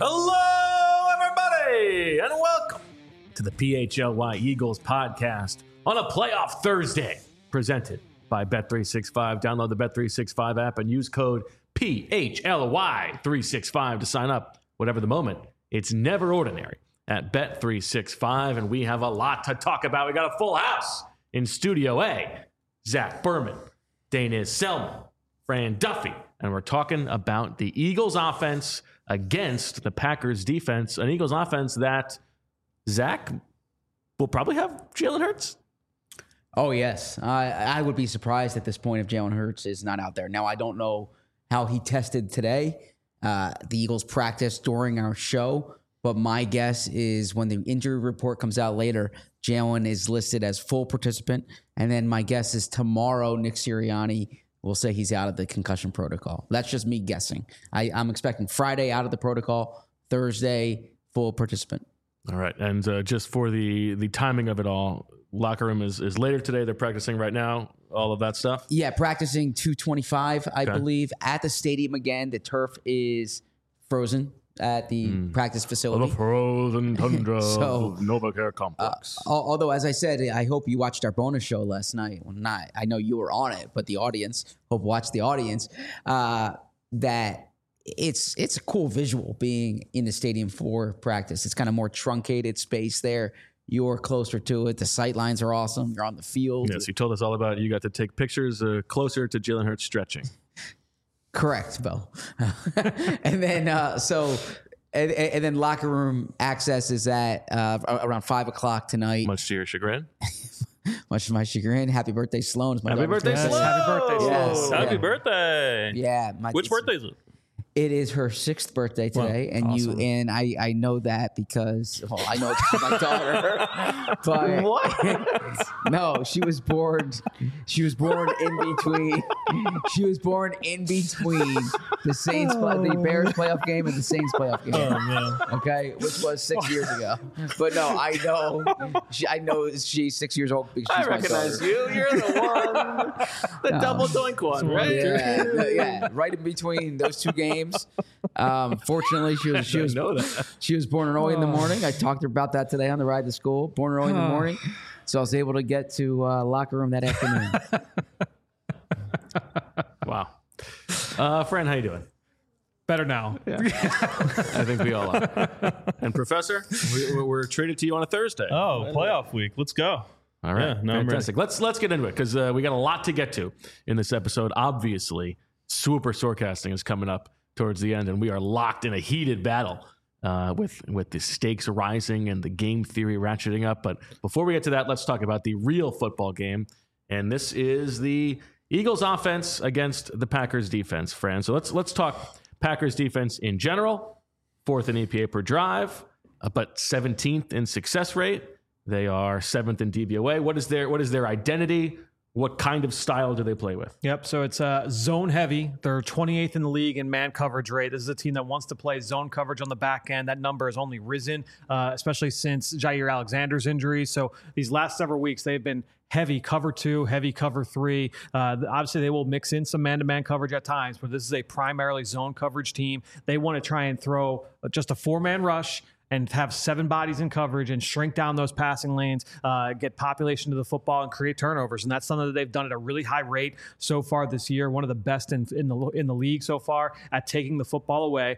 Hello, everybody, and welcome to the PHLY Eagles podcast on a playoff Thursday, presented by Bet365. Download the Bet365 app and use code PHLY365 to sign up. Whatever the moment, it's never ordinary at Bet365, and we have a lot to talk about. We got a full house in Studio A. Zach Berman, Dana Selman, Fran Duffy, and we're talking about the Eagles offense against the Packers defense, an Eagles offense that, Zach, will probably have Jalen Hurts. Oh, yes. I would be surprised at this point if Jalen Hurts is not out there. Now, I don't know how he tested today. The Eagles practiced during our show, but my guess is when the injury report comes out later, Jalen is listed as full participant. And then my guess is tomorrow, Nick Sirianni will say he's out of the concussion protocol. That's just me guessing. I'm expecting Friday out of the protocol, Thursday full participant. All right. And just for the timing of it all, locker room is later today. They're practicing right now, all of that stuff. Yeah, practicing 2:25, I believe, at the stadium again. The turf is frozen at the practice facility. The frozen tundra So, of NovaCare Complex. Although, as I said, I hope you watched our bonus show last night. Well, not. I know you were on it, but the audience, watch the audience, that it's a cool visual being in the stadium for practice. It's kind of more truncated space there. You're closer to it. The sight lines are awesome. You're on the field. Yes, you told us all about it. You got to take pictures closer to Jalen Hurts stretching. Correct, Bill. And then and then locker room access is at around 5:00 tonight. Much to your chagrin. Much to my chagrin. Happy birthday, Sloan. Happy birthday, Sloan. Happy birthday, Sloan. Yes, Happy yeah. birthday. Yeah. Which birthday is it? It is her 6th birthday today, Wow, and awesome. I know that because I know it's my daughter. But What? no, she was born in between. She was born in between the Bears playoff game and the Saints playoff game. Oh, man. Okay, which was 6 years ago. But no, I know she's 6 years old because she's I recognize my you. You're the one. The double doink one, right? Yeah, right in between those two games. Fortunately, she was born early in the morning. I talked to her about that today on the ride to school. Born early in the morning, so I was able to get to locker room that afternoon. Wow. Fran, how you doing? Better now. I think we all are. And Professor, we're treated to you on a Thursday. Oh, playoff week. Let's go. All right, Yeah, no, I'm fantastic. Let's get into it because we got a lot to get to in this episode. Obviously, Super Storecasting is coming up towards the end, and we are locked in a heated battle with the stakes rising and the game theory ratcheting up. But before we get to that, let's talk about the real football game, and this is the Eagles offense against the Packers defense, Fran. So let's talk Packers defense in general. 4th in EPA per drive, but 17th in success rate. They are 7th in DVOA. What is their identity? What kind of style do they play with? Yep. So it's zone heavy. They're 28th in the league in man coverage rate. This is a team that wants to play zone coverage on the back end. That number has only risen, especially since Jair Alexander's injury. So these last several weeks, they've been heavy cover 2, heavy cover 3. Obviously, they will mix in some man-to-man coverage at times, but this is a primarily zone coverage team. They want to try and throw just a 4-man rush and have 7 bodies in coverage and shrink down those passing lanes, get population to the football and create turnovers. And that's something that they've done at a really high rate so far this year. One of the best in the league so far at taking the football away.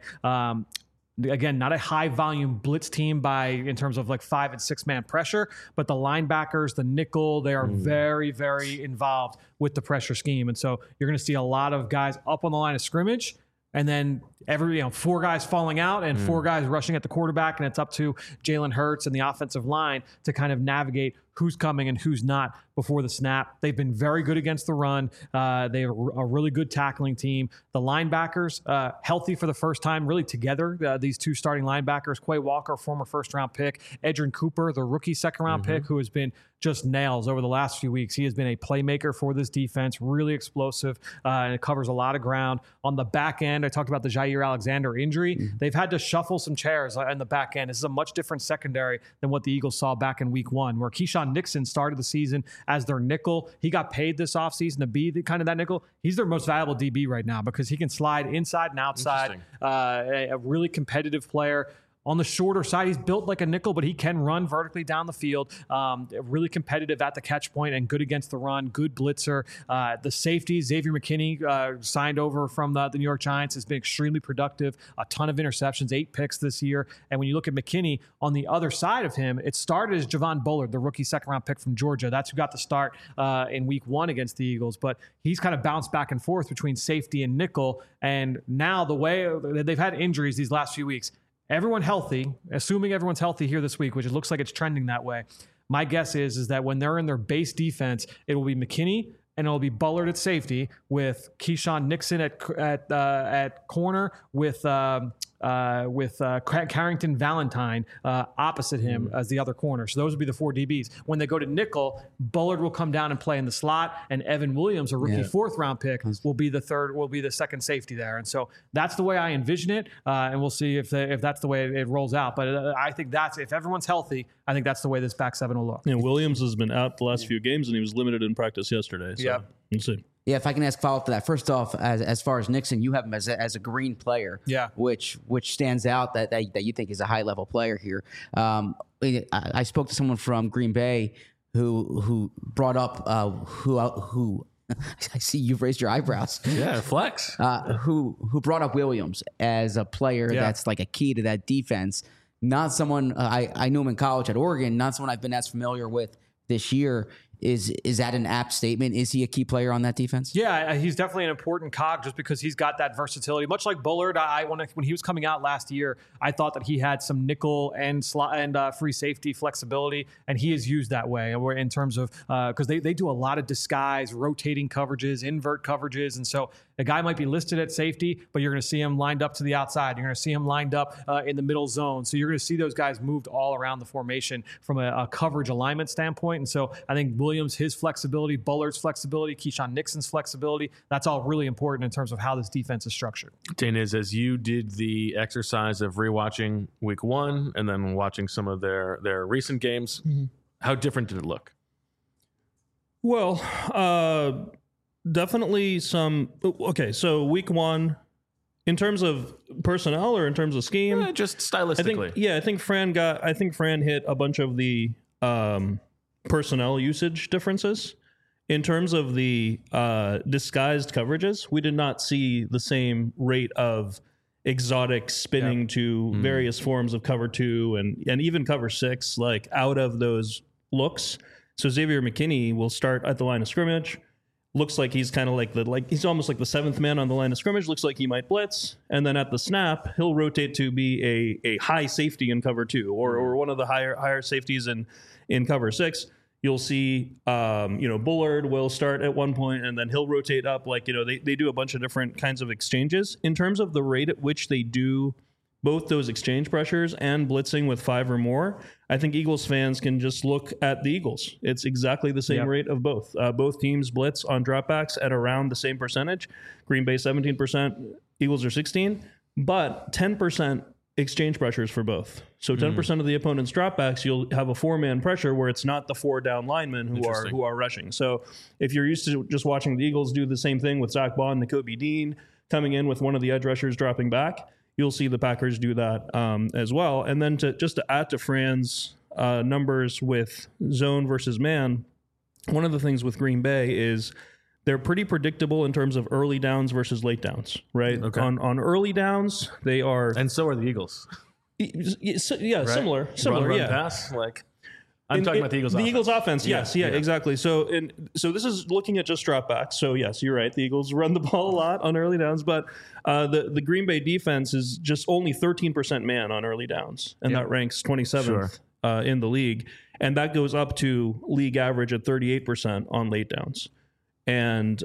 Again, not a high volume blitz team in terms of like 5 and 6 man pressure, but the linebackers, the nickel, they are very, very involved with the pressure scheme. And so you're going to see a lot of guys up on the line of scrimmage. And then 4 guys falling out and 4 guys rushing at the quarterback, and it's up to Jalen Hurts and the offensive line to kind of navigate who's coming and who's not before the snap. They've been very good against the run. They have a really good tackling team. The linebackers, healthy for the first time, really together. These 2 starting linebackers, Quay Walker, former first-round pick, Edgerrin Cooper, the rookie second-round pick, who has been just nails over the last few weeks. He has been a playmaker for this defense, really explosive, and it covers a lot of ground. On the back end, I talked about the Jair Alexander injury. They've had to shuffle some chairs in the back end. This is a much different secondary than what the Eagles saw back in week 1, where Keyshawn Keyshawn Nixon started the season as their nickel. He got paid this offseason to be that nickel. He's their most valuable DB right now because he can slide inside and outside. A really competitive player. On the shorter side, he's built like a nickel, but he can run vertically down the field. Really competitive at the catch point and good against the run. Good blitzer. The safety, Xavier McKinney, signed over from the New York Giants, has been extremely productive. A ton of interceptions, 8 picks this year. And when you look at McKinney, on the other side of him, it started as Javon Bullard, the rookie second-round pick from Georgia. That's who got the start in week 1 against the Eagles. But he's kind of bounced back and forth between safety and nickel. And now the way they've had injuries these last few weeks, everyone healthy, assuming everyone's healthy here this week, which it looks like it's trending that way. My guess is that when they're in their base defense, it will be McKinney and it'll be Bullard at safety with Keyshawn Nixon at corner with Carrington Valentine opposite him as the other corner. So those would be the 4 DBs. When they go to nickel, Bullard will come down and play in the slot, and Evan Williams, a rookie 4th round pick, will be the second safety there. And so that's the way I envision it, and we'll see if that's the way it rolls out. But I think if everyone's healthy, I think that's the way this back seven will look. Yeah, Williams has been out the last few games, and he was limited in practice yesterday. So we'll see. Yeah, if I can ask follow-up to that. First off, as far as Nixon, you have him as a green player, which stands out that you think is a high-level player here. I spoke to someone from Green Bay who brought up who I see you've raised your eyebrows. Yeah, flex. Who brought up Williams as a player that's like a key to that defense. Not someone I knew him in college at Oregon. Not someone I've been as familiar with this year. Is that an apt statement? Is he a key player on that defense? Yeah, he's definitely an important cog just because he's got that versatility. Much like Bullard, when he was coming out last year, I thought that he had some nickel and slot and free safety flexibility, and he is used that way in terms of because they do a lot of disguise, rotating coverages, invert coverages, and so a guy might be listed at safety, but you're going to see him lined up to the outside. You're going to see him lined up in the middle zone. So you're going to see those guys moved all around the formation from a coverage alignment standpoint. And so I think Williams, his flexibility, Bullard's flexibility, Keyshawn Nixon's flexibility, that's all really important in terms of how this defense is structured. Dane, as you did the exercise of rewatching week 1 and then watching some of their recent games, how different did it look? Well, definitely some. Okay, so week 1, in terms of personnel or in terms of scheme, just stylistically. I think Fran hit a bunch of the personnel usage differences. In terms of the disguised coverages, we did not see the same rate of exotic spinning to various forms of cover 2 and even cover 6, like out of those looks. So Xavier McKinney will start at the line of scrimmage. Looks like he's kind of he's almost like the 7th man on the line of scrimmage. Looks like he might blitz, and then at the snap, he'll rotate to be a high safety in cover 2 or one of the higher safeties in cover 6. You'll see, Bullard will start at one point, and then he'll rotate up. They do a bunch of different kinds of exchanges in terms of the rate at which they do both those exchange pressures and blitzing with 5 or more. I think Eagles fans can just look at the Eagles. It's exactly the same rate of both. Both teams blitz on dropbacks at around the same percentage. Green Bay 17%, Eagles are 16%, but 10% exchange pressures for both. So 10% of the opponent's dropbacks, you'll have a 4-man pressure where it's not the 4 down linemen who are rushing. So if you're used to just watching the Eagles do the same thing with Zach Bond, Nakobe Dean coming in with one of the edge rushers dropping back, you'll see the Packers do that as well. And then to add to Fran's numbers with zone versus man, one of the things with Green Bay is they're pretty predictable in terms of early downs versus late downs, right? Okay. On early downs, they are... And so are the Eagles. Yeah, right? similar. Run, yeah. pass, I'm talking about the Eagles offense. The Eagles offense, yes, exactly. So this is looking at just dropbacks. So yes, you're right. The Eagles run the ball a lot on early downs, but the Green Bay defense is just only 13% man on early downs, and that ranks 27th in the league, and that goes up to league average at 38% on late downs. And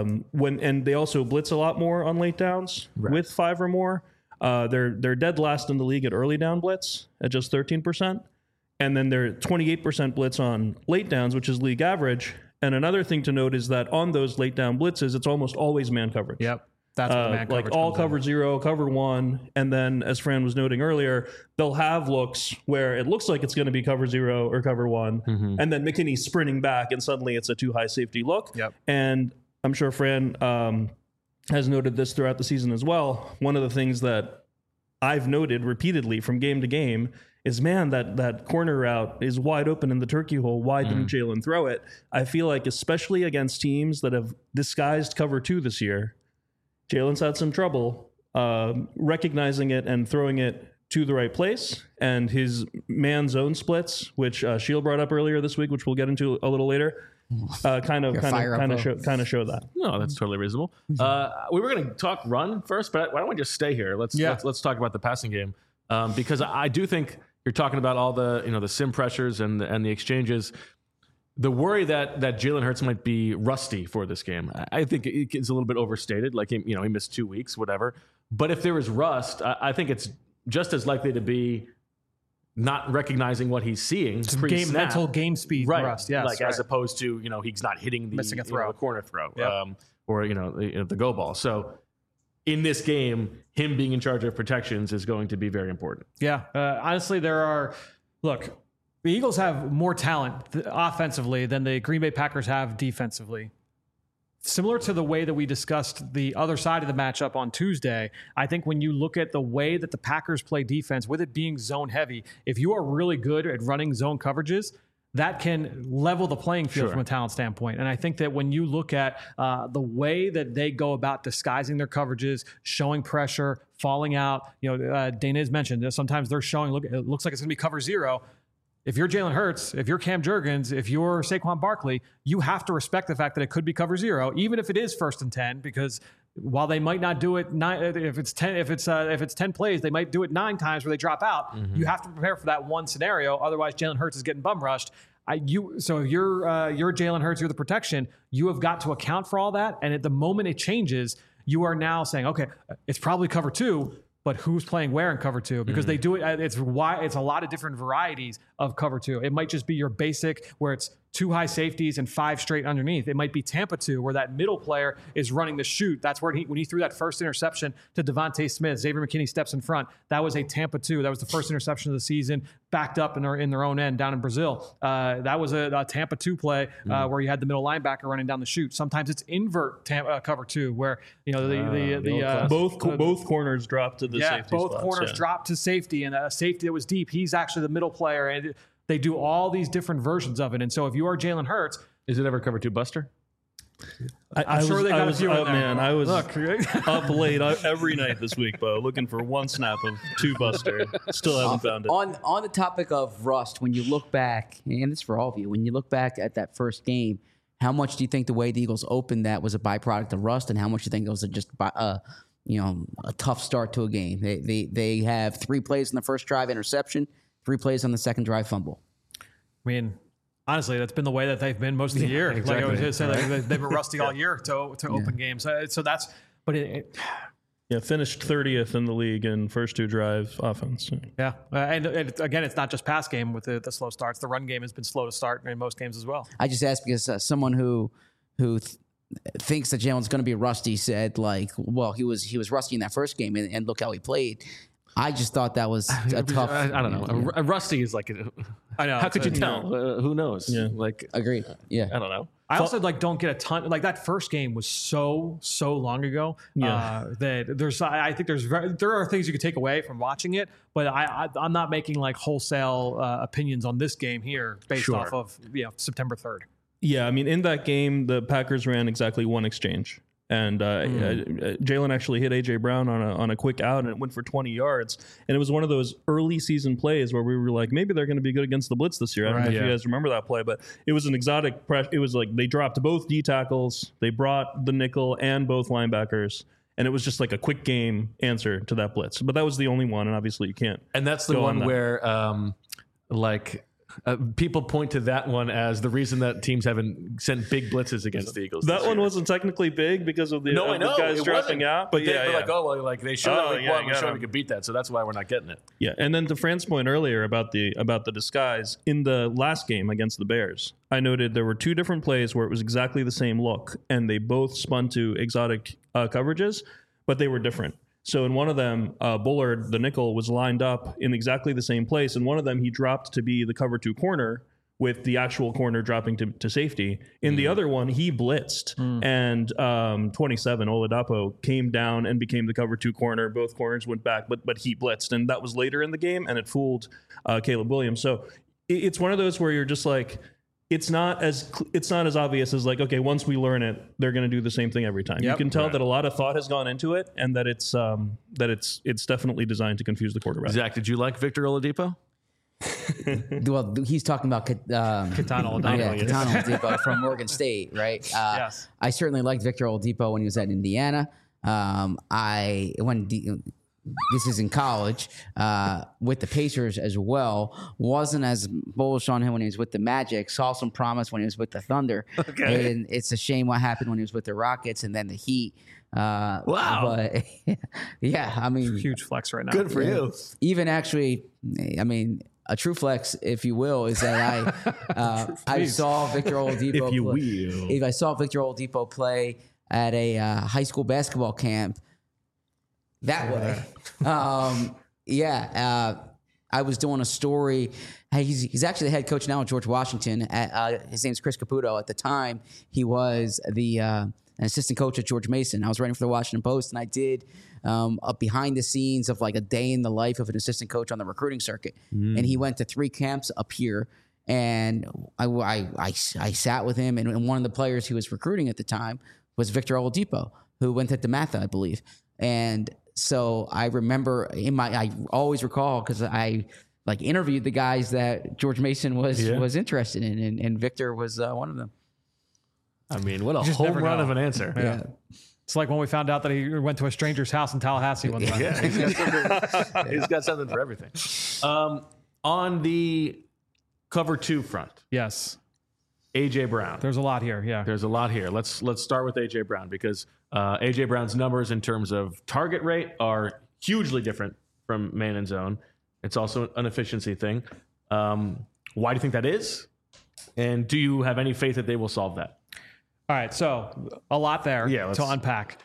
they also blitz a lot more on late downs with 5 or more. They're dead last in the league at early down blitz at just 13%. And then they're 28% blitz on late downs, which is league average. And another thing to note is that on those late down blitzes, it's almost always man coverage. Yep. That's what the man like coverage all comes cover in. 0, cover 1, and then as Fran was noting earlier, they'll have looks where it looks like it's going to be cover 0 or cover 1, and then McKinney's sprinting back, and suddenly it's a too high safety look. Yep. And I'm sure Fran has noted this throughout the season as well. One of the things that I've noted repeatedly from game to game is, man, that corner route is wide open in the turkey hole. Why didn't Jalen throw it? I feel like, especially against teams that have disguised cover 2 this year, Jalen's had some trouble recognizing it and throwing it to the right place. And his man zone splits, which Shield brought up earlier this week, which we'll get into a little later, kind of show that. No, that's totally reasonable. We were going to talk run first, but why don't we just stay here? Let's talk about the passing game, because I do think you're talking about all the the sim pressures and the exchanges. The worry that Jalen Hurts might be rusty for this game, I think it's a little bit overstated. Like, he missed 2 weeks, whatever. But if there is rust, I think it's just as likely to be not recognizing what he's seeing. Mental game speed rust, yes. Like, as opposed to, he's not hitting missing a throw, the corner throw, yep. Or, the go ball. So in this game, him being in charge of protections is going to be very important. Yeah. Honestly, the Eagles have more talent offensively than the Green Bay Packers have defensively. Similar to the way that we discussed the other side of the matchup on Tuesday, I think when you look at the way that the Packers play defense, with it being zone heavy, if you are really good at running zone coverages, that can level the playing field from a talent standpoint. And I think that when you look at the way that they go about disguising their coverages, showing pressure, falling out, Dana has mentioned that sometimes they're showing, it looks like it's going to be cover 0. If you're Jalen Hurts, if you're Cam Jurgens, if you're Saquon Barkley, you have to respect the fact that it could be cover 0, even if it is 1st and 10, because while they might not do it if it's 10 plays, they might do it 9 times where they drop out. You have to prepare for that one scenario. Otherwise, Jalen Hurts is getting bum rushed. So if you're Jalen Hurts, you're the protection. You have got to account for all that. And at the moment it changes, you are now saying, okay, it's probably cover 2. But who's playing where in cover 2? Because they do it. It's a lot of different varieties of cover 2. It might just be your basic where it's 2 high safeties and 5 straight underneath. It might be Tampa 2 where that middle player is running the shoot. That's where when he threw that first interception to Devontae Smith, Xavier McKinney steps in front. That was a Tampa 2. That was the first interception of the season, backed up in their own end down in Brazil. That was a Tampa 2 play where you had the middle linebacker running down the shoot. Sometimes it's invert cover 2 where both corners dropped to the safety both spots, corners dropped to safety, and a safety that was deep, he's actually the middle player, and they do all these different versions of it. And so if you are Jalen Hurts, is it ever cover 2 buster? I'm sure they got a few in there. Man, I was up late every night this week, Bo, looking for one snap of 2 buster. Still haven't found it. On the topic of rust, when you look back, and it's for all of you, when you look back at that first game, how much do you think the way the Eagles opened that was a byproduct of rust, and how much do you think it was just a tough start to a game? They have 3 plays in the first drive, interception, 3 plays on the second drive, fumble. I mean, honestly, that's been the way that they've been most of the year. Exactly. Like I was just saying, they've been rusty all year to open games. So that's, but finished 30th in the league in first 2 drive offense. Yeah, and again, it's not just pass game with the slow starts. The run game has been slow to start in most games as well. I just asked because someone who thinks that Jalen's going to be rusty said, like, well, he was rusty in that first game, and look how he played. I just thought that was a tough. I don't know. A rusty is like. I know. How could you tell? Who knows? Yeah. Agreed. Yeah. I don't know. I also don't get a ton. Like that first game was so long ago. That I think there are things you could take away from watching it, but I'm not making like wholesale opinions on this game here based off of September 3rd. Yeah, I mean, in that game, the Packers ran exactly 1 exchange. And Jalen actually hit A.J. Brown on a quick out, and it went for 20 yards. And it was one of those early season plays where we were like, maybe they're going to be good against the blitz this year. I don't know if you guys remember that play, but it was an exotic – it was like they dropped both D tackles. They brought the nickel and both linebackers. And it was just like a quick game answer to that blitz. But that was the only one, and obviously you can't. And that's the one where people point to that one as the reason that teams haven't sent big blitzes against the Eagles. That one wasn't technically big because of the guys dropping out. But they showed we showed we could beat that, so that's why we're not getting it. Yeah, and then to Fran's point earlier about the disguise in the last game against the Bears, I noted there were 2 different plays where it was exactly the same look, and they both spun to exotic coverages, but they were different. So in one of them, Bullard, the nickel, was lined up in exactly the same place. In one of them, he dropped to be the cover 2 corner with the actual corner dropping to safety. In the other one, he blitzed, and 27, Oladapo, came down and became the cover 2 corner. Both corners went back, but he blitzed, and that was later in the game, and it fooled Caleb Williams. So it's one of those where you're just like, it's not as obvious as like, okay, once we learn it, they're going to do the same thing every time. Yep. You can tell that a lot of thought has gone into it, and that it's definitely designed to confuse the quarterback. Zach, did you like Victor Oladipo? Well, he's talking about Katana Oladipo. Katana Oladipo from Oregon State, right? Yes. I certainly liked Victor Oladipo when he was at Indiana. This is in college with the Pacers as well. Wasn't as bullish on him when he was with the Magic. Saw some promise when he was with the Thunder. Okay. And it's a shame what happened when he was with the Rockets and then the Heat. Wow. But yeah, I mean, Huge flex right now. Good for you. even actually, I mean, a true flex, if you will, is that I saw Victor Oladipo. If you play, will. if I saw Victor Oladipo play at a high school basketball camp that way. I was doing a story. He's actually the head coach now at George Washington. His name's Chris Caputo. At the time, he was an assistant coach at George Mason. I was writing for the Washington Post, and I did a behind the scenes of like a day in the life of an assistant coach on the recruiting circuit. And he went to 3 camps up here. And I sat with him, and one of the players he was recruiting at the time was Victor Oladipo, who went to DeMatha, I believe. And so I remember I always recall because I like interviewed the guys that George Mason was interested in, and Victor was one of them. I mean, what a just home never run know. of an answer. Yeah. It's like when we found out that he went to a stranger's house in Tallahassee one time. Yeah, he's got something for everything. On the cover 2 front, Yes. AJ Brown. There's a lot here. Yeah. There's a lot here. Let's start with AJ Brown because AJ Brown's numbers in terms of target rate are hugely different from man and zone. It's also an efficiency thing. Why do you think that is? And do you have any faith that they will solve that? All right, so a lot there to unpack.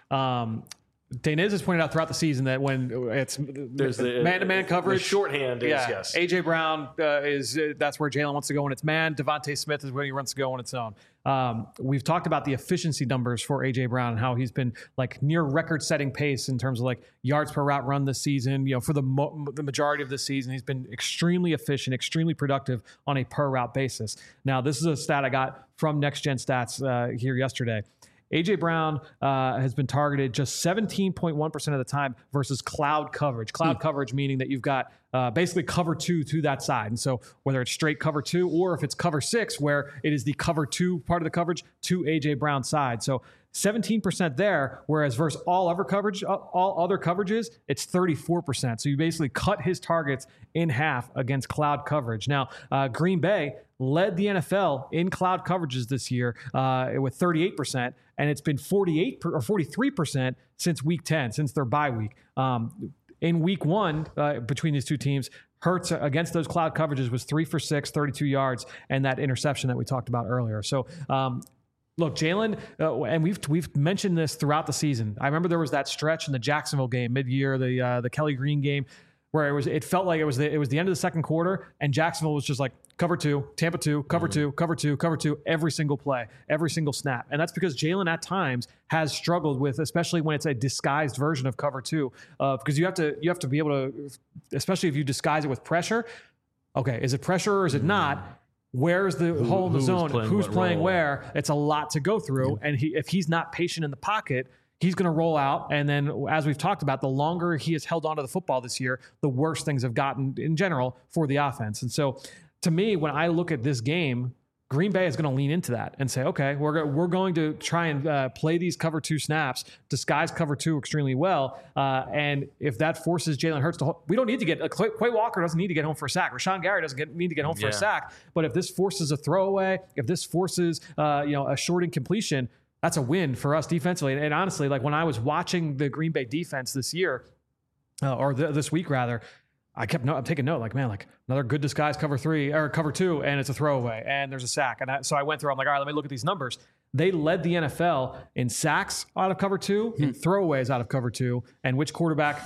Daniz has pointed out throughout the season that when it's There's the man-to-man coverage, the shorthand is yes. AJ Brown is that's where Jalen wants to go when it's man. Devontae Smith is where he wants to go when it's zone. We've talked about the efficiency numbers for AJ Brown and how he's been like near record-setting pace in terms of like yards per route run this season. You know, for the majority of this season, he's been extremely efficient, extremely productive on a per route basis. Now, this is a stat I got from Next Gen Stats here yesterday. AJ Brown has been targeted just 17.1% of the time versus cloud coverage. Cloud coverage meaning that you've got basically cover 2 to that side. And so whether it's straight cover 2 or if it's cover 6 where it is the cover 2 part of the coverage to AJ Brown's side. So 17% there, whereas versus all other coverages, it's 34%. So you basically cut his targets in half against cloud coverage. Now, Green Bay led the NFL in cloud coverages this year with 38%, and it's been 48 or 43% since week 10, since their bye week. In week 1, between these two teams, Hurts against those cloud coverages was 3 for 6, 32 yards, and that interception that we talked about earlier. So, look, Jalen, and we've mentioned this throughout the season. I remember there was that stretch in the Jacksonville game mid-year, the Kelly Green game, where it felt like it was the end of the second quarter, and Jacksonville was just like cover 2, Tampa 2, cover 2, cover 2, cover 2, every single play, every single snap. And that's because Jalen at times has struggled with, especially when it's a disguised version of cover 2, because you have to be able to, especially if you disguise it with pressure. Okay, is it pressure or is it not? Where's the hole in the zone? Who's playing where? It's a lot to go through. And if he's not patient in the pocket, he's going to roll out. And then, as we've talked about, the longer he has held onto the football this year, the worse things have gotten in general for the offense. And so, to me, when I look at this game, Green Bay is going to lean into that and say, okay, we're going to try and play these cover 2 snaps, disguise cover 2 extremely well. And if that forces Jalen Hurts to we don't need to get Quay Walker doesn't need to get home for a sack. Rashawn Gary doesn't need to get home for a sack. But if this forces a throwaway, if this forces a short incompletion, that's a win for us defensively. And honestly, like when I was watching the Green Bay defense this year, this week rather, I'm taking note, like, man, like another good disguise cover 3 or cover 2, and it's a throwaway, and there's a sack. And so I went through, I'm like, all right, let me look at these numbers. they led the NFL in sacks out of cover 2, in throwaways out of cover 2, and which quarterback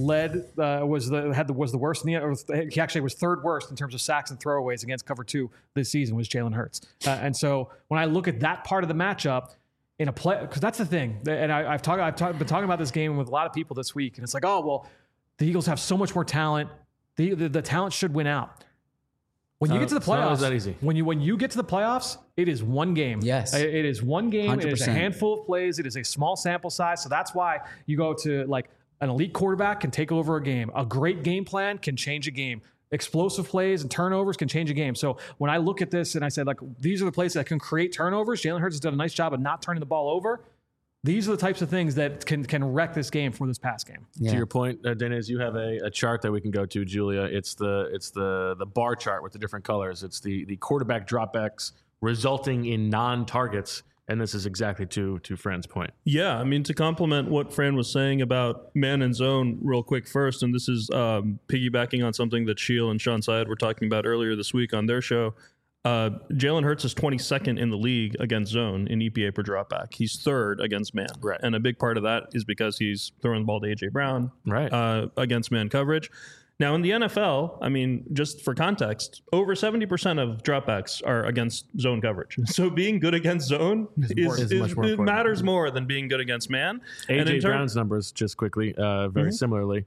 was the worst in the. He actually was third worst in terms of sacks and throwaways against cover 2 this season was Jalen Hurts. And so when I look at that part of the matchup in a play, because that's the thing, and I've been talking about this game with a lot of people this week, and it's like, oh well, the Eagles have so much more talent. The talent should win out. When you get to the playoffs, it's not that easy. When you get to the playoffs, it is one game. Yes. It is one game. 100%. It is a handful of plays. It is a small sample size. So that's why you go to like an elite quarterback can take over a game. A great game plan can change a game. Explosive plays and turnovers can change a game. So when I look at this and I said, like, these are the plays that can create turnovers, Jalen Hurts has done a nice job of not turning the ball over. These are the types of things that can wreck this game for this past game. Yeah. To your point, Dana, you have a chart that we can go to, Julia. It's the bar chart with the different colors. It's the quarterback dropbacks resulting in non-targets, and this is exactly to Fran's point. Yeah, I mean, to complement what Fran was saying about man and zone real quick first, and this is piggybacking on something that Sheil and Sean Syed were talking about earlier this week on their show. Jalen Hurts is 22nd in the league against zone in EPA per dropback. He's third against man. Right. And a big part of that is because he's throwing the ball to A.J. Brown against man coverage. Now, in the NFL, I mean, just for context, over 70% of dropbacks are against zone coverage. So being good against zone is much more important. matters more than being good against man. A.J. Brown's numbers, just quickly, very similarly,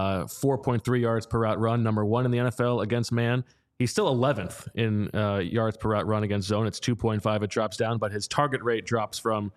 4.3 yards per route run, number 1 in the NFL against man. He's still 11th in yards per route run against zone. It's 2.5. It drops down, but his target rate drops from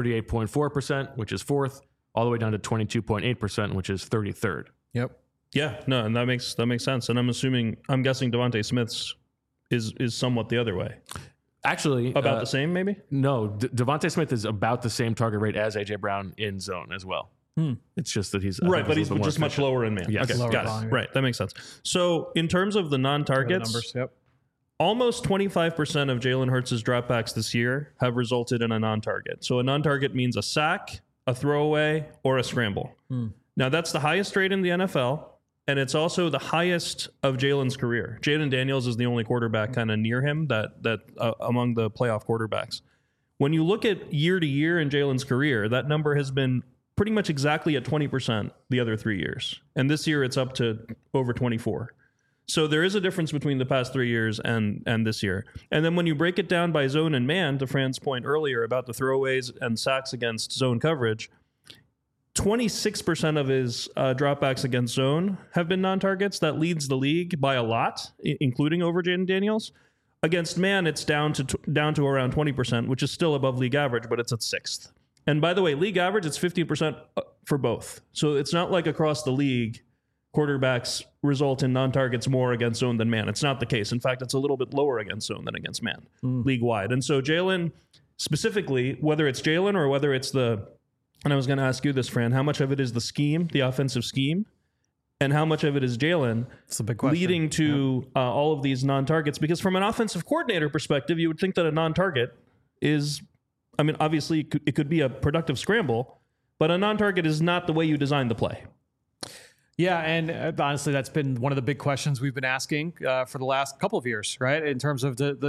38.4%, which is 4th, all the way down to 22.8%, which is 33rd. Yep. Yeah, no, and that makes sense. And I'm guessing Devontae Smith's is somewhat the other way. Actually, About the same, maybe? No, Devontae Smith is about the same target rate as A.J. Brown in zone as well. It's just that he's Right, but he's just much lower in man. Yes. Okay, Lower got volume. it. Right, that makes sense. So in terms of the non-targets, Numbers, yep. almost 25% of Jalen Hurts' dropbacks this year have resulted in a non-target. So a non-target means a sack, a throwaway, or a scramble. Now that's the highest rate in the NFL, and it's also the highest of Jalen's career. Jaden Daniels is the only quarterback kind of near him that among the playoff quarterbacks. When you look at year to year in Jalen's career, that number has been pretty much exactly at 20% the other 3 years. And this year it's up to over 24. So there is a difference between the past 3 years and this year. And then when you break it down by zone and man, to Fran's point earlier about the throwaways and sacks against zone coverage, 26% of his dropbacks against zone have been non-targets. That leads the league by a lot, including over Jaden Daniels. Against man, it's down to around 20%, which is still above league average, but it's at 6th. And by the way, league average, it's 15% for both. So it's not like across the league, quarterbacks result in non-targets more against zone than man. It's not the case. In fact, it's a little bit lower against zone than against man, league-wide. And so Jalen, specifically, whether it's Jalen or whether it's and I was going to ask you this, Fran, how much of it is the scheme, the offensive scheme, and how much of it is Jalen leading to all of these non-targets? Because from an offensive coordinator perspective, you would think that a non-target is... I mean, obviously, it could be a productive scramble, but a non-target is not the way you design the play. Yeah, and honestly, that's been one of the big questions we've been asking for the last couple of years, right? In terms of are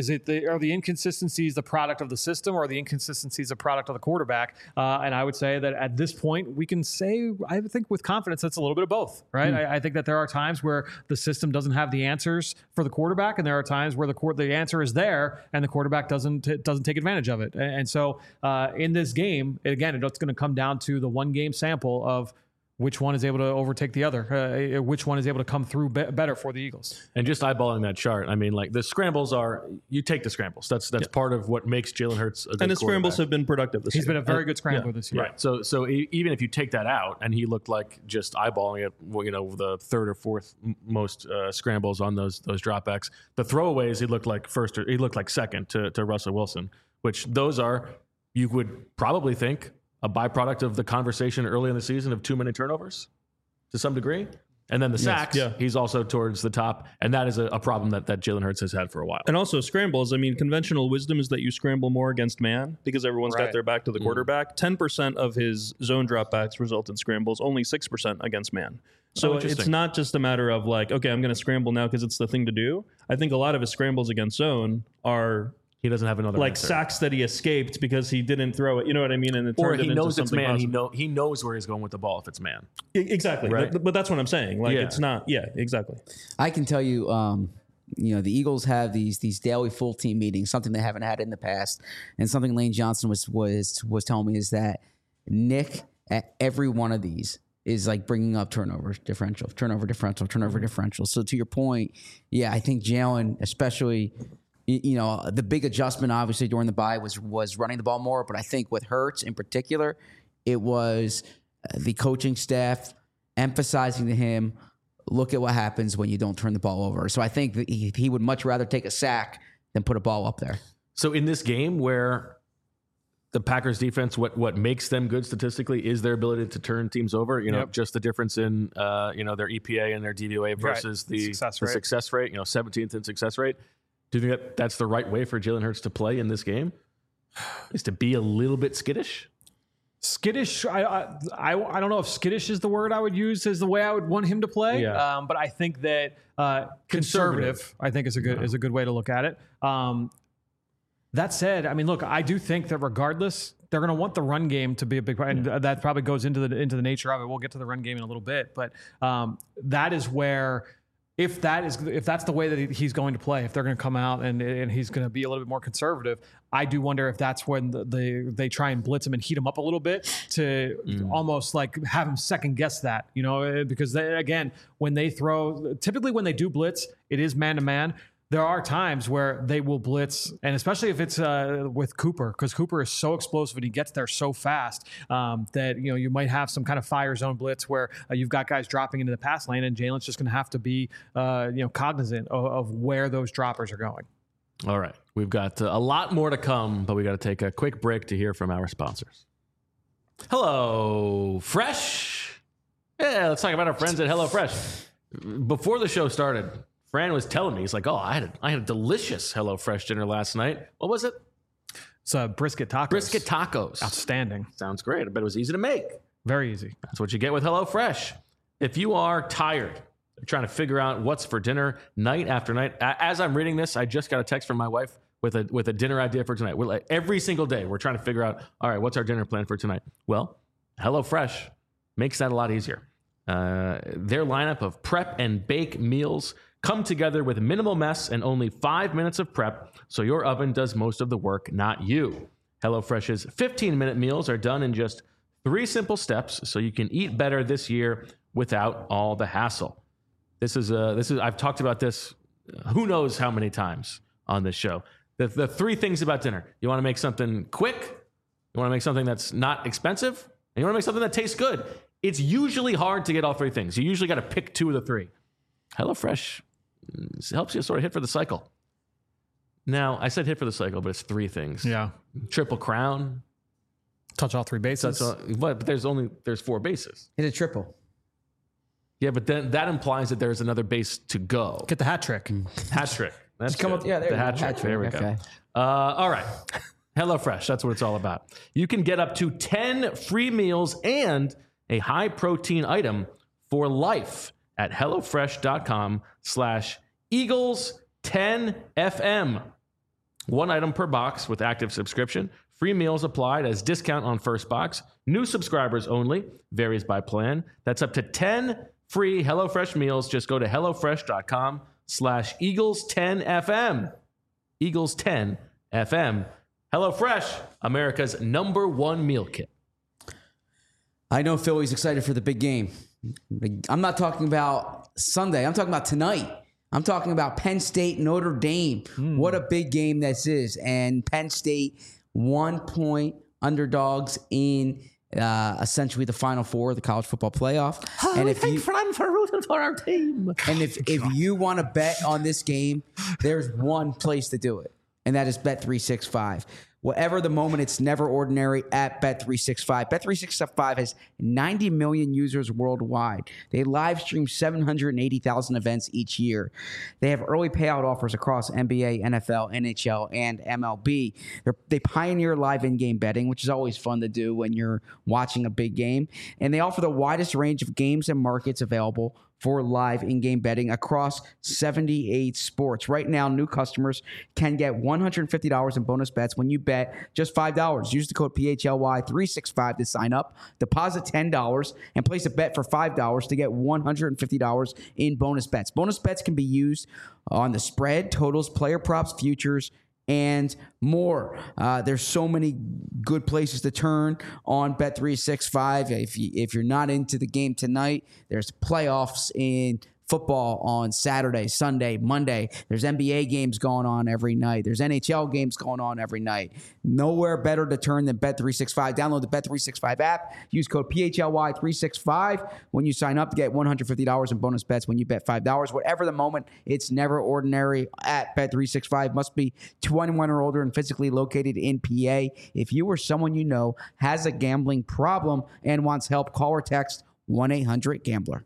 the inconsistencies the product of the system, or are the inconsistencies a product of the quarterback? And I would say that at this point, we can say, I think with confidence, it's a little bit of both, right? I think that there are times where the system doesn't have the answers for the quarterback, and there are times where the answer is there and the quarterback doesn't take advantage of it. And so in this game, again, it's going to come down to the one game sample of which one is able to overtake the other, which one is able to come through better for the Eagles. And just eyeballing that chart, I mean, like the scrambles you take the scrambles. That's part of what makes Jalen Hurts a good and his scrambles have been productive this year. He's been a very good scrambler this year. Right. So even if you take that out, and he looked like just eyeballing it, the third or fourth most scrambles on those dropbacks. The throwaways, he looked like second to Russell Wilson, which those are, you would probably think, a byproduct of the conversation early in the season of too many turnovers to some degree. And then the sacks, he's also towards the top. And that is a problem that Jalen Hurts has had for a while. And also scrambles. I mean, conventional wisdom is that you scramble more against man because everyone's got their back to the quarterback. 10% of his zone dropbacks result in scrambles, only 6% against man. So it's not just a matter of like, okay, I'm going to scramble now because it's the thing to do. I think a lot of his scrambles against zone are he doesn't have another like answer. sacks that he escaped because he didn't throw it. You know what I mean? And it Or turned he it into knows it's something man. positive. He knows where he's going with the ball if it's man. Exactly. Right. But that's what I'm saying. Like, Yeah. it's not. Yeah, exactly. I can tell you, the Eagles have these daily full team meetings, something they haven't had in the past, and something Lane Johnson was telling me is that Nick at every one of these is like bringing up turnover differential. So to your point, yeah, I think Jalen, especially, the big adjustment obviously during the bye was running the ball more, but I think with Hurts in particular, it was the coaching staff emphasizing to him, look at what happens when you don't turn the ball over. So I think that he would much rather take a sack than put a ball up there. So in this game where the Packers defense, what makes them good statistically is their ability to turn teams over. Just the difference in their EPA and their DVOA versus the success rate. 17th in success rate. Do you think that's the right way for Jalen Hurts to play in this game? Is to be a little bit skittish? Skittish. I don't know if skittish is the word I would use as the way I would want him to play. Yeah. But I think that conservative. I think is a good way to look at it. That said, I mean, look, I do think that regardless, they're going to want the run game to be a big part, and that probably goes into the nature of it. We'll get to the run game in a little bit, but that is where, if that's the way that he's going to play, if they're going to come out and he's going to be a little bit more conservative, I do wonder if that's when they try and blitz him and heat him up a little bit to almost like have him second guess that, because when they throw, typically when they do blitz, it is man to man. There are times where they will blitz, and especially if it's with Cooper, because Cooper is so explosive and he gets there so fast that you might have some kind of fire zone blitz where you've got guys dropping into the pass lane, and Jalen's just going to have to be cognizant of where those droppers are going. All right, we've got a lot more to come, but we got to take a quick break to hear from our sponsors. Hello Fresh. Yeah, let's talk about our friends at HelloFresh. Before the show started, Fran was telling me, he's like, I had a delicious HelloFresh dinner last night. What was it? It's brisket tacos. Brisket tacos. Outstanding. Sounds great. I bet it was easy to make. Very easy. That's what you get with HelloFresh. If you are tired, trying to figure out what's for dinner night after night, as I'm reading this, I just got a text from my wife with a dinner idea for tonight. We're like, every single day, we're trying to figure out, all right, what's our dinner plan for tonight? Well, HelloFresh makes that a lot easier. Their lineup of prep and bake meals come together with minimal mess and only 5 minutes of prep, so your oven does most of the work, not you. HelloFresh's 15-minute meals are done in just 3 simple steps, so you can eat better this year without all the hassle. This is I've talked about this who knows how many times on this show. The 3 things about dinner: you want to make something quick, you want to make something that's not expensive, and you want to make something that tastes good. It's usually hard to get all 3 things. You usually got to pick 2 of the 3. HelloFresh helps you sort of hit for the cycle. Now, I said hit for the cycle, but it's 3 things. Yeah. Triple crown. Touch all 3 bases. But there's 4 bases. Hit a triple. Yeah, but then that implies that there's another base to go. Get the hat trick. Hat trick. That's Just come up. Yeah, there the you go. hat trick. There we Okay. go. All right. HelloFresh. That's what it's all about. You can get up to 10 free meals and a high protein item for life at HelloFresh.com/Eagles10FM. 1 item per box with active subscription. Free meals applied as discount on first box. New subscribers only. Varies by plan. That's up to 10 free HelloFresh meals. Just go to HelloFresh.com/Eagles10FM. Eagles10FM. HelloFresh, America's #1 meal kit. I know Philly's excited for the big game. I'm not talking about Sunday. I'm talking about tonight. I'm talking about Penn State, Notre Dame. What a big game this is. And Penn State, 1-point underdogs in essentially the Final Four of the college football playoff. And if you, Fran for rooting for our team. and if you want to bet on this game, there's one place to do it, and that is Bet365. Whatever the moment, it's never ordinary at Bet365. Bet365 has 90 million users worldwide. They live stream 780,000 events each year. They have early payout offers across NBA, NFL, NHL, and MLB. They pioneer live in-game betting, which is always fun to do when you're watching a big game. And they offer the widest range of games and markets available for live in-game betting across 78 sports. Right now, new customers can get $150 in bonus bets when you bet just $5. Use the code PHLY365 to sign up. Deposit $10 and place a bet for $5 to get $150 in bonus bets. Bonus bets can be used on the spread, totals, player props, futures, and more. There's so many good places to turn on Bet365. If you're not into the game tonight, there's playoffs in football on Saturday, Sunday, Monday. There's NBA games going on every night. There's NHL games going on every night. Nowhere better to turn than Bet365. Download the Bet365 app. Use code PHLY365 when you sign up to get $150 in bonus bets when you bet $5. Whatever the moment, it's never ordinary at Bet365. Must be 21 or older and physically located in PA. If you or someone you know has a gambling problem and wants help, call or text 1-800-GAMBLER.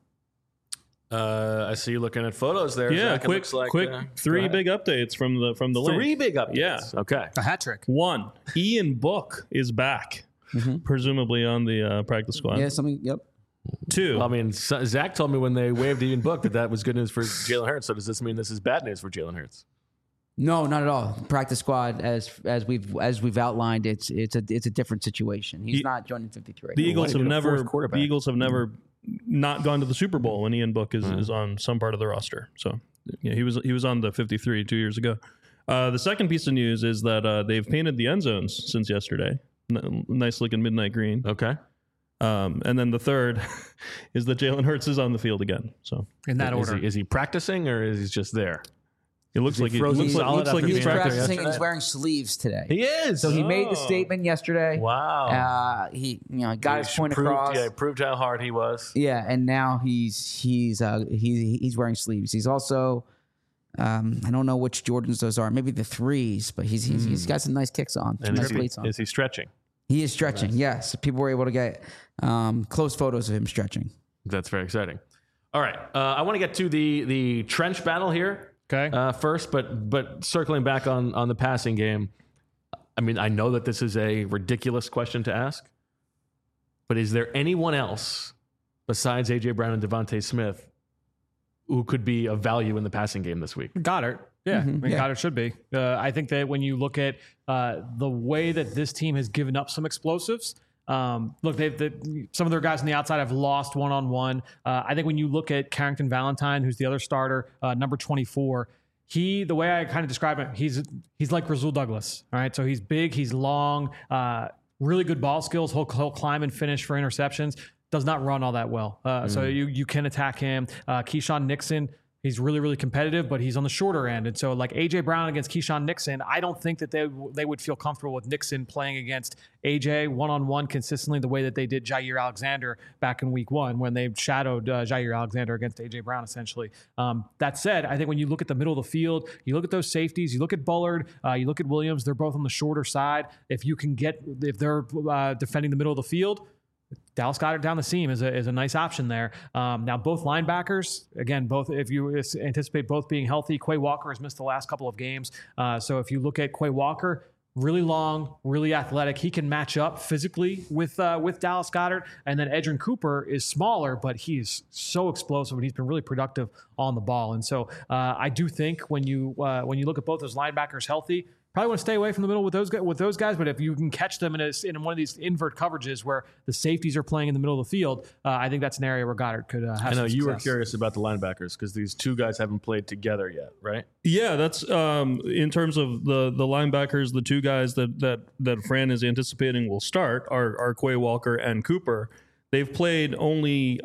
I see you looking at photos there. Yeah, Zach. It looks like, quick three big updates from the link. 3 big updates. Yeah. Okay. A hat trick. 1, Ian Book is back, presumably on the practice squad. Yeah, something, yep. 2, I mean, Zach told me when they waived Ian Book that was good news for Jalen Hurts. So does this mean this is bad news for Jalen Hurts? No, not at all. Practice squad, as we've outlined, it's a different situation. He's not joining 53. the Eagles have need a never fourth quarterback? the Eagles have never not gone to the Super Bowl when Ian Book is on some part of the roster. So yeah, he was on the 53 2 years ago. The second piece of news is that they've painted the end zones since yesterday. Nice looking midnight green. Okay. And then the third is that Jalen Hurts is on the field again. So In that order. Is he practicing or is he just there? it looks like frozen looks solid after He's being practicing. practicing practicing and he's wearing sleeves today. He is. So he made the Oh. statement yesterday. Wow. He got his point proved, across. Yeah, proved how hard he was. Yeah, and now he's wearing sleeves. He's also I don't know which Jordans those are. Maybe the 3s, but he's got some nice kicks on. Some And nice cleats on. is he stretching? He is stretching. Yes, people were able to get close photos of him stretching. That's very exciting. All right. I want to get to the trench battle here. Okay. First, but circling back on the passing game, I mean, I know that this is a ridiculous question to ask, but is there anyone else besides A.J. Brown and Devontae Smith who could be of value in the passing game this week? Goddard. Yeah, I mean, yeah. Goddard should be. I think that when you look at the way that this team has given up some explosives, look, some of their guys on the outside have lost one-on-one. I think when you look at Carrington Valentine, who's the other starter, number 24, the way I kind of describe him, he's like Rasul Douglas. All right, so he's big, he's long, really good ball skills. He'll climb and finish for interceptions. Does not run all that well. So you can attack him. Keyshawn Nixon. He's really, really competitive, but he's on the shorter end. And so like A.J. Brown against Keyshawn Nixon, I don't think that they would feel comfortable with Nixon playing against A.J. one-on-one consistently the way that they did Jair Alexander back in week 1 when they shadowed Jair Alexander against A.J. Brown, essentially. That said, I think when you look at the middle of the field, you look at those safeties, you look at Bullard, you look at Williams, they're both on the shorter side. If they're defending the middle of the field, Dallas Goedert down the seam is a nice option there. Now, both linebackers, again, if you anticipate both being healthy, Quay Walker has missed the last couple of games. So if you look at Quay Walker, really long, really athletic. He can match up physically with Dallas Goedert. And then Edgerrin Cooper is smaller, but he's so explosive and he's been really productive on the ball. And so I do think when you look at both those linebackers healthy, probably want to stay away from the middle with those guys, but if you can catch them in one of these invert coverages where the safeties are playing in the middle of the field, I think that's an area where Goddard could have I know some you were success. curious about the linebackers because these two guys haven't played together yet, right? Yeah, that's in terms of the linebackers, the two guys that Fran is anticipating will start are Quay Walker and Cooper. They've played only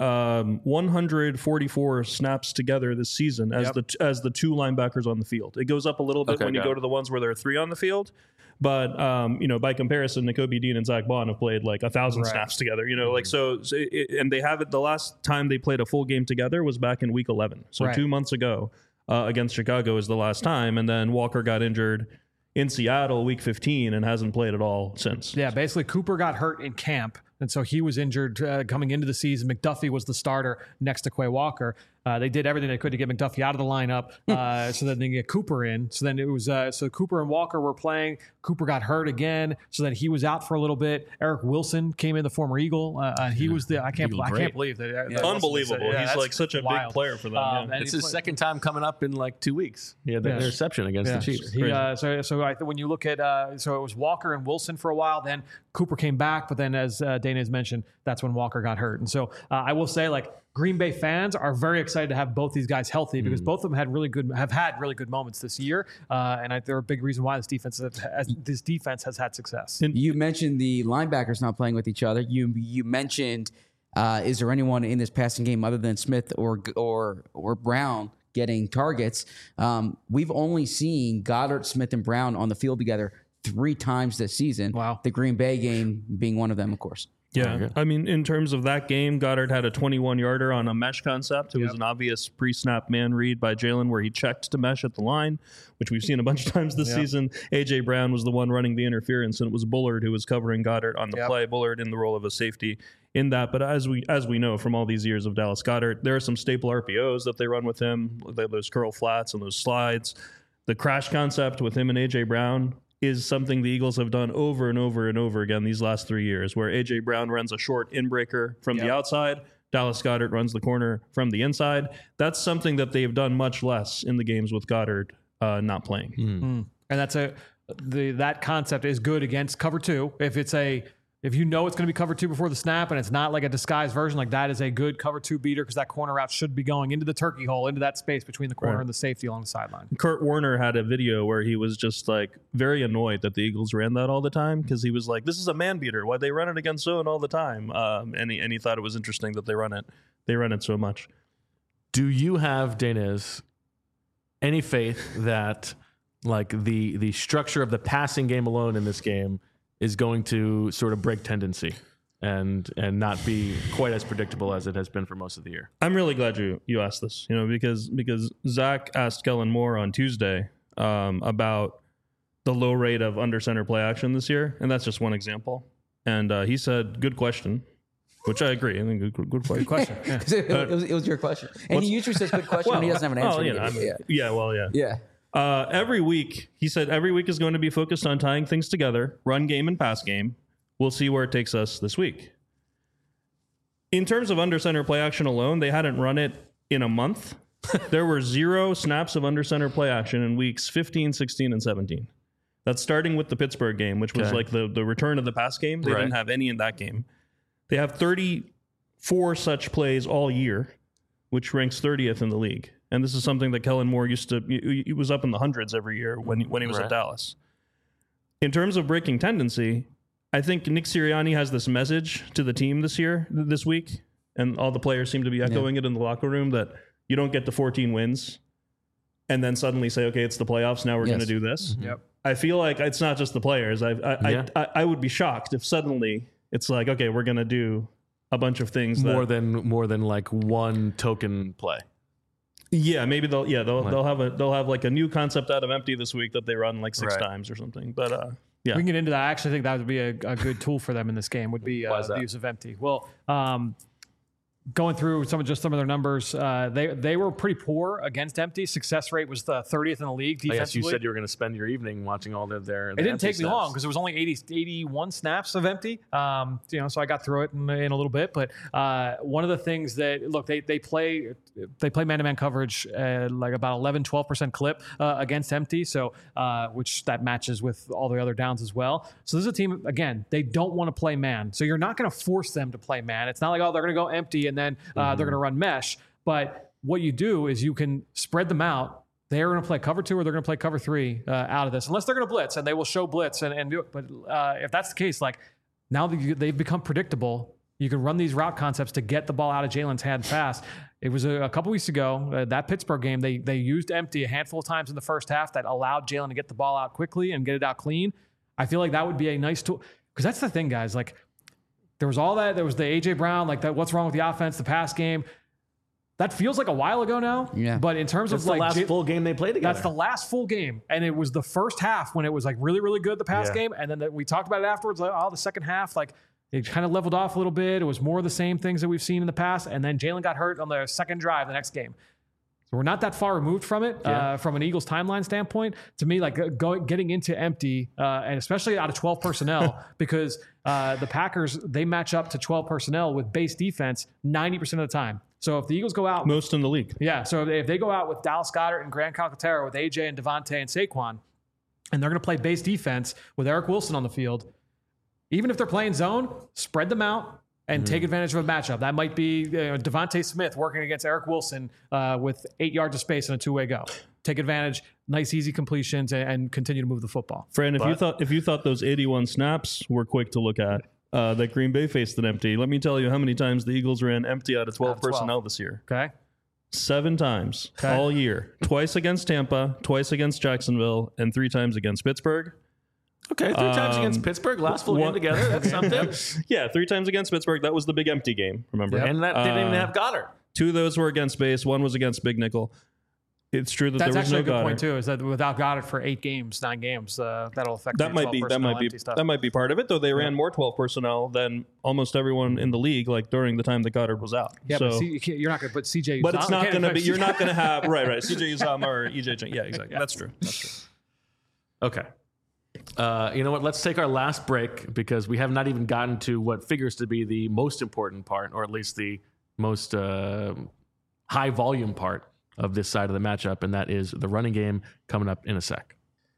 144 snaps together this season as the two linebackers on the field. It goes up a little bit when you go to the ones where there are 3 on the field. But by comparison, Nakobe Dean and Zach Bond have played like 1,000 snaps together. And they have it. The last time they played a full game together was back in week 11. So 2 months ago against Chicago is the last time. And then Walker got injured in Seattle week 15 and hasn't played at all since. Yeah, basically Cooper got hurt in camp. And so he was injured coming into the season. McDuffie was the starter next to Quay Walker. They did everything they could to get McDuffie out of the lineup so that they can get Cooper in. So then it was so Cooper and Walker were playing. Cooper got hurt again, so then he was out for a little bit. Eric Wilson came in, the former Eagle. He was the I can't believe that. Unbelievable. He's like such a big player for them. It's his second time coming up in like 2 weeks. He had the interception against the Chiefs. When you look at so it was Walker and Wilson for a while. Then Cooper came back, but then as Dana has mentioned, that's when Walker got hurt. And so I will say, like, Green Bay fans are very excited to have both these guys healthy because both of them have had really good moments this year, and they're a big reason why this defense has had success. You mentioned the linebackers not playing with each other. You mentioned, is there anyone in this passing game other than Smith or Brown getting targets? We've only seen Goddard, Smith, and Brown on the field together 3 times this season. Wow. The Green Bay game being one of them, of course. Yeah. I mean, in terms of that game, Goddard had a 21-yarder on a mesh concept. It was an obvious pre-snap man read by Jalen where he checked to mesh at the line, which we've seen a bunch of times this season. A.J. Brown was the one running the interference, and it was Bullard who was covering Goddard on the play. Bullard in the role of a safety in that. But as we know from all these years of Dallas Goedert, there are some staple RPOs that they run with him, those curl flats and those slides. The crash concept with him and A.J. Brown is something the Eagles have done over and over and over again these last 3 years, where A.J. Brown runs a short in-breaker from the outside, Dallas Goedert runs the corner from the inside. That's something that they've done much less in the games with Goddard not playing. And that's that concept is good against cover 2. If you know it's going to be cover 2 before the snap and it's not like a disguised version, like that is a good cover 2 beater because that corner route should be going into the turkey hole, into that space between the corner and the safety along the sideline. Kurt Warner had a video where he was just like very annoyed that the Eagles ran that all the time because he was like, this is a man beater. Why they run it against zone all the time? And he thought it was interesting that they run it so much. Do you have, Dana's, any faith that like the structure of the passing game alone in this game is going to sort of break tendency and not be quite as predictable as it has been for most of the year? I'm really glad you asked this, because Zach asked Kellen Moore on Tuesday about the low rate of under center play action this year, and that's just one example. And he said, "Good question," which I agree. I think good question. It was your question, and he usually says "good question" when he doesn't have an answer. Every week, he said, every week is going to be focused on tying things together, run game and pass game. We'll see where it takes us this week. In terms of under center play action alone, they hadn't run it in a month. There were 0 snaps of under center play action in weeks 15, 16, and 17. That's starting with the Pittsburgh game, which was like the return of the pass game. They didn't have any in that game. They have 34 such plays all year, which ranks 30th in the league. And this is something that Kellen Moore he was up in the hundreds every year when he was at Dallas. In terms of breaking tendency, I think Nick Sirianni has this message to the team this week, and all the players seem to be echoing it in the locker room, that you don't get to 14 wins and then suddenly say, okay, it's the playoffs, now we're going to do this. Yep. I feel like it's not just the players. I would be shocked if suddenly it's like, okay, we're going to do a bunch of things more than like one token play. Yeah, maybe they'll have like a new concept out of empty this week that they run like 6 times or something. But we can get into that. I actually think that would be a good tool for them in this game. Would be the use of empty. Well, going through some of their numbers, they were pretty poor against empty. Success rate was the 30th in the league defensively. Yes, you said you were going to spend your evening watching all their. It didn't take me long because it was only 81 snaps of empty. So I got through it in a little bit. But one of the things that they play man-to-man coverage like about 11-12% clip against empty. So which that matches with all the other downs as well. So this is a team, again, they don't want to play man. So you're not going to force them to play man. It's not like, oh, they're going to go empty and then they're going to run mesh. But what you do is you can spread them out. They're going to play cover 2 or they're going to play cover 3 out of this, unless they're going to blitz, and they will show blitz and do it. But if that's the case, like now that they've become predictable, you can run these route concepts to get the ball out of Jalen's hand fast. It was a couple weeks ago, that Pittsburgh game, they used empty a handful of times in the first half that allowed Jalen to get the ball out quickly and get it out clean. I feel like that would be a nice tool, because that's the thing, guys. Like there was all that. There was the A.J. Brown, like that. What's wrong with the offense? The pass game. That feels like a while ago now. Yeah. But in terms of the last full game they played together. That's the last full game. And it was the first half when it was like really, really good, the pass game. And then we talked about it afterwards. Like, the second half, like It kind of leveled off a little bit. It was more of the same things that we've seen in the past. And then Jalen got hurt on the second drive the next game. So we're not that far removed from it, from an Eagles timeline standpoint. To me, like getting into empty, and especially out of 12 personnel, because the Packers, they match up to 12 personnel with base defense 90% of the time. So if the Eagles go out... Most in the league. Yeah, so if they go out with Dallas Goedert and Grant Calcaterra, with AJ and Devontae and Saquon, and they're going to play base defense with Eric Wilson on the field, even if they're playing zone, spread them out, and take advantage of a matchup. That might be Devontae Smith working against Eric Wilson with 8 yards of space and a two-way go. Take advantage, nice easy completions, and continue to move the football. Fran, if you thought those 81 snaps were quick to look at, that Green Bay faced an empty, let me tell you how many times the Eagles ran empty out of 12 personnel this year. Okay. 7 times all year. Twice against Tampa, twice against Jacksonville, and 3 times against Pittsburgh. Okay, 3 times against Pittsburgh, last full game together. That's something. Yeah, 3 times against Pittsburgh. That was the big empty game, remember? Yep. And that didn't even have Goddard. 2 of those were against base. 1 was against Big Nickel. It's true that That's there was no actually a good Goddard. point too. Is that without Goddard for 9 games, that'll affect That might be part of it. Though they ran more 12 personnel than almost everyone in the league, like during the time that Goddard was out. Yeah, so, but you're not going to put CJ. but it's not going to be. You're not going to have right. CJ Uzomah or EJ. Yeah, exactly. Yeah. That's true. Okay. You know what? Let's take our last break because we have not even gotten to what figures to be the most important part, or at least the most high volume part of this side of the matchup, and that is the running game coming up in a sec.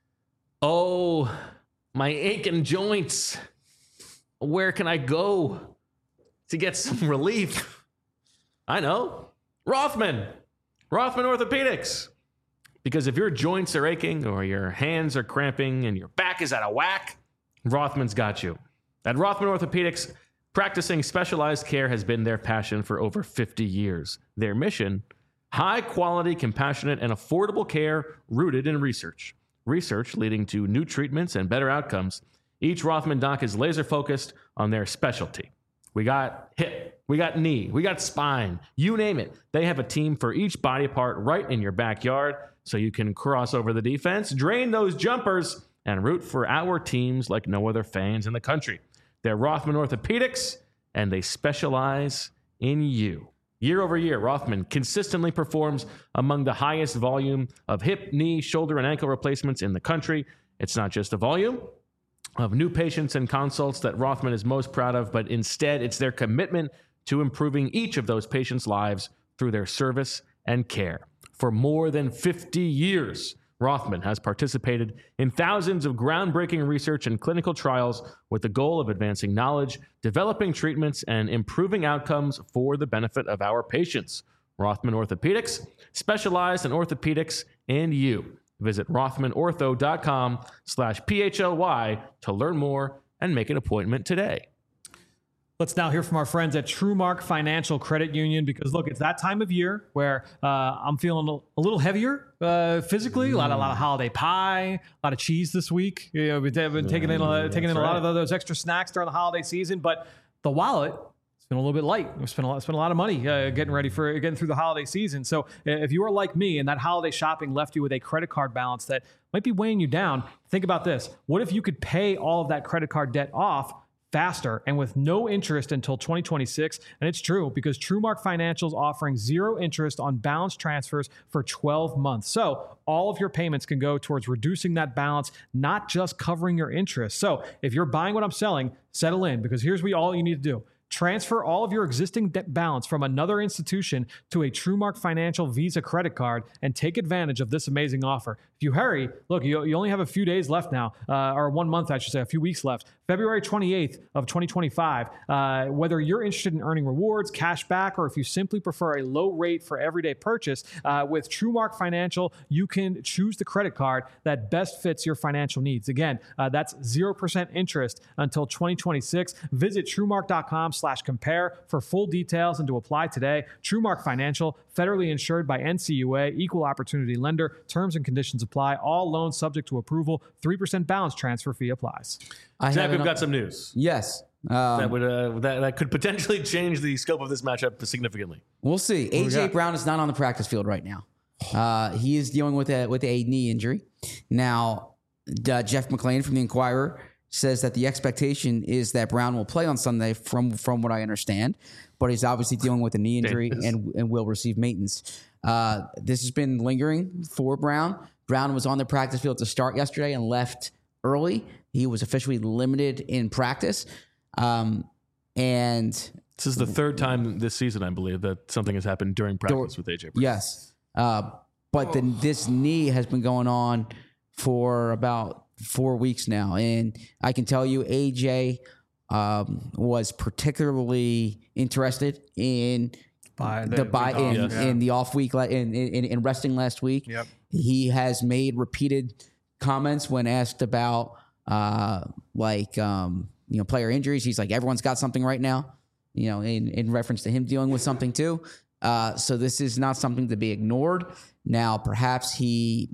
Oh, my aching joints. Where can I go to get some relief? I know. Rothman Orthopedics. Because if your joints are aching or your hands are cramping and your back is out of whack, Rothman's got you. At Rothman Orthopedics, practicing specialized care has been their passion for over 50 years. Their mission, high quality, compassionate, and affordable care rooted in research. Research leading to new treatments and better outcomes. Each Rothman doc is laser focused on their specialty. We got hip, we got knee, we got spine, you name it. They have a team for each body part right in your backyard so you can cross over the defense, drain those jumpers, and root for our teams like no other fans in the country. They're Rothman Orthopedics, and they specialize in you. Year over year, Rothman consistently performs among the highest volume of hip, knee, shoulder, and ankle replacements in the country. It's not just the volume of new patients and consults that Rothman is most proud of, but instead it's their commitment to improving each of those patients' lives through their service and care. For more than 50 years, Rothman has participated in thousands of groundbreaking research and clinical trials with the goal of advancing knowledge, developing treatments, and improving outcomes for the benefit of our patients. Rothman Orthopedics, specialized in orthopedics and you. Visit rothmanortho.com/PHLY to learn more and make an appointment today. Let's now hear from our friends at TrueMark Financial Credit Union because, look, it's that time of year where I'm feeling a little heavier physically. A lot of holiday pie, a lot of cheese this week. You know, we've been taking in a lot of those extra snacks during the holiday season, but the wallet, it's been a little bit light. We spent a lot of money getting through the holiday season. So if you are like me and that holiday shopping left you with a credit card balance that might be weighing you down, think about this. What if you could pay all of that credit card debt off faster and with no interest until 2026? And it's true because TrueMark Financial is offering 0 interest on balance transfers for 12 months. So all of your payments can go towards reducing that balance, not just covering your interest. So if you're buying what I'm selling, settle in because here's all you need to do. Transfer all of your existing debt balance from another institution to a TrueMark Financial Visa credit card and take advantage of this amazing offer. If you hurry, look, you only have a few days left now, or 1 month, I should say, a few weeks left. February 28th of 2025. Whether you're interested in earning rewards, cash back, or if you simply prefer a low rate for everyday purchase, with TrueMark Financial, you can choose the credit card that best fits your financial needs. Again, that's 0% interest until 2026. Visit TrueMark.com/compare for full details and to apply today. TrueMark Financial, federally insured by NCUA, equal opportunity lender. Terms and conditions apply. All loans subject to approval. 3% balance transfer fee applies. Zach, we've got some news. Yes. That could potentially change the scope of this matchup significantly. We'll see. AJ Brown is not on the practice field right now. He is dealing with a knee injury. Now, Jeff McLean from the Inquirer says that the expectation is that Brown will play on Sunday from what I understand, but he's obviously dealing with a knee injury and will receive maintenance. This has been lingering for Brown. Brown was on the practice field to start yesterday and left early. He was officially limited in practice. And this is the third time this season, I believe, that something has happened during practice with AJ Brown. Yes. But this knee has been going on for about 4 weeks now. And I can tell you AJ was particularly interested in the off week in resting last week. Yep. He has made repeated comments when asked about player injuries. He's like, everyone's got something right now, in reference to him dealing with something too. So this is not something to be ignored. Now, perhaps he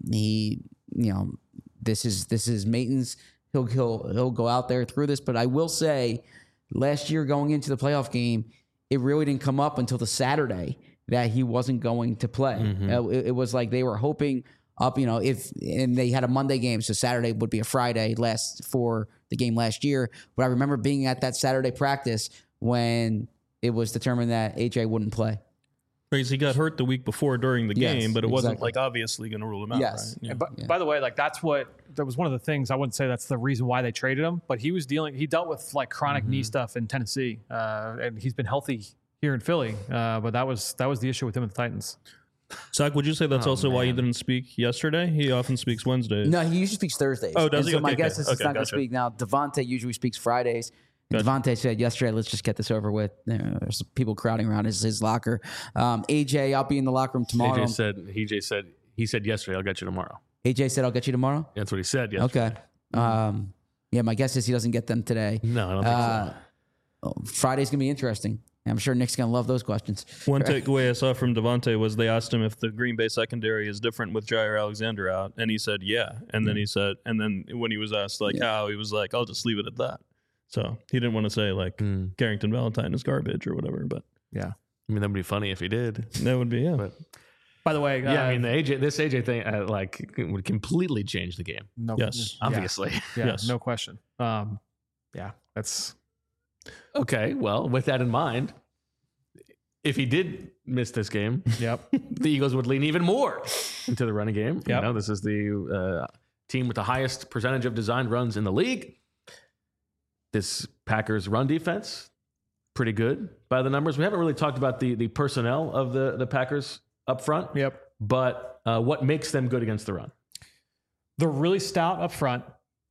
this is maintenance. He'll go out there through this. But I will say, last year going into the playoff game, it really didn't come up until the Saturday that he wasn't going to play. Mm-hmm. It was like they were hoping up, and they had a Monday game, so Saturday would be a Friday for the game last year. But I remember being at that Saturday practice when it was determined that AJ wouldn't play. Because he got hurt the week before during the game, but it wasn't exactly. obviously going to rule him out. Yes. Right? Yeah. And by the way, that was one of the things. I wouldn't say that's the reason why they traded him, but he dealt with chronic knee stuff in Tennessee, and he's been healthy here in Philly. But that was the issue with him and the Titans. Zach, would you say that's also why he didn't speak yesterday? He often speaks Wednesdays. No, he usually speaks Thursdays. Oh, does he? So my Okay, guess is he's not going to gotcha. speak now. Devontae usually speaks Fridays. Gotcha. Devontae said yesterday, let's just get this over with. There's people crowding around his locker. AJ, I'll be in the locker room tomorrow. He said yesterday, I'll get you tomorrow. AJ said, I'll get you tomorrow? That's what he said yesterday. Okay. Yeah, my guess is he doesn't get them today. No, I don't think so. Friday's going to be interesting. I'm sure Nick's going to love those questions. One takeaway I saw from Devontae was they asked him if the Green Bay secondary is different with Jair Alexander out, and he said, yeah. And then then when he was asked how, he was like, I'll just leave it at that. So he didn't want to say Carrington Valentine is garbage or whatever, but yeah. I mean, that would be funny if he did. That would be, yeah. But, By the way, I mean, this AJ thing would completely change the game. no, Yes. Obviously. yeah, Yes. no question. That's Okay, well, with that in mind, if he did miss this game, yep. the Eagles would lean even more into the running game. Yep. This is the team with the highest percentage of designed runs in the league. This Packers run defense, pretty good by the numbers. We haven't really talked about the personnel of the Packers up front. Yep. But what makes them good against the run? They're really stout up front.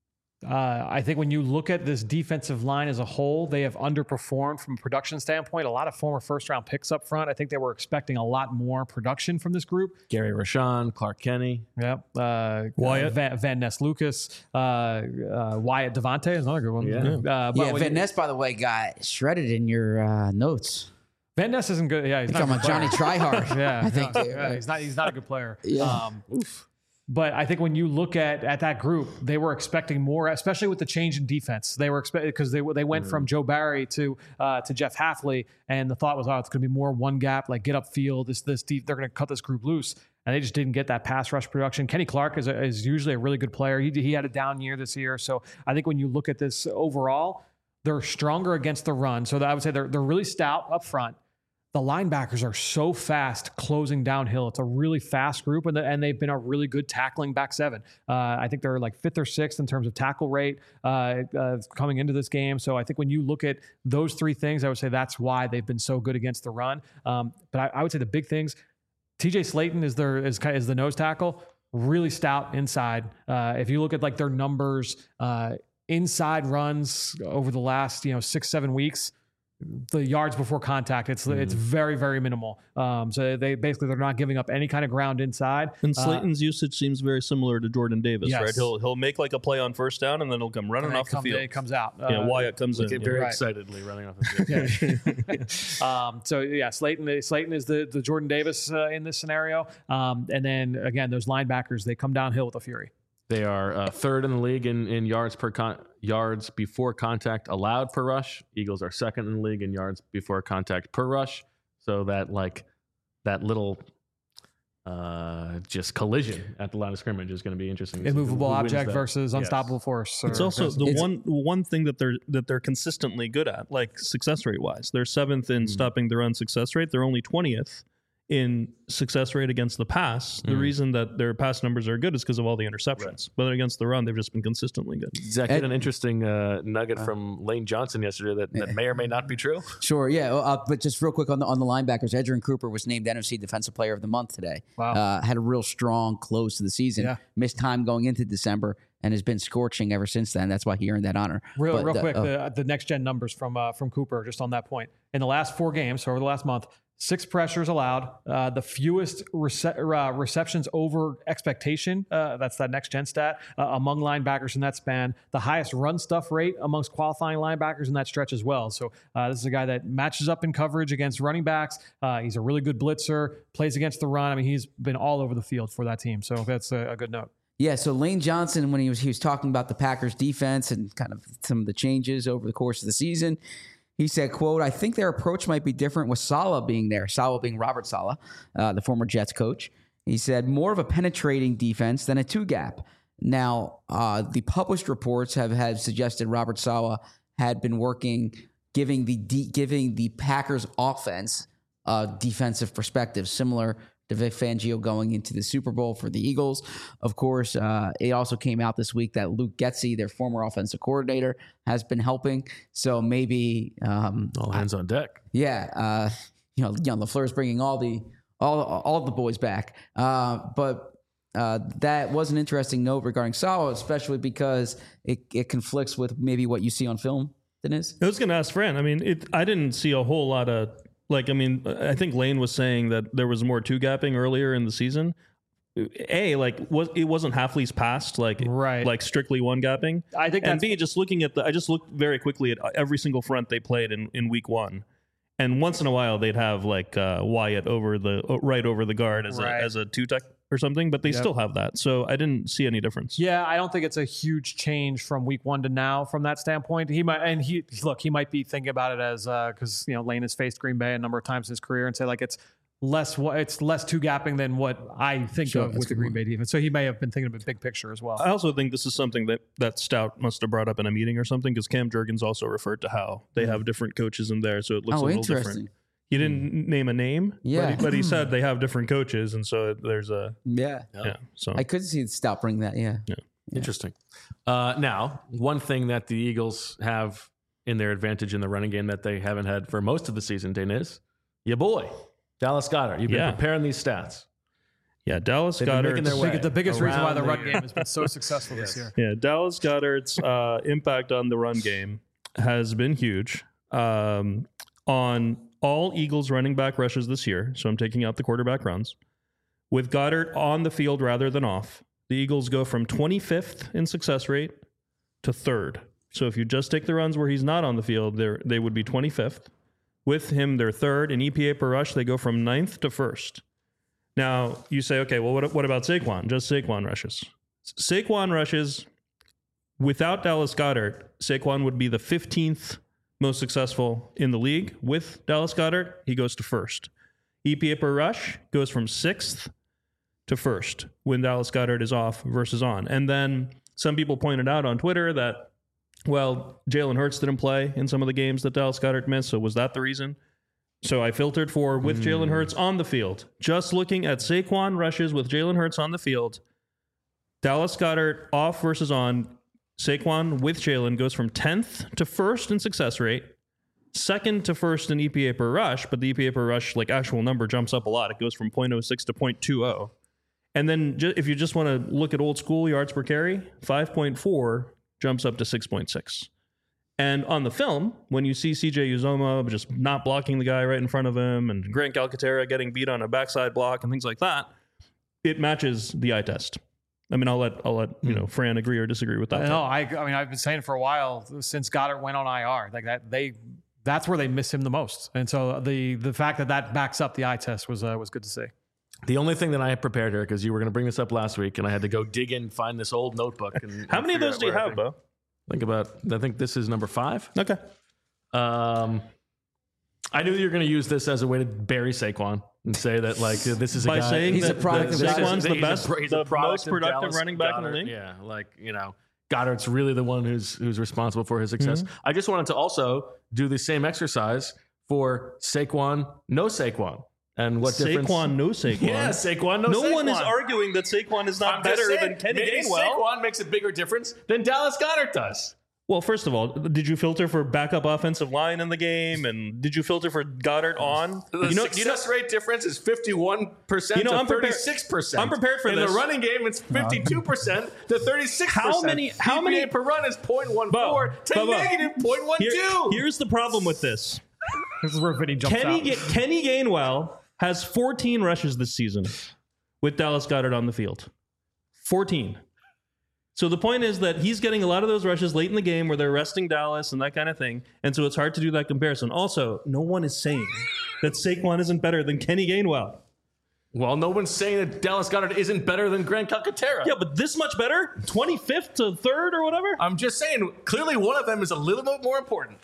I think when you look at this defensive line as a whole, they have underperformed from a production standpoint. A lot of former first-round picks up front. I think they were expecting a lot more production from this group. Gary Rashawn, Clark Kenny. Yep. Wyatt. Van Ness Lucas. Wyatt Devontae is another good one. Yeah. Van Ness, by the way, got shredded in your notes. Van Ness isn't good. Yeah, he's not Talking a about good Johnny player. Tryhard. Yeah, I think. yeah, he's not a good player. Yeah. But I think when you look at that group, they were expecting more, especially with the change in defense. They were expecting because they went from Joe Barry to Jeff Hafley, and the thought was, it's going to be more one gap, like get upfield. This deep, they're going to cut this group loose, and they just didn't get that pass rush production. Kenny Clark is usually a really good player. He had a down year this year, so I think when you look at this overall, they're stronger against the run. So I would say they're really stout up front. The linebackers are so fast closing downhill. It's a really fast group, and they've been a really good tackling back seven. I think they're like 5th or 6th in terms of tackle rate coming into this game. So I think when you look at those three things, I would say that's why they've been so good against the run. But I would say the big things, TJ Slayton is the nose tackle, really stout inside. If you look at their numbers, inside runs over the last 6-7 weeks, the yards before contact, it's very, very minimal. So they're not giving up any kind of ground inside. And Slayton's usage seems very similar to Jordan Davis, Yes. right? He'll make a play on first down, and then he'll come running off the field. It comes out. Wyatt comes in. Very Right. excitedly running off the field. So yeah, Slayton is the Jordan Davis in this scenario. And then again, those linebackers, they come downhill with a fury. They are 3rd in the league in yards yards before contact allowed per rush. Eagles are 2nd in the league in yards before contact per rush. So that little just collision at the line of scrimmage is going to be interesting. to see Immovable who wins object that. versus Yes. unstoppable force. It's also the one thing that they're consistently good at, like success rate wise. They're 7th in stopping the run success rate. They're only 20th in success rate against the pass. The reason that their pass numbers are good is because of all the interceptions. But against the run, they've just been consistently good. Zach, had an interesting nugget from Lane Johnson yesterday that may or may not be true. Sure, yeah. But just real quick on the linebackers, Edgerrin Cooper was named NFC Defensive Player of the Month today. Wow. Had a real strong close to the season. Yeah. Missed time going into December and has been scorching ever since then. That's why he earned that honor. Real quick, the next gen numbers from Cooper, just on that point. In the last 4 games, so over the last month, 6 pressures allowed, the fewest receptions over expectation. That's that next gen stat among linebackers in that span. The highest run stuff rate amongst qualifying linebackers in that stretch as well. So this is a guy that matches up in coverage against running backs. He's a really good blitzer, plays against the run. I mean, he's been all over the field for that team. So that's a good note. Yeah, so Lane Johnson, when he was talking about the Packers defense and kind of some of the changes over the course of the season, he said, quote, I think their approach might be different with Saleh being there, Saleh being Robert Saleh, the former Jets coach. He said, more of a penetrating defense than a 2-gap. Now, the published reports have suggested Robert Saleh had been working, giving the Packers offense a defensive perspective, similar to Vic Fangio going into the Super Bowl for the Eagles. Of course, it also came out this week that Luke Getsy, their former offensive coordinator, has been helping. So maybe All hands on deck. yeah, LaFleur's bringing all the boys back. But that was an interesting note regarding Saleh, especially because it conflicts with maybe what you see on film, Dennis. I was going to ask Fran. I mean, I didn't see a whole lot of I think Lane was saying that there was more 2-gapping earlier in the season. It wasn't half lease passed, like strictly 1-gapping. I think and B, I just looked very quickly at every single front they played in week 1. And once in a while they'd have Wyatt right over the guard as a 2-tech or something, but they still have that. So I didn't see any difference. Yeah, I don't think it's a huge change from week 1 to now from that standpoint. He might be thinking about it as because Lane has faced Green Bay a number of times in his career and say it's less 2-gapping than what I think of with the Green Bay defense. So he may have been thinking of a big picture as well. I also think this is something that Stout must have brought up in a meeting or something, because Cam Jurgens also referred to how they have different coaches in there, so it looks a little different. He didn't name a name, but he said they have different coaches, and so there's a So I could see Stout bring that. Yeah. Interesting. Now, one thing that the Eagles have in their advantage in the running game that they haven't had for most of the season, Dane, is your boy, Dallas Goedert. You've been preparing these stats. Yeah, Dallas Goedert. The biggest reason why the run game has been so successful this year. Yeah, Dallas Goedert's impact on the run game has been huge. On all Eagles running back rushes this year, so I'm taking out the quarterback runs, with Goedert on the field rather than off, the Eagles go from 25th in success rate to 3rd. So if you just take the runs where he's not on the field, they would be 25th. With him, they're 3rd. In EPA per rush, they go from 9th to 1st. Now, you say, okay, well, what about Saquon? Just Saquon rushes. Saquon rushes, without Dallas Goedert, Saquon would be the 15th most successful in the league. With Dallas Goedert, he goes to 1st. EPA per rush goes from 6th to 1st when Dallas Goedert is off versus on. And then some people pointed out on Twitter that, well, Jalen Hurts didn't play in some of the games that Dallas Goedert missed, so was that the reason? So I filtered for with Jalen Hurts on the field. Just looking at Saquon rushes with Jalen Hurts on the field, Dallas Goedert off versus on, Saquon with Jalen goes from 10th to 1st in success rate, 2nd to 1st in EPA per rush, but the EPA per rush, actual number, jumps up a lot. It goes from 0.06 to 0.20. And then if you just want to look at old school yards per carry, 5.4 jumps up to 6.6. And on the film, when you see CJ Uzomah just not blocking the guy right in front of him, and Grant Calcaterra getting beat on a backside block and things like that, it matches the eye test. I mean, I'll let Fran agree or disagree with that. No, I mean, I've been saying for a while since Goedert went on IR, that's where they miss him the most. And so the fact that backs up the eye test was good to see. The only thing that I had prepared here, because you were going to bring this up last week, and I had to go dig in, find this old notebook. And how many of those do you have, Bo? I think this is number 5. Okay. I knew you were going to use this as a way to bury Saquon. and say that like this is a By guy saying He's a that product of Saquon's the he's a- best, he's a the product most of productive Dallas running back in the Goedert. league. Yeah, like Goddard's really the one who's responsible for his success. I just wanted to also do the same exercise for Saquon, no Saquon, and what difference? Saquon, no Saquon. Yeah, Saquon, no Saquon. No one is arguing that Saquon is not I'm just better saying, than Kenny maybe Gainwell. Saquon makes a bigger difference than Dallas Goedert does. Well, first of all, did you filter for backup offensive line in the game, and did you filter for Goddard on? The success rate difference is 51% to I'm prepared- 36%. I'm prepared for in this. the running game, it's 52% to 36%. How many EPA per run is 0.14 to Bo. negative 0.12. Here's the problem with this. This is where Vinny jumps out. Kenny Gainwell has 14 rushes this season with Dallas Goedert on the field. 14. So the point is that he's getting a lot of those rushes late in the game where they're resting Dallas and that kind of thing. And so it's hard to do that comparison. Also, no one is saying that Saquon isn't better than Kenny Gainwell. Well, no one's saying that Dallas Goedert isn't better than Grant Calcaterra. Yeah, but this much better? 25th to 3rd or whatever? I'm just saying, clearly one of them is a little bit more important.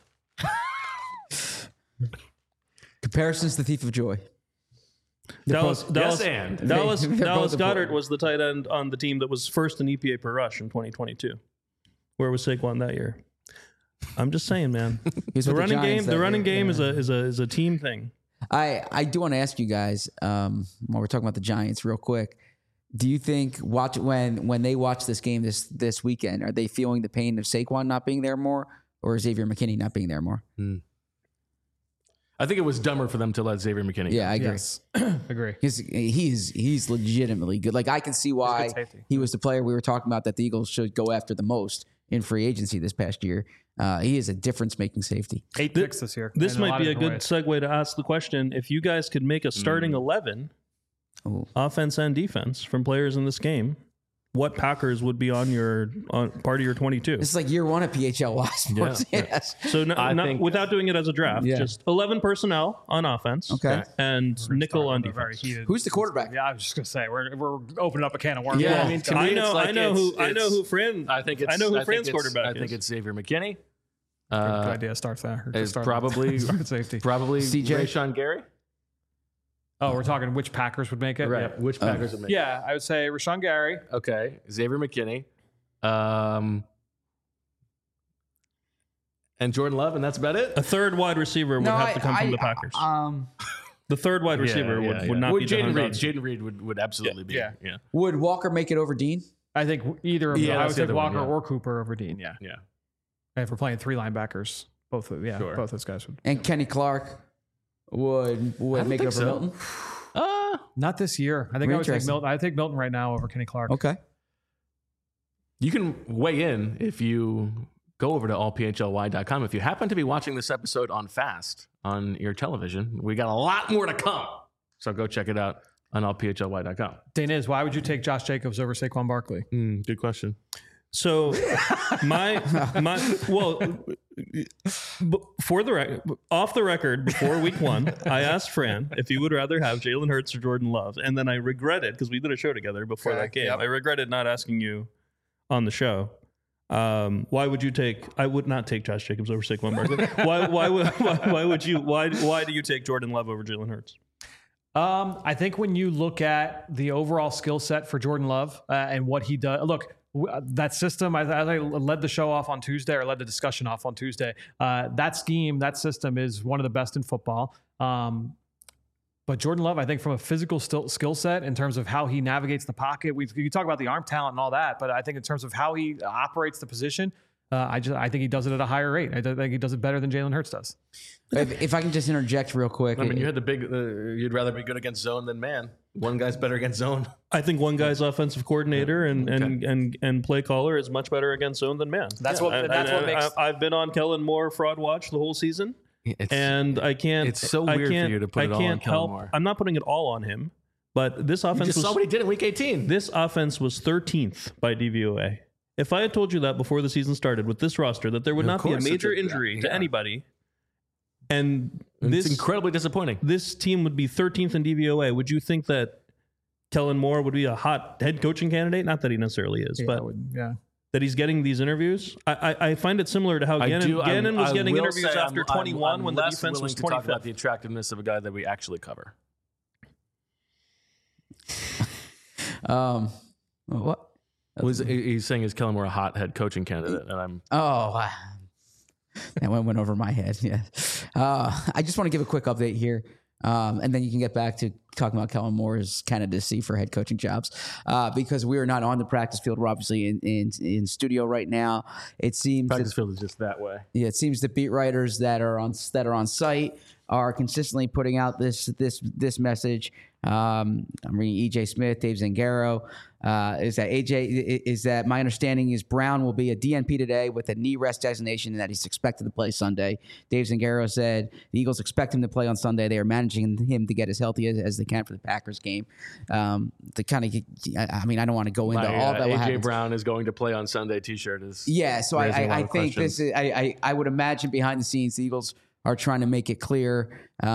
Comparison's the thief of joy. Dallas yes, and. Dallas They're both Goedert important. was the tight end on the team that was first in EPA per rush in 2022. Where was Saquon that year? I'm just saying, man. He's The with running Giants game, that the running year. game Yeah. is a team thing. I do want to ask you guys while we're talking about the Giants real quick. Do you think when they watch this game this weekend, are they feeling the pain of Saquon not being there more, or Xavier McKinney not being there more? I think it was dumber for them to let Xavier McKinney go. Yeah, I agree. Yes, agree. He's legitimately good. Like I can see why safety. he was the player we were talking about that the Eagles should go after the most in free agency this past year. He is a difference-making safety. 8 picks this year. This in might lot be of a good different segue to ask the question: if you guys could make a starting 11, Ooh. offense and defense, from players in this game, what Packers would be on part of your 22? This is like year one of PHLY sports. Yeah. Yes. So I think- without doing it as a draft, Yeah. just 11 personnel on offense, Okay. and nickel on ways. Very defense. heated. Who's the quarterback? Yeah, I was just gonna say we're opening up a can of worms. Yeah, Well, I mean, to me, I it's know like I know who Fran. I think it's. I know who I think Fran's it's- quarterback I is. think it's Xavier McKinney. good idea. Starts there. It's probably safety. probably CJ? Rashawn Gary. Oh, we're talking which Packers would make it. Right. Yep. Which Packers would make? Yeah, I would say Rashawn Gary. Okay. Xavier McKinney. And Jordan Love, and that's about it. A third wide receiver would have to come from the Packers. The third wide receiver would not be Jaden Jahan Reed. Dodson. Jaden Reed would absolutely be. Yeah. Yeah. Would Walker make it over Dean? I think either of them. Yeah, I that's would the take other one, Walker yeah. or Cooper over Dean. Yeah. Yeah. And if we're playing 3 linebackers, both those guys would. And Kenny Clark would make it over think so. Milton? Not this year. I think I would take Interesting. Milton. I take Milton right now over Kenny Clark. Okay. You can weigh in if you go over to allphly.com. If you happen to be watching this episode on fast on your television, we got a lot more to come. So go check it out on allphly.com. Daniz, why would you take Josh Jacobs over Saquon Barkley? Good question. So for the off the record before week 1, I asked Fran if he would rather have Jalen Hurts or Jordan Love, and then I regretted because we did a show together before that game. Yep. I regretted not asking you on the show. Why would you take? I would not take Josh Jacobs over Saquon Barkley. Why would you? Why do you take Jordan Love over Jalen Hurts? I think when you look at the overall skill set for Jordan Love and what he does, that system, as I led the show off on Tuesday, or led the discussion off on Tuesday, that scheme, that system is one of the best in football. But Jordan Love, I think from a physical skill set in terms of how he navigates the pocket, you talk about the arm talent and all that, but I think in terms of how he operates the position, I think he does it at a higher rate. I think he does it better than Jalen Hurts does. If I can just interject real quick. I mean, you had the big, you'd rather be good against zone than man. One guy's better against zone. I think one guy's offensive coordinator and play caller is much better against zone than man. That's what makes. I've been on Kellen Moore fraud watch the whole season. And I can't. It's so weird for you to put it all on Kellen Moore. I'm not putting it all on him, but this You offense just saw what he did in week 18. this offense was 13th by DVOA. If I had told you that before the season started with this roster, that there would not be a course, major it's injury to yeah. anybody, and It's this incredibly disappointing. this team would be 13th in DVOA, would you think that Kellen Moore would be a hot head coaching candidate? Not that he necessarily is, but that he's getting these interviews. I find it similar to how Gannon was getting interviews after 21 when the defense was to talk 25th. about the attractiveness of a guy that we actually cover. What? He's saying, is Kellen Moore a hot head coaching candidate? And I'm That went over my head. Yeah. I just want to give a quick update here. And then you can get back to talking about Kellen Moore's candidacy for head coaching jobs, because we are not on the practice field. We're obviously in studio right now. It seems practice field is just that way. Yeah, it seems the beat writers that are on site are consistently putting out this message. I'm reading EJ Smith, Dave Zangaro. Is that my understanding is Brown will be a DNP today with a knee rest designation and that he's expected to play Sunday. Dave Zangaro said the Eagles expect him to play on Sunday. They are managing him to get as healthy as they can for the Packers game. To kind of, I don't want to go into all that. AJ Brown is going to play on Sunday T-shirt is so I think this is I would imagine behind the scenes the Eagles are trying to make it clear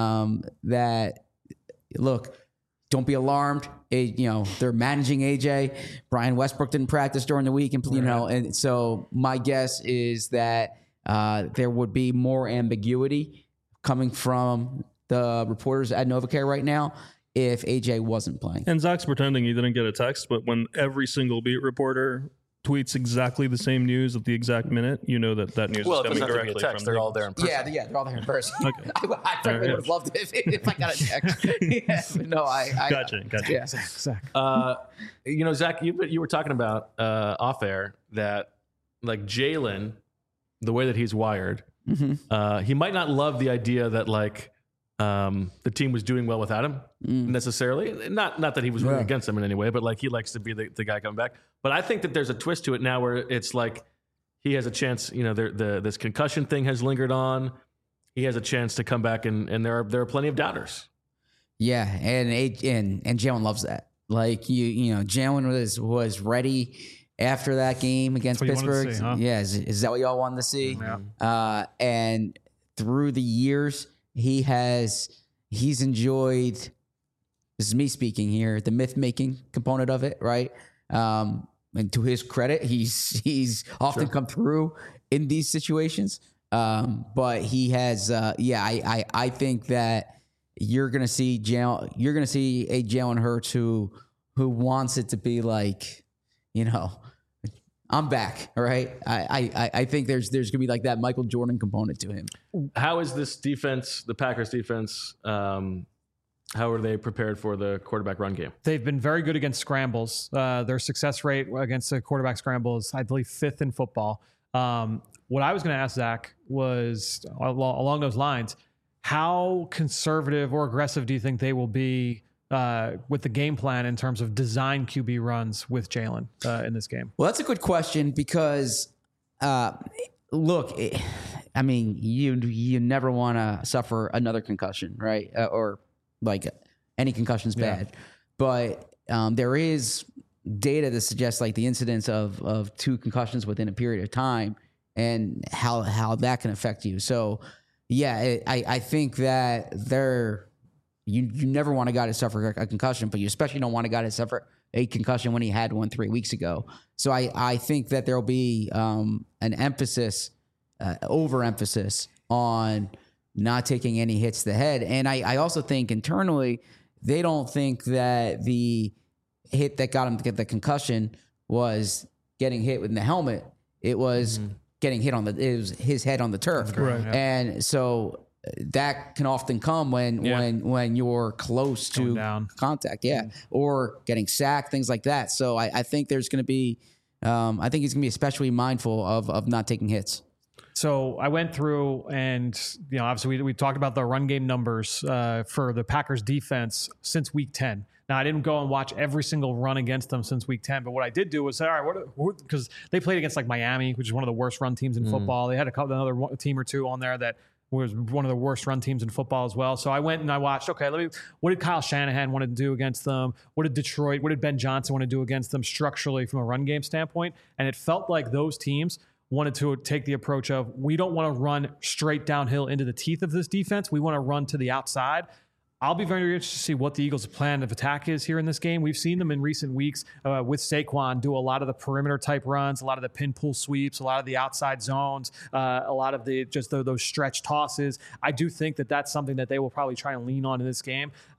that look. Don't be alarmed. They're managing AJ. Brian Westbrook didn't practice during the week, and so my guess is that there would be more ambiguity coming from the reporters at NovaCare right now if AJ wasn't playing. And Zach's pretending he didn't get a text, but when every single beat reporter tweets exactly the same news at the exact minute, you know that news is coming directly from they're all there in person. Yeah, they're all there in person. Okay. I frankly would have loved it if I got a text. I Gotcha. Yeah. Zach. Zach, you were talking about off air that like Jalen, the way that he's wired, he might not love the idea that like the team was doing well without him necessarily. Not that he was rooting against them in any way, but like he likes to be the guy coming back. But I think that there's a twist to it now where it's like he has a chance. This concussion thing has lingered on. He has a chance to come back, and there are plenty of doubters. Yeah, and Jalen loves that. Like Jalen was ready after that game against Pittsburgh. See, huh? Yeah, is that what y'all wanted to see? Yeah. And through the years, he's enjoyed. This is me speaking here. The myth making component of it, right? And to his credit, he's often come through in these situations. But he has, I think that you're gonna see a Jalen Hurts who wants it to be like, I'm back, all right? I think there's gonna be like that Michael Jordan component to him. How is this defense, the Packers defense? How are they prepared for the quarterback run game? They've been very good against scrambles. Their success rate against the quarterback scramble is, I believe, 5th in football. What I was going to ask Zach was along those lines, how conservative or aggressive do you think they will be with the game plan in terms of design QB runs with Jalen in this game? Well, that's a good question because, look, you never want to suffer another concussion, right? Or like any concussion's bad, but there is data that suggests like the incidence of 2 concussions within a period of time and how that can affect you. So I think that you never want a guy to suffer a concussion, but you especially don't want a guy to suffer a concussion when he had one 3 weeks ago. So I think that there'll be an emphasis, overemphasis on not taking any hits to the head. And I also think internally, they don't think that the hit that got him to get the concussion was getting hit in the helmet. It was getting hit it was his head on the turf. Right. Yeah. And so that can often come when you're close to contact. Yeah. Or getting sacked, things like that. So I think there's going to be, I think he's going to be especially mindful of not taking hits. So I went through and, obviously we talked about the run game numbers for the Packers defense since week 10. Now, I didn't go and watch every single run against them since week 10, but what I did do was say, all right, because they played against like Miami, which is one of the worst run teams in football. They had another team or two on there that was one of the worst run teams in football as well. So I went and I watched, what did Kyle Shanahan want to do against them? What did Ben Johnson want to do against them structurally from a run game standpoint? And it felt like those teams wanted to take the approach of, we don't want to run straight downhill into the teeth of this defense. We want to run to the outside. I'll be very interested to see what the Eagles' plan of attack is here in this game. We've seen them in recent weeks with Saquon do a lot of the perimeter type runs, a lot of the pin pull sweeps, a lot of the outside zones, a lot of those stretch tosses. I do think that that's something that they will probably try and lean on in this game.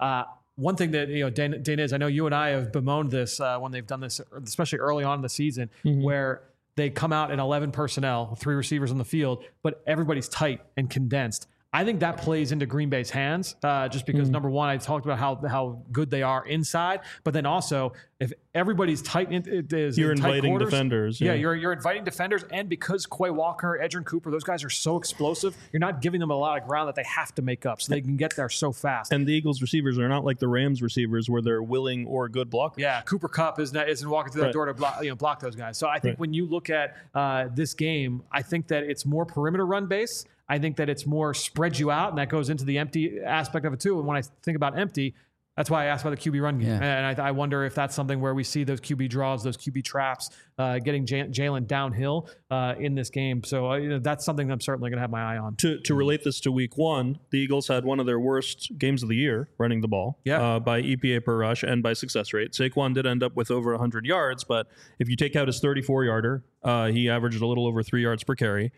one thing that, Dana is, I know you and I have bemoaned this when they've done this, especially early on in the season, where they come out in 11 personnel, 3 receivers on the field, but everybody's tight and condensed. I think that plays into Green Bay's hands, just because number one, I talked about how good they are inside, but then also if everybody's tight, you're inviting defenders. Yeah, you're inviting defenders, and because Quay Walker, Edgerrin Cooper, those guys are so explosive, you're not giving them a lot of ground that they have to make up, so they can get there so fast. And the Eagles receivers are not like the Rams receivers where they're willing or good blockers. Yeah, Cooper Kupp isn't walking through that door to block those guys. So I think when you look at this game, I think that it's more perimeter run base. I think that it's more spread you out, and that goes into the empty aspect of it too. And when I think about empty, that's why I asked about the QB run game. Yeah. And I wonder if that's something where we see those QB draws, those QB traps, getting Jalen downhill in this game. So that's something I'm certainly going to have my eye on. To relate this to week 1, the Eagles had one of their worst games of the year running the ball by EPA per rush and by success rate. Saquon did end up with over 100 yards, but if you take out his 34-yarder, he averaged a little over 3 yards per carry.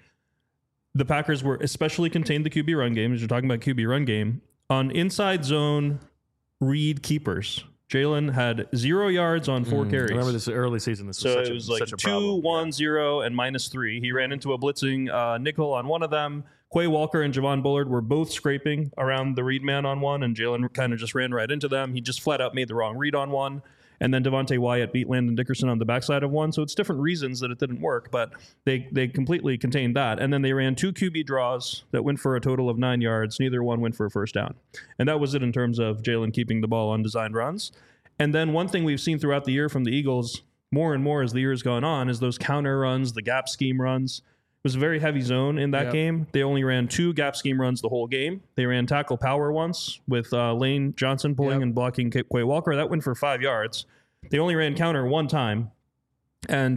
The Packers were especially contained the QB run game, as you're talking about QB run game. On inside zone read keepers, Jalen had 0 yards on 4 carries. I remember this early season. This was it was like such a 2, problem. 1, 0, and -3. He ran into a blitzing nickel on one of them. Quay Walker and Javon Bullard were both scraping around the read man on one, and Jalen kind of just ran right into them. He just flat out made the wrong read on one. And then Devontae Wyatt beat Landon Dickerson on the backside of one. So it's different reasons that it didn't work, but they completely contained that. And then they ran 2 QB draws that went for a total of 9 yards. Neither one went for a first down. And that was it in terms of Jalen keeping the ball on designed runs. And then one thing we've seen throughout the year from the Eagles, more and more as the year has gone on, is those counter runs, the gap scheme runs. It was a very heavy zone in that game. They only ran 2 gap scheme runs the whole game. They ran tackle power once with Lane Johnson pulling and blocking Quay Walker. That went for 5 yards. They only ran counter 1 time. And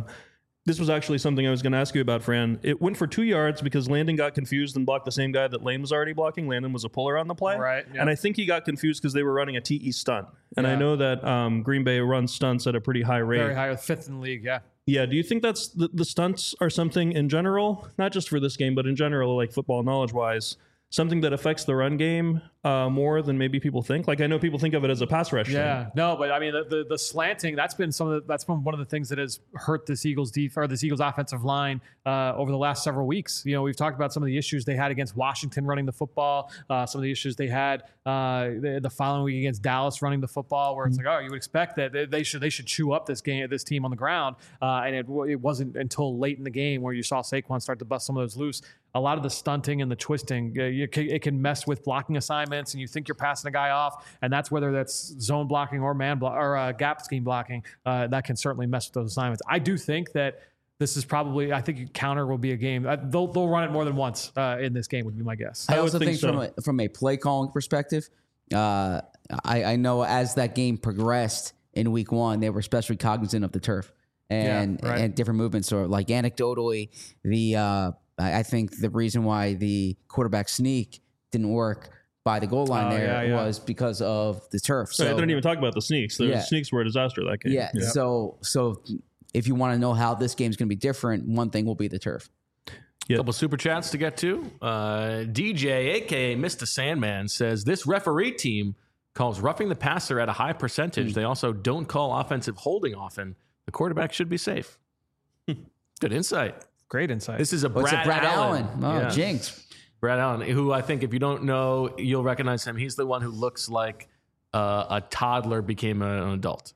this was actually something I was going to ask you about, Fran. It went for 2 yards because Landon got confused and blocked the same guy that Lane was already blocking. Landon was a puller on the play. Right. Yep. And I think he got confused because they were running a TE stunt. And I know that Green Bay runs stunts at a pretty high rate. Very high, 5th in the league, Yeah, do you think that's the stunts are something in general, not just for this game, but in general, like football knowledge-wise, something that affects the run game more than maybe people think? Like, I know people think of it as a pass rush thing. No, but I mean the slanting, that's been one of the things that has hurt this Eagles offensive line over the last several weeks. We've talked about some of the issues they had against Washington running the football, some of the issues they had the following week against Dallas running the football, where it's like, you would expect that they should chew up this team on the ground, and it wasn't until late in the game where you saw Saquon start to bust some of those loose. A lot of the stunting and the twisting, it can mess with blocking assignments, and you think you're passing a guy off, and that's whether that's zone blocking or gap scheme blocking. That can certainly mess with those assignments. I do think that this is probably, I think counter will be a game. They'll run it more than once in this game would be my guess. I also think from a play calling perspective, I know as that game progressed in week 1, they were especially cognizant of the turf and different movements. So like anecdotally, I think the reason why the quarterback sneak didn't work by the goal line was because of the turf. So I didn't even talk about the sneaks. The sneaks were a disaster that game. Yeah. So if you want to know how this game's going to be different, one thing will be the turf. A couple super chats to get to. DJ, a.k.a. Mr. Sandman, says, this referee team calls roughing the passer at a high percentage. They also don't call offensive holding often. The quarterback should be safe. Good insight. Great insight. This is Brad Allen. Oh, jinx. Brad Allen, who I think if you don't know, you'll recognize him. He's the one who looks like a toddler became an adult.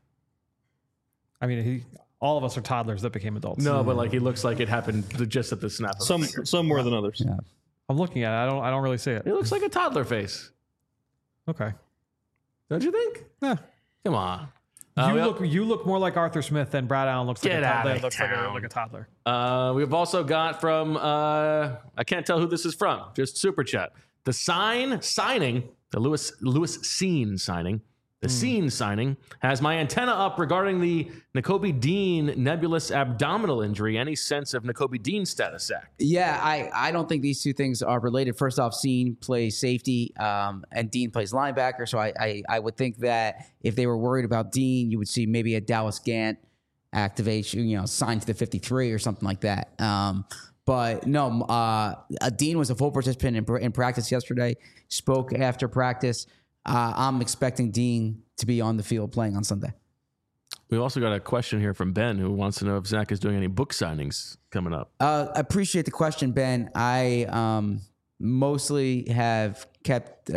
I mean, all of us are toddlers that became adults. No, but like he looks like it happened just at the snap of some more than others. Yeah. I'm looking at it. I don't really see it. It looks like a toddler face. Okay. Don't you think? Yeah. Come on. You look more like Arthur Smith than Brad Allen looks like Get a out toddler. of Looks town. like a toddler. We've also got from I can't tell who this is from. Just super chat. The signing, the Lewis Scene signing. The Scene signing has my antenna up regarding the Nakobe Dean nebulous abdominal injury. Any sense of Nakobe Dean's status, Zach? Yeah, I don't think these two things are related. First off, Scene plays safety and Dean plays linebacker. So I would think that if they were worried about Dean, you would see maybe a Dallas Gant activation, signed to the 53 or something like that. But no, Dean was a full participant in practice yesterday, spoke after practice. I'm expecting Dean to be on the field playing on Sunday. We also got a question here from Ben who wants to know if Zach is doing any book signings coming up. I appreciate the question, Ben. I mostly have kept.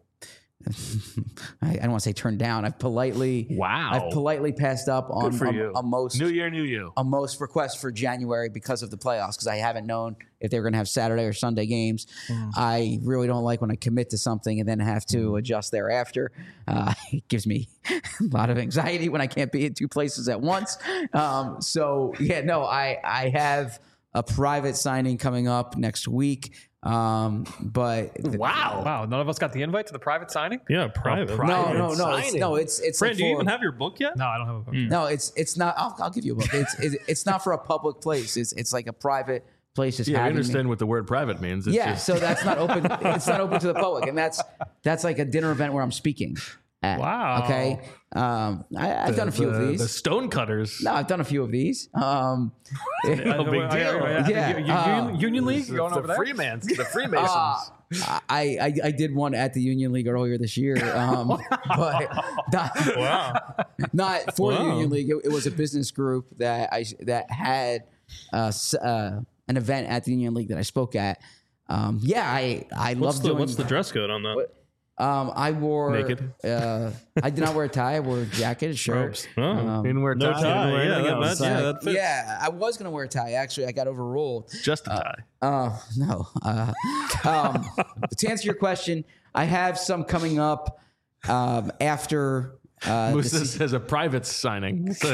I don't want to say turned down. I've politely passed up on a most New year, new you. A most requests for January because of the playoffs, because I haven't known if they were going to have Saturday or Sunday games. I really don't like when I commit to something and then have to adjust thereafter. It gives me a lot of anxiety when I can't be in two places at once. I have a private signing coming up next week. Wow, none of us got the invite to the private signing. Yeah, private. It's Fran, like do you even have your book yet? No, I don't have a book. No, it's not. I'll give you a book. It's not for a public place. It's like a private place. Yeah, I understand what the word private means. It's so that's not open. It's not open to the public, and that's like a dinner event where I'm speaking. Wow. Okay. I've done a few of these. The Stonecutters. No, I've done a few of these. No big deal. Union League going over there. The Freemasons. I did one at the Union League earlier this year, but not for the Union League. It was a business group that had an event at the Union League that I spoke at. I love doing. What's the dress code on that? I wore naked. I did not wear a tie. I wore a jacket, a shirt. Didn't wear a tie. No tie. That fits. Yeah, I was gonna wear a tie. Actually, I got overruled. Just a tie. No. To answer your question, I have some coming up after. Musa says a private signing. So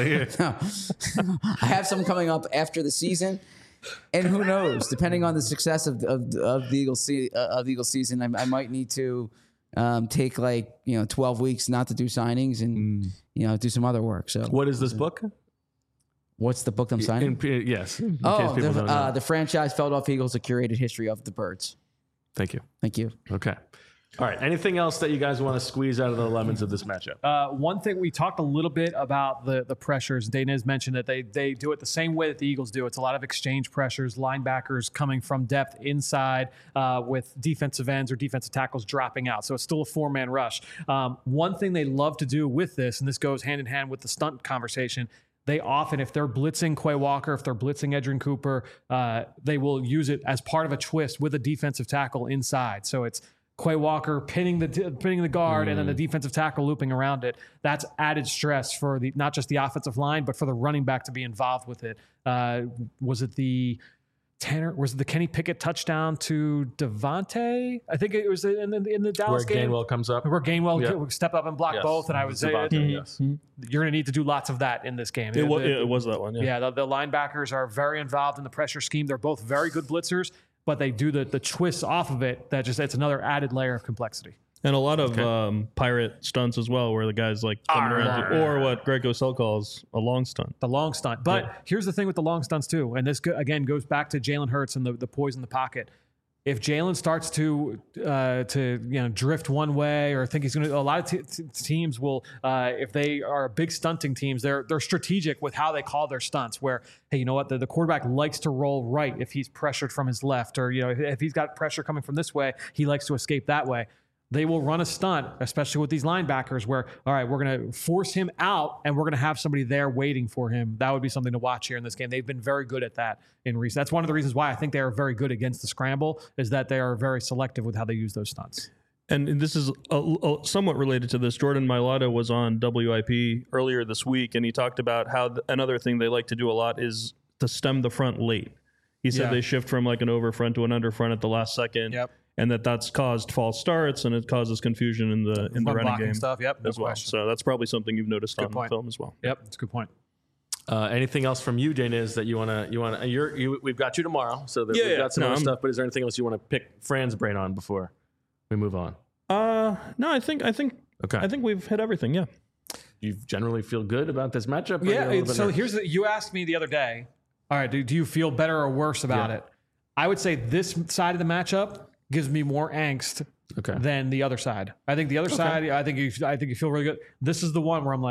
I have some coming up after the season. And who knows? Depending on the success of the Eagles season, I might need to take 12 weeks not to do signings and do some other work. So, what is this book? What's the book I'm signing? Yes. The franchise Philadelphia Eagles: A Curated History of the Birds. Thank you. Thank you. Okay. All right. Anything else that you guys want to squeeze out of the lemons of this matchup? One thing, we talked a little bit about the pressures. Dainez mentioned that they do it the same way that the Eagles do. It's a lot of exchange pressures, linebackers coming from depth inside with defensive ends or defensive tackles dropping out. So it's still a four-man rush. One thing they love to do with this, and this goes hand in hand with the stunt conversation, they often, if they're blitzing Quay Walker, if they're blitzing Edgerrin Cooper, they will use it as part of a twist with a defensive tackle inside. So it's Quay Walker pinning the guard and then the defensive tackle looping around it. That's added stress for not just the offensive line, but for the running back to be involved with it. Was it the Kenny Pickett touchdown to Devontae? I think it was in the Dallas game. Gainwell comes up. Where Gainwell step up and block both. And I would say yes. You're going to need to do lots of that in this game. It was that one. Yeah, the linebackers are very involved in the pressure scheme. They're both very good blitzers, but they do the twists off of it. It's another added layer of complexity. And a lot of pirate stunts as well, where the guy's coming around, or what Greg Cosell calls a long stunt. The long stunt. But here's the thing with the long stunts too, and this again goes back to Jalen Hurts and the poise in the pocket. If Jalen starts to drift one way or think he's going to, a lot of teams will, if they are big stunting teams, they're strategic with how they call their stunts. Where, hey, you know what, the quarterback likes to roll right if he's pressured from his left, or if he's got pressure coming from this way, he likes to escape that way. They will run a stunt, especially with these linebackers, where, all right, we're going to force him out and we're going to have somebody there waiting for him. That would be something to watch here in this game. They've been very good at that in recent. That's one of the reasons why I think they are very good against the scramble, is that they are very selective with how they use those stunts. And this is somewhat related to this. Jordan Mailata was on WIP earlier this week, and he talked about how another thing they like to do a lot is to stem the front late. He said they shift from an over front to an under front at the last second. Yep. And that's caused false starts, and it causes confusion in the running game stuff. Yep, as well. Question. So that's probably something you've noticed on the film as well. Yep, that's a good point. Anything else from you, Dainez, that you want to? We've got you tomorrow, so we've got some other stuff. But is there anything else you want to pick Fran's brain on before we move on? No, I think we've hit everything. Yeah. You generally feel good about this matchup? Yeah. So you asked me the other day. All right, do you feel better or worse about it? I would say this side of the matchup gives me more angst than the other side. I think the other side, I think you feel really good. This is the one where I'm like,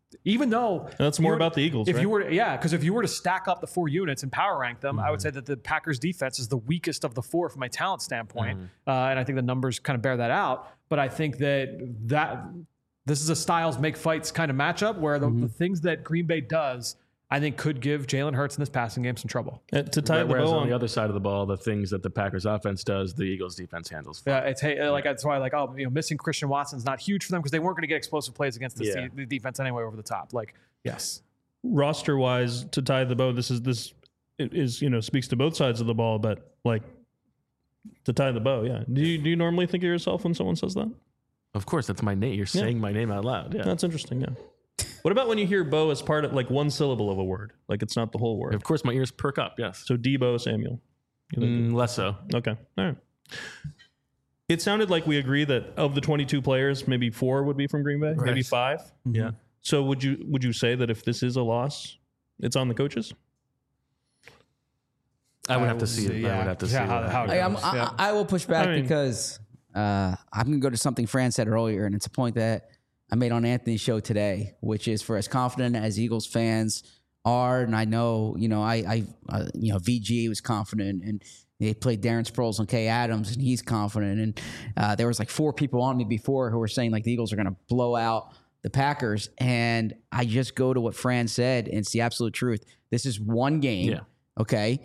even though That's more about the Eagles, If right? you were, because if you were to stack up the 4 units and power rank them, I would say that the Packers defense is the weakest of the 4 from a talent standpoint, and I think the numbers kind of bear that out. But I think that this is a styles make fights kind of matchup where the things that Green Bay does, I think, could give Jalen Hurts in this passing game some trouble. To tie the Whereas bow on the other side of the ball, the things that the Packers offense does, the Eagles defense handles. Yeah, that's why missing Christian Watson's not huge for them because they weren't going to get explosive plays against the defense anyway over the top. Yes, roster wise, to tie the bow, this is speaks to both sides of the ball, but to tie the bow, yeah. Do you normally think of yourself when someone says that? Of course, that's my name. You're saying my name out loud. Yeah, That's interesting. Yeah. What about when you hear bow as part of one syllable of a word, it's not the whole word? of course, my ears perk up. Yes, So Debo Samuel. less so. Okay. All right. It sounded like we agree that of the 22 players, maybe 4 would be from Green Bay, maybe 5. Yeah. So would you say that if this is a loss, it's on the coaches? I would have to see it. I would have to see how it. it goes. I will push back I mean- because I'm going to go to something Fran said earlier, and it's a point that I made on Anthony's show today, which is for as confident as Eagles fans are, and I know, VG was confident, and they played Darren Sproles and Kay Adams, and he's confident, and there was 4 people on me before who were saying the Eagles are going to blow out the Packers, and I just go to what Fran said, and it's the absolute truth. This is one game, okay,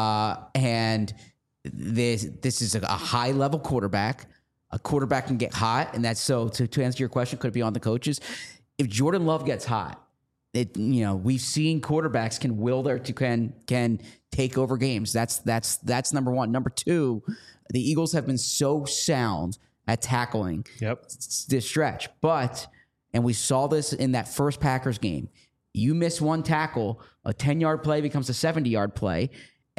and this is a high level quarterback. A quarterback can get hot, and that's so. To answer your question, could it be on the coaches? If Jordan Love gets hot, we've seen quarterbacks can can take over games. That's number one. Number 2, the Eagles have been so sound at tackling this stretch, and we saw this in that first Packers game. You miss one tackle, a 10-yard play becomes a 70-yard play,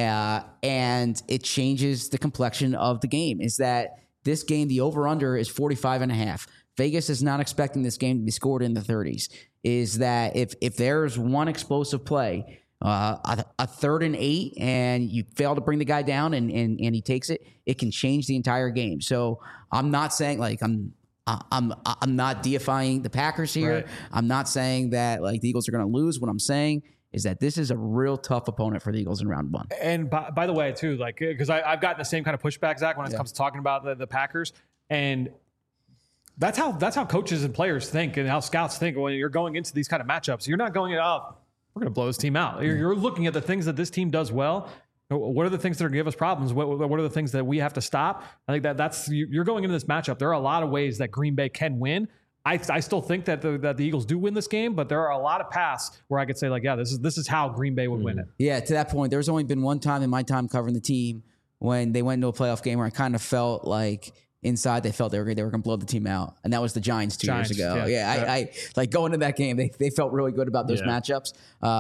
and it changes the complexion of the game. Is that this game, the over-under is 45.5. Vegas is not expecting this game to be scored in the 30s. Is that if there's one explosive play, a 3rd and 8, and you fail to bring the guy down and he takes it, it can change the entire game. So I'm not saying I'm not deifying the Packers here. Right. I'm not saying that the Eagles are going to lose. What I'm saying is that this is a real tough opponent for the Eagles in round 1. And by the way, too, because I've gotten the same kind of pushback, Zach, when it comes to talking about the Packers, and that's how coaches and players think, and how scouts think when you're going into these kind of matchups. You're not going, we're going to blow this team out. You're looking at the things that this team does well. What are the things that are going to give us problems? What are the things that we have to stop? I think that's you're going into this matchup. There are a lot of ways that Green Bay can win. I still think that the Eagles do win this game, but there are a lot of paths where I could say this is how Green Bay would win it. Yeah, to that point, there's only been one time in my time covering the team when they went into a playoff game where I kind of felt like inside they felt they were going to blow the team out, and that was the Giants 2 years ago. I going into that game, they felt really good about those matchups.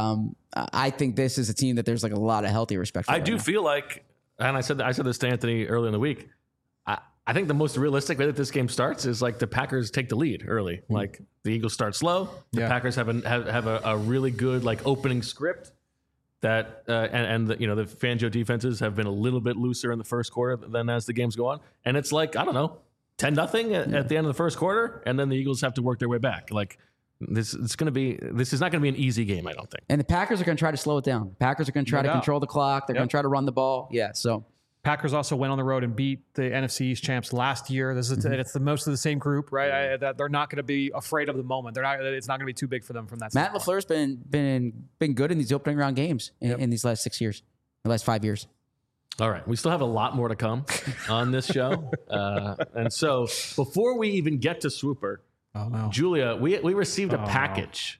I think this is a team that there's a lot of healthy respect for. I do feel like, and I said this to Anthony earlier in the week. I think the most realistic way that this game starts is the Packers take the lead early. The Eagles start slow. The Packers have a really good opening script that and the Fangio defenses have been a little bit looser in the first quarter than as the games go on. And it's 10-0 at the end of the first quarter, and then the Eagles have to work their way back. This is not going to be an easy game, I don't think. And the Packers are going to try to slow it down. The Packers are going to try to control the clock. They're going to try to run the ball. Yeah, so Packers also went on the road and beat the NFC East champs last year. This is it's the most of the same group, right? That they're not going to be afraid of the moment. It's not going to be too big for them from that. Matt LaFleur's been good in these opening round games in these last 6 years, the last 5 years. All right, we still have a lot more to come on this show, and so before we even get to Swooper, Julia, we received a package.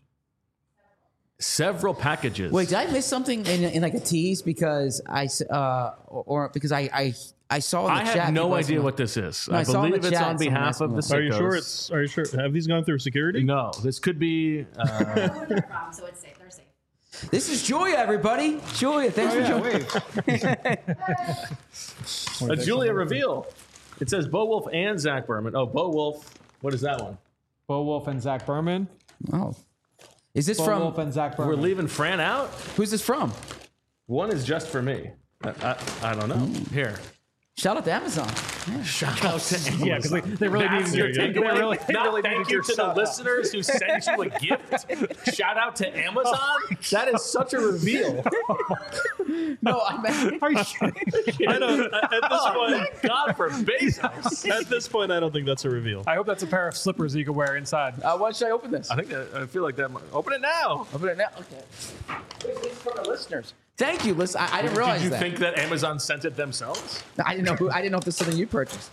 Several packages. Wait, did I miss something in a tease because I saw in the chat? I have no people idea asking, what this is. No, I I saw in believe the it's chat on someone behalf of the asking Are you Sickos. sure? Are you sure? Have these gone through security? No, this could be. Where they're from, so it's safe. They're safe. This is Julia, everybody. Julia, thanks for joining. Julia reveal. It says Bo Wolf and Zach Berman. Oh, Bo Wolf. What is that one? Bo Wolf and Zach Berman. Oh, is this Bo from? Wolf and Zach Berman. We're leaving Fran out. Who's this from? One is just for me. I don't know. Here. Shout out to Amazon. Shout out to Amazon. Yeah, because they really That's needed your your takeaway. they really Not thank needed you your to the shout-out. listeners who sent you a gift. Shout out to Amazon. That is such a reveal. No, I meant. Are you kidding? I don't. At this point, Thank God for Bezos. at this point, I don't think that's a reveal. I hope that's a pair of slippers you can wear inside. Why should I open this? I think I feel like that. Open it now. Open it now. Okay. It's for the listeners. Thank you. Listen, I didn't realize Did you that. think that Amazon sent it themselves? I didn't know. I didn't know if this is something you purchased.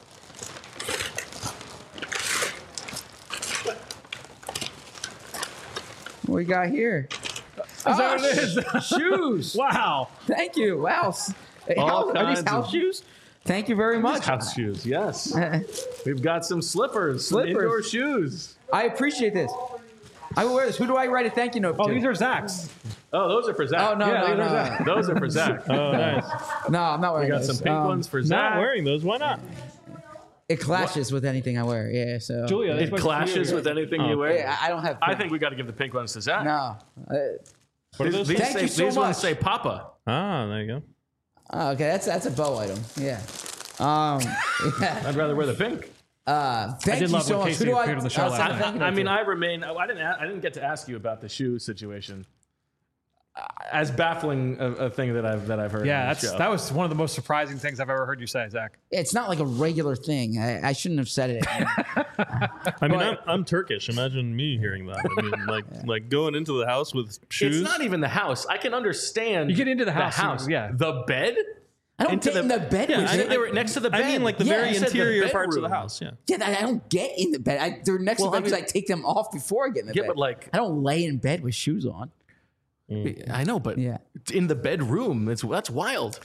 What we got here? Is that what it is? Shoes. Wow. Thank you. Wow. Hey, All are these kinds house of- shoes? Thank you very much. House shoes, yes. We've got some slippers, some Slippers. indoor shoes. I appreciate this. I will wear this. Who do I write a thank you note Oh, to? these are Zach's. Oh, those are for Zach. Oh no, Yeah, no, these are no, Zach. Those are for Zach. Oh, nice. no! I'm not wearing We got those. some pink ones for Not Zach. wearing those. Why not? It clashes with anything I wear. Yeah, so Julia, It clashes with anything you wear. Yeah, I don't have. I think we got to give the pink ones to Zach. no. What are those? These, Thank say, you so these ones much. say Papa. Ah, there you go. Okay, that's a bow item. Yeah. Yeah. I'd rather wear the pink. Thank did you love so when much. Casey Who do I? appeared on the show I'll last send a night. thank you note I mean, to. I remain. I didn't get to ask you about the shoe situation. As baffling a thing that I've heard. Yeah, on the show. that was one of the most surprising things I've ever heard you say, Zach. It's not like a regular thing. I shouldn't have said it. I mean, I'm Turkish. Imagine me hearing that. I mean, like going into the house with shoes. It's not even the house. I can understand. You get into the house, yeah. The bed. I don't Into get in the bed Yeah, with I think it. they were next to the bed. I mean, like the Yeah, very I said the interior parts of the bedroom. house. Yeah. Yeah, I don't get in the bed. They're next Well, to I the bed because mean- I take them off before I get in the Yeah, bed. but like I don't lay in bed with shoes on. I know, but Yeah. in the bedroom, that's wild.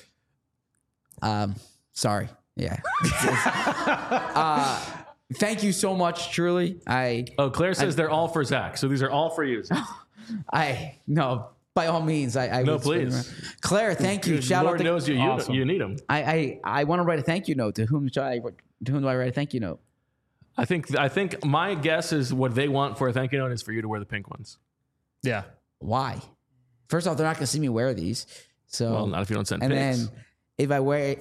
Sorry. Yeah. Thank you so much, truly. Oh, Claire says they're all for Zach, so these are all for you. Zach. No, by all means, I No, would spin please. around. Claire, thank you. Shout Lord out to knows you Awesome. you need them. I want to write a thank you note. To whom do I write a thank you note? I think my guess is what they want for a thank you note is for you to wear the pink ones. Yeah. Why? First off, they're not going to see me wear these. So Well, not if you don't send and pics. then if I wear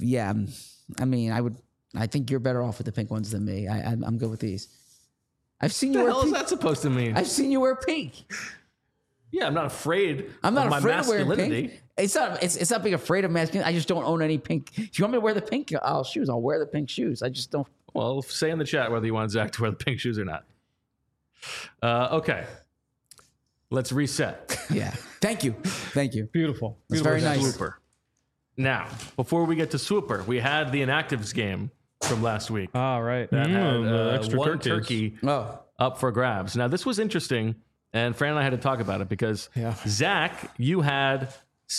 I mean, I think you're better off with the pink ones than me. I'm good with these. I've seen you What the wear hell is pink. that supposed to mean? I've seen you wear pink. Yeah, I'm not afraid. I'm not of my afraid of wearing masculinity. pink. It's not being afraid of masculinity. I just don't own any pink. If you want me to wear the pink shoes, I'll wear the pink shoes. I just don't. Well, say in the chat whether you want Zach to wear the pink shoes or not. Okay, let's reset. Yeah. Thank you. Beautiful. That's Beautiful. very nice. Swooper. Now, before we get to Swooper, we had the inactives game from last week. All right. That had the extra one turkeys. turkey Oh, up for grabs. Now, this was interesting, and Fran and I had to talk about it because Zach, you had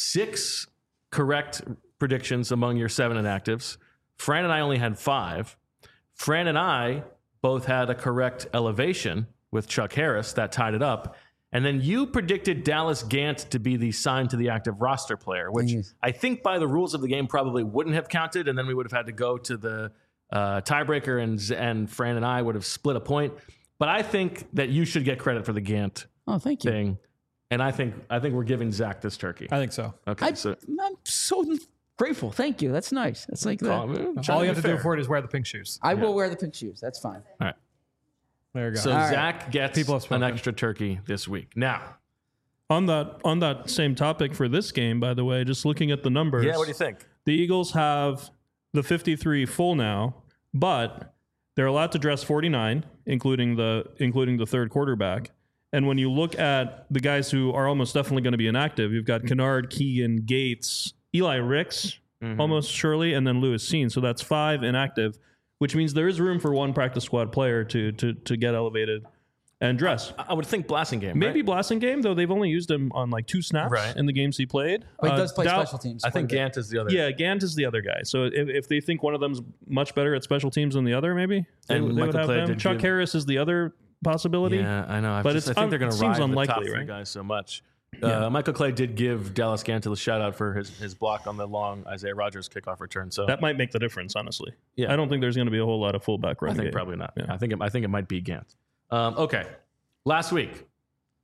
6 correct predictions among your 7 inactives. Fran and I only had 5. Fran and I both had a correct elevation with Chuck Harris that tied it up. And then you predicted Dallas Gant to be the signed to the active roster player, which Yes. I think by the rules of the game probably wouldn't have counted. And then we would have had to go to the tiebreaker, and Fran and I would have split a point. But I think that you should get credit for the Gant thank you. thing. And I think we're giving Zach this turkey. I think so. Okay, so I'm so grateful. Thank you. That's nice. That's like that. All you have to do for it is wear the pink shoes. I will wear the pink shoes. That's fine. All right. There you go. So right. Zach gets People have an spoken. extra turkey this week. Now, On that same topic for this game, by the way, just looking at the numbers. yeah, what do you think? The Eagles have the 53 full now, but they're allowed to dress 49, including the third quarterback. And when you look at the guys who are almost definitely going to be inactive, you've got Kennard, Keegan, Gates, Eli Ricks, almost surely, and then Lewis Seen. So that's 5 inactive, which means there is room for one practice squad player to get elevated and dress. I would think Blassingame. Maybe right? Blassingame, though they've only used him on like 2 snaps Right. in the games he played. But he does play Dow- special teams. I think quite a bit. Gant is the other. Yeah, Gant is the other guy. So if they think one of them's much better at special teams than the other, maybe they And would Michael have Clay them. did Chuck give- Harris is the other possibility. Yeah, I know. But I it's think they're going it to seems ride unlikely, the top 3 right? guys so much. Michael Clay did give Dallas Gant a shout out for his block on the long Isaiah Rodgers kickoff return. So That might make the difference, honestly. Yeah. I don't think there's going to be a whole lot of fullback I run think game. probably not. Yeah. I think it might be Gant. Okay, last week,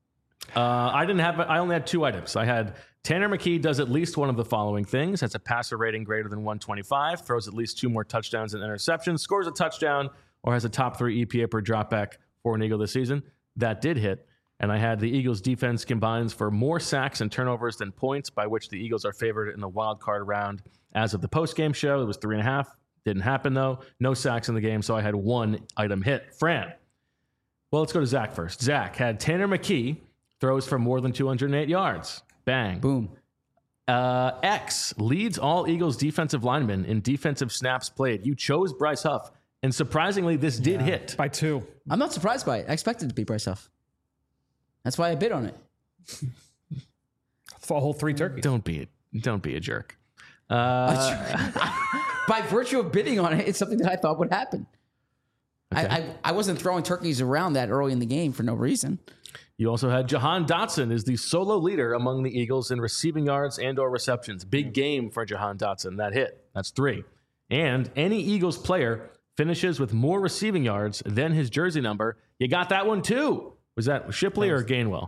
I only had 2 items. I had Tanner McKee does at least one of the following things: has a passer rating greater than 125, throws at least 2 more touchdowns and interceptions, scores a touchdown, or has a top 3 EPA per dropback for an Eagle this season. That did hit. And I had the Eagles defense combines for more sacks and turnovers than points, by which the Eagles are favored in the wild card round. As of the postgame show, it was 3.5. Didn't happen though. No sacks in the game, so I had 1 item hit. Fran. Well, let's go to Zach first. Zach had Tanner McKee throws for more than 208 yards. Bang. Boom. X leads all Eagles defensive linemen in defensive snaps played. You chose Bryce Huff, and surprisingly, this did hit. By 2. I'm not surprised by it. I expected it to be Bryce Huff. That's why I bid on it. For a whole 3 turkeys. Don't be a jerk. By virtue of bidding on it, it's something that I thought would happen. Okay. I wasn't throwing turkeys around that early in the game for no reason. You also had Jahan Dotson is the solo leader among the Eagles in receiving yards and or receptions. Big game for Jahan Dotson. That hit. That's 3. And any Eagles player finishes with more receiving yards than his jersey number. You got that one too. Was that Shipley or Gainwell?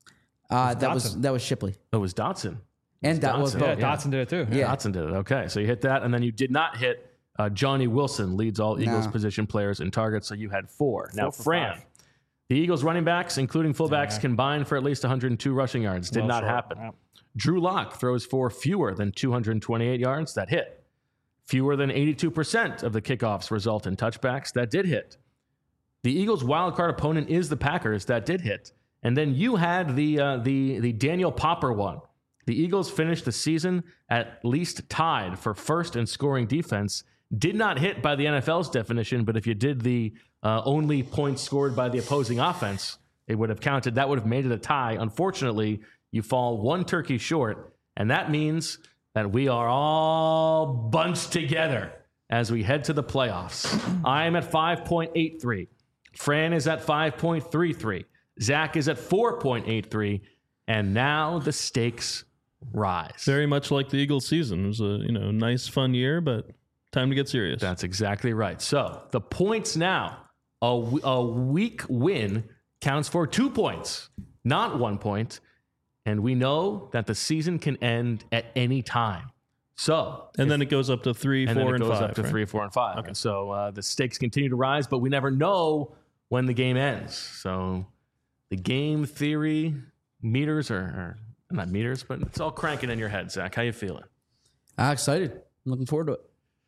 That was Shipley. Oh, it was Dotson. And that was Yeah, both. Dotson did it too. Yeah. Dotson did it. Okay, so you hit that, and then you did not hit Johnny Wilson, leads all Eagles position players in targets, so you had 4. Now, for Fran, 5. the Eagles running backs, including fullbacks, combined for at least 102 rushing yards. Did not happen. Yeah. Drew Lock throws for fewer than 228 yards. That hit. Fewer than 82% of the kickoffs result in touchbacks. That did hit. The Eagles' wild card opponent is the Packers. That did hit. And then you had the Daniel Popper one. The Eagles finished the season at least tied for first in scoring defense. Did not hit by the NFL's definition, but if you did the only points scored by the opposing offense, it would have counted. That would have made it a tie. Unfortunately, you fall 1 turkey short, and that means that we are all bunched together as we head to the playoffs. I am at 5.83. Fran is at 5.33. Zach is at 4.83. And now the stakes rise. Very much like the Eagles season. It was a nice, fun year, but time to get serious. That's exactly right. So the points now, a weak win counts for 2 points, not 1 point. And we know that the season can end at any time. So, and then it goes up to 3, 4, and 5. Up to right? 3, 4, and 5. Okay. So the stakes continue to rise, but we never know when the game ends. So the game theory meters are not meters, but it's all cranking in your head. Zach, how you feeling? Excited. I'm looking forward to it.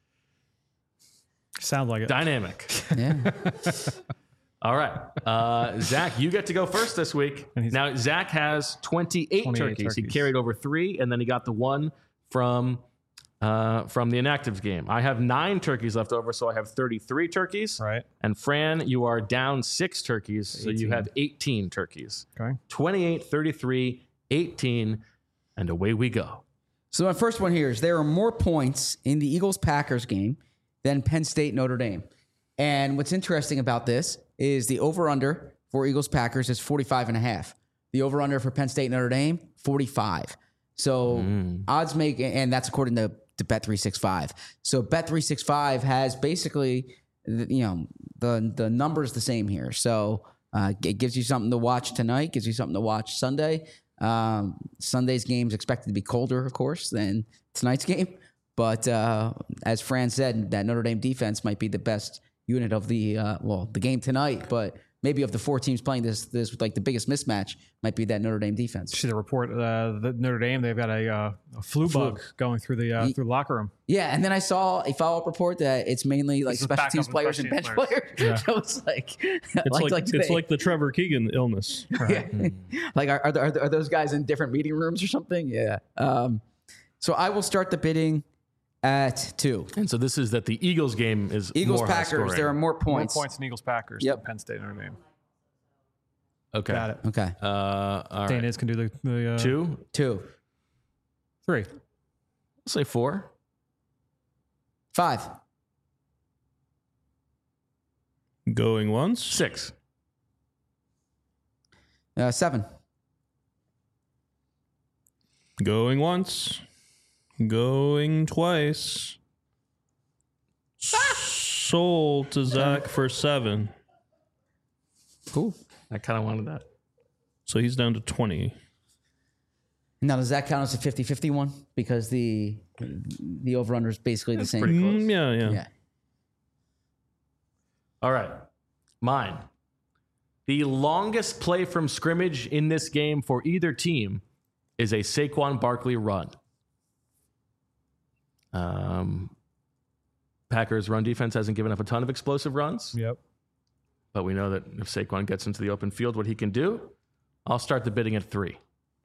Sound like it. Dynamic. Yeah. All right. Zach, you get to go first this week. Now, Zach has 28 turkeys. He carried over 3, and then he got the 1 from the inactives game. I have 9 turkeys left over, so I have 33 turkeys. Right. And Fran, you are down 6 turkeys, so you have 18 turkeys. Okay. 28, 33, 18, and away we go. So my first one here is there are more points in the Eagles-Packers game than Penn State-Notre Dame. And what's interesting about this is the over-under for Eagles-Packers is 45.5. The over-under for Penn State-Notre Dame, 45. So odds make, and that's according to Bet365. So Bet365 has basically, the numbers the same here. So it gives you something to watch tonight, gives you something to watch Sunday. Sunday's game is expected to be colder, of course, than tonight's game. But as Fran said, that Notre Dame defense might be the best unit of the game tonight, but maybe of the 4 teams playing this like the biggest mismatch might be that Notre Dame defense. See the report, the Notre Dame, they've got a flu bug going through the through the locker room. Yeah, and then I saw a follow-up report that it's mainly like special teams players and bench players. Yeah. So it's like It's like the Trevor Keegan illness. yeah. Like are those guys in different meeting rooms or something? Yeah. So I will start the bidding at 2. And so this is that the Eagles game is more Packers. high-scoring. There are more More points. points in Eagles Packers Yep. than Penn State Notre Dame. Okay. Got it. Okay. All right. Dana's can do the 2. 2. 3. Let's say 4. 5. Going once. 6. 7. Going once. Going twice. Sold to Zach for 7. Cool. I kind of wanted that. So he's down to 20. Now, does that count as a 50-50 one? Because the over-under is basically the same. pretty close. Yeah. Yeah. All right. Mine. The longest play from scrimmage in this game for either team is a Saquon Barkley run. Packers' run defense hasn't given up a ton of explosive runs, Yep. but we know that if Saquon gets into the open field, what he can do. I'll start the bidding at 3.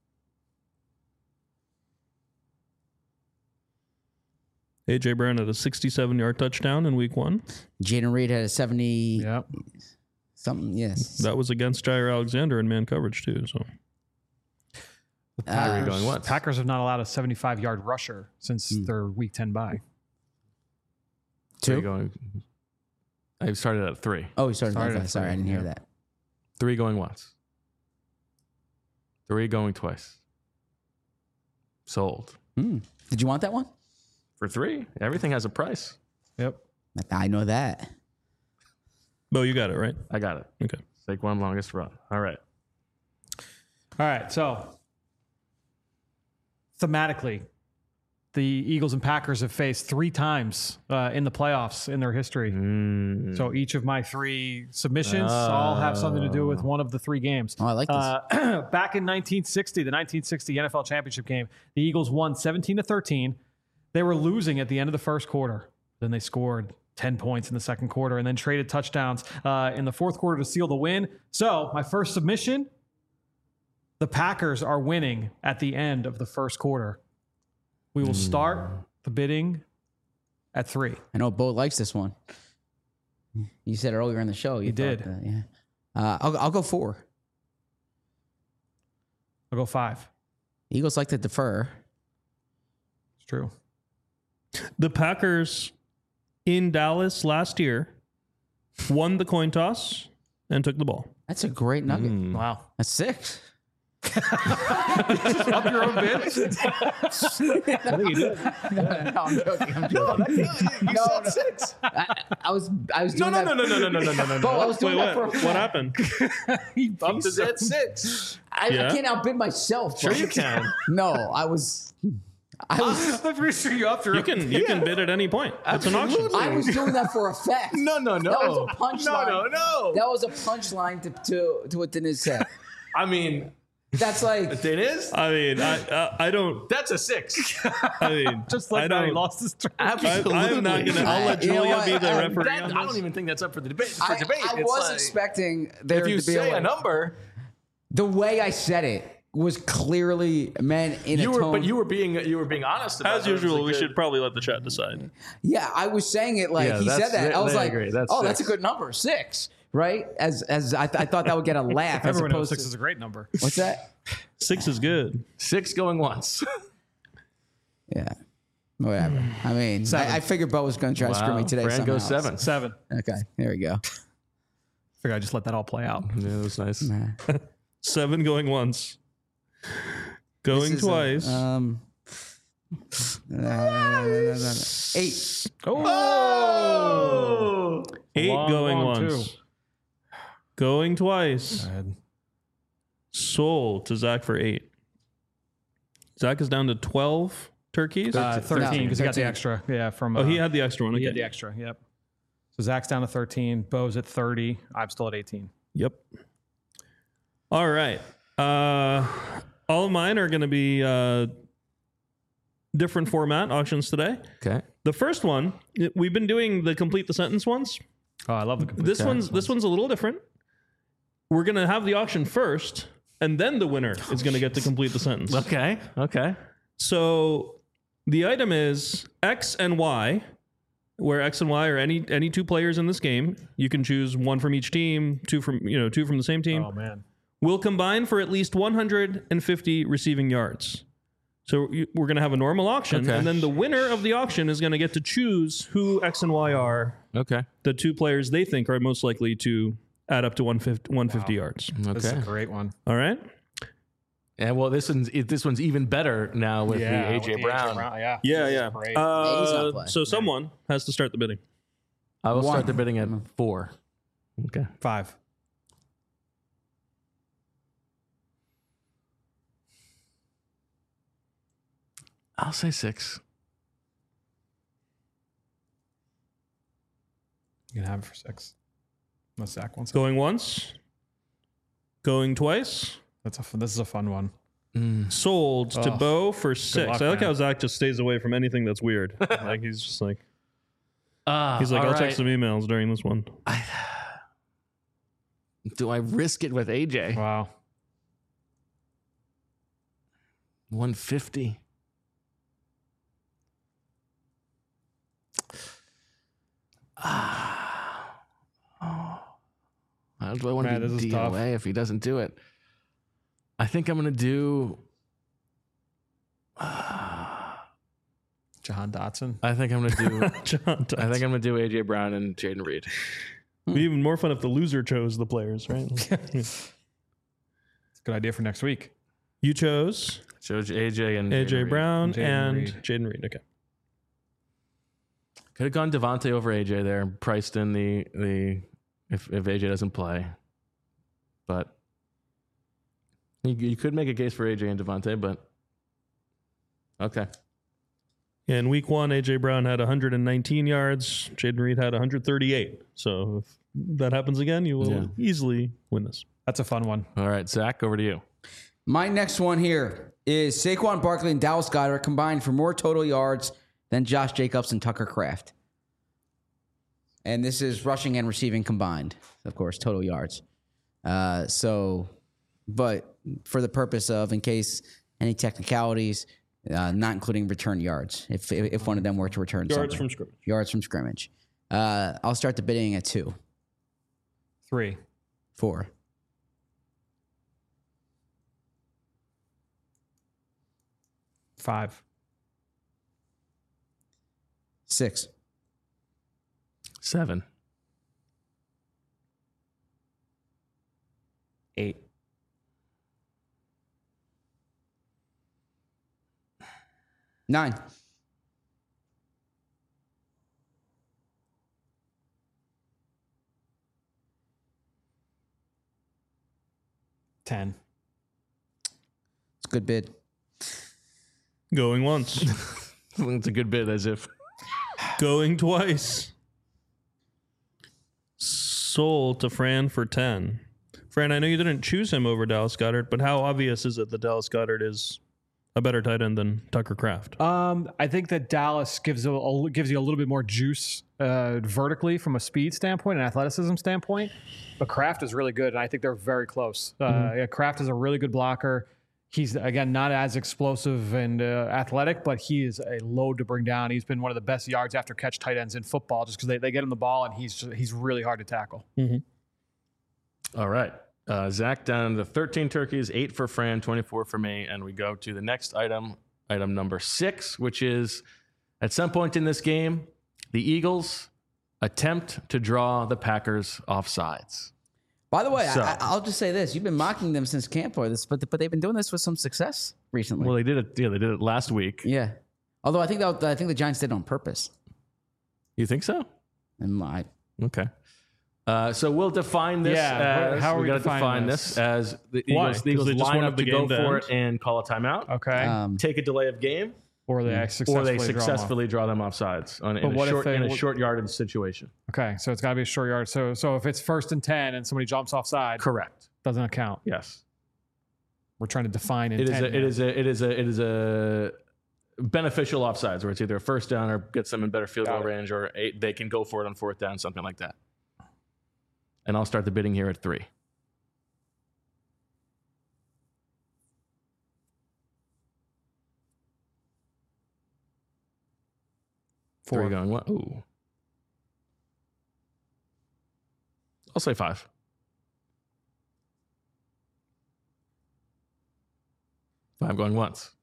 AJ Brown had a 67-yard touchdown in week 1. Jaden Reed had a 70 Yep. something. Yes. That was against Jair Alexander in man coverage too. So Three going once. Packers have not allowed a 75-yard rusher since their Week 10 bye. Three 2. going. I started at 3. Oh, he started Started at at 5. Sorry, I three, didn't hear yeah. that. 3 going once. 3 going twice. Sold. Did you want that one? For 3, everything has a price. Yep. I know that. Bo, you got it, right? I got it. Okay. Saquon longest run. All right. All right. So thematically, the Eagles and Packers have faced 3 times in the playoffs in their history. So each of my 3 submissions all have something to do with one of the 3 games. Oh, I like this. Back in 1960, the 1960 NFL Championship game, the Eagles won 17-13. They were losing at the end of the first quarter. Then they scored 10 points in the second quarter and then traded touchdowns in the fourth quarter to seal the win. So my first submission, the Packers are winning at the end of the first quarter. We will start the bidding at 3. I know Bo likes this one. You said earlier in the show. You did. thought that, yeah. I'll go 4. I'll go 5. Eagles like to defer. It's true. The Packers in Dallas last year won the coin toss and took the ball. That's a great nugget. Wow. That's 6. Up your own bid? No, I'm joking. You said 6. I was No, doing no, that. no, no, no, no, no, no, no, Bo, I no. was doing that for a What fact. happened? He bumped it at 6. I Yeah? can't outbid myself. Sure Bo. you can. No, I was I'm pretty sure you upped your You can bid at any point. It's an auction. I was doing that for effect. No, no, no. That was a punchline. No, no, no. That was a punchline to what Dennis said. I mean, That's like it is. I mean, I don't. That's a 6 I mean, just like I that. He don't. lost his track. Absolutely. I'm not gonna. I'll let You know Julia what? be the referee That, on I don't this. even think that's up for the debate. I It's was like, expecting there if you to be say a a number, The way I said it was clearly meant in a tone. but you were being honest about As it. It was usual, a we good- should probably let the chat decide. Yeah, I was saying it like Yeah, he said that. I was I like, agree. That's oh, that's a 6. good number, 6, right? As I thought that would get a laugh. as Everyone knows opposed 6 to, is a great number. what's that? 6 is good. 6 going once. Yeah, whatever. I mean, I figured Bo was going to try to screw me today. Fran somehow. goes 7. 7. Okay, there we go. Figure I just let that all play out. Yeah, that was nice. 7 going once. Going This is twice. 8. Oh! 8 long, going long once. two. Going twice. Sold to Zach for 8. Zach is down to 12 turkeys. 13 because he got the 13. extra. Yeah, from Oh, he had the extra one. he Okay. had the extra. Yep. So Zach's down to 13. Bo's at 30. I'm still at 18. Yep. All right. All of mine are going to be different format auctions today. Okay. The first one, we've been doing the complete the sentence ones. Oh, I love the complete. This one's a little different. We're going to have the auction first, and then the winner is going to get to complete the sentence. Okay. Okay. So the item is X and Y, where X and Y are any 2 players in this game. You can choose 1 from each team, 2 from the same team. Oh man. Will combine for at least 150 receiving yards. So we're going to have a normal auction, Okay. and then the winner of the auction is going to get to choose who X and Y are, Okay. the 2 players they think are most likely to add up to 150 yards. This is a Okay. great one. All right? And well, this one's even better now with the AJ Brown. Yeah. Yeah, This is yeah. great. he's not playing. So someone has to start the bidding. I will 1. start the bidding at 4. Okay. 5. I'll say 6. You can have it for 6. Unless Zach wants it. Going once. Going twice. This is a fun one. Sold to Bo for 6. luck, I like man. how Zach just stays away from anything that's weird. Like he's just like he's like, all I'll check right. some emails during this one. Do I risk it with AJ? Wow. 150. How do I want Man, to this be is tough. DOA if he doesn't do it? I think I'm going to do. Jahan Dotson. I think I'm going to do. John I think I'm going to do AJ Brown and Jaden Reed. It'd be even more fun if the loser chose the players, right? It's a good idea for next week. You chose So AJ and AJ Jaden Reed. Brown Jaden and Reed. Jaden Reed. Okay. Could have gone Devontae over AJ there, priced in the if AJ doesn't play, but you could make a case for AJ and Devontae, but okay. In week 1, AJ Brown had 119 yards. Jaden Reed had 138. So if that happens again, you will easily win this. That's a fun one. All right, Zach, over to you. My next one here is Saquon Barkley and Dallas Goedert combined for more total yards than Josh Jacobs and Tucker Kraft. And this is rushing and receiving combined, of course, total yards. But for the purpose of, in case any technicalities, not including return yards, if one of them were to return Yards something. from scrimmage. Yards from scrimmage. I'll start the bidding at 2, 3. 4, 5. 6, 7. 8. 9, 10. it's a good bid. Going once. It's a good bit, as if. Going twice. Sold to Fran for 10. Fran, I know you didn't choose him over Dallas Goedert, but how obvious is it that Dallas Goedert is a better tight end than Tucker Kraft? I think that Dallas gives you a little bit more juice vertically from a speed standpoint and athleticism standpoint, but Kraft is really good, and I think they're very close. Kraft is a really good blocker. He's, again, not as explosive and athletic, but he is a load to bring down. He's been one of the best yards after catch tight ends in football just because they get him the ball, and he's really hard to tackle. All right. Zach down to 13 turkeys, 8 for Fran, 24 for me. And we go to the next item number 6, which is at some point in this game, the Eagles attempt to draw the Packers off sides. By the way, So- I'll just say this. You've been mocking them since camp for this, but they've been doing this with some success recently. Well, they did it. Yeah, they did it last week. Yeah. Although I think the Giants did it on purpose. You think so? And I, Okay. So we'll define this Yeah, as how are we gotta defining define this? as the Why? Eagles, 'Cause the Eagles they just line wanted up the to go game to for end? it and call a timeout. Okay. Take a delay of game, or they successfully draw them off sides in a short yardage situation. Okay, so it's got to be a short yard. So if it's 1st and 10 and somebody jumps offside, Correct. doesn't count. Yes. We're trying to define It intent. is a beneficial offsides where it's either a first down or gets them in better field goal range, or they can go for it on 4th down, something like that. And I'll start the bidding here at 3. Where are you going? What? Ooh. I'll say 5. 5 going once.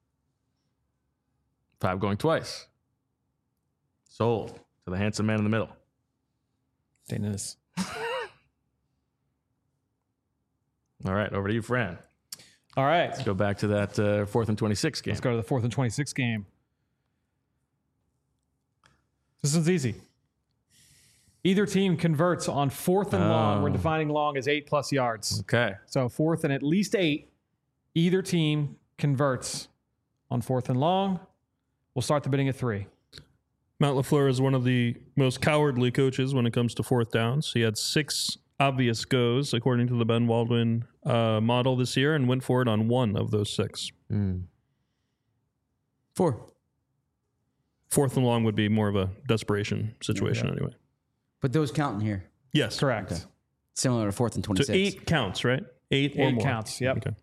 5 going twice. Sold to the handsome man in the middle. Dennis. All right, over to you, Fran. All right. Let's go back to that 4th and 26 game. Let's go to the 4th and 26 game. This one's easy. Either team converts on 4th and long. We're defining long as 8+ yards. Okay. So 4th and at least 8. Either team converts on 4th and long. We'll start the bidding at 3. Matt LaFleur is one of the most cowardly coaches when it comes to fourth downs. He had 6 obvious goes, according to the Ben Baldwin model this year, and went for it on 1 of those 6. 4. 4th and long would be more of a desperation situation anyway. But those count in here. Yes. Correct. Okay. Similar to 4th and 26. So 8 counts, right? 8 or 8 more. counts. Yep. Okay.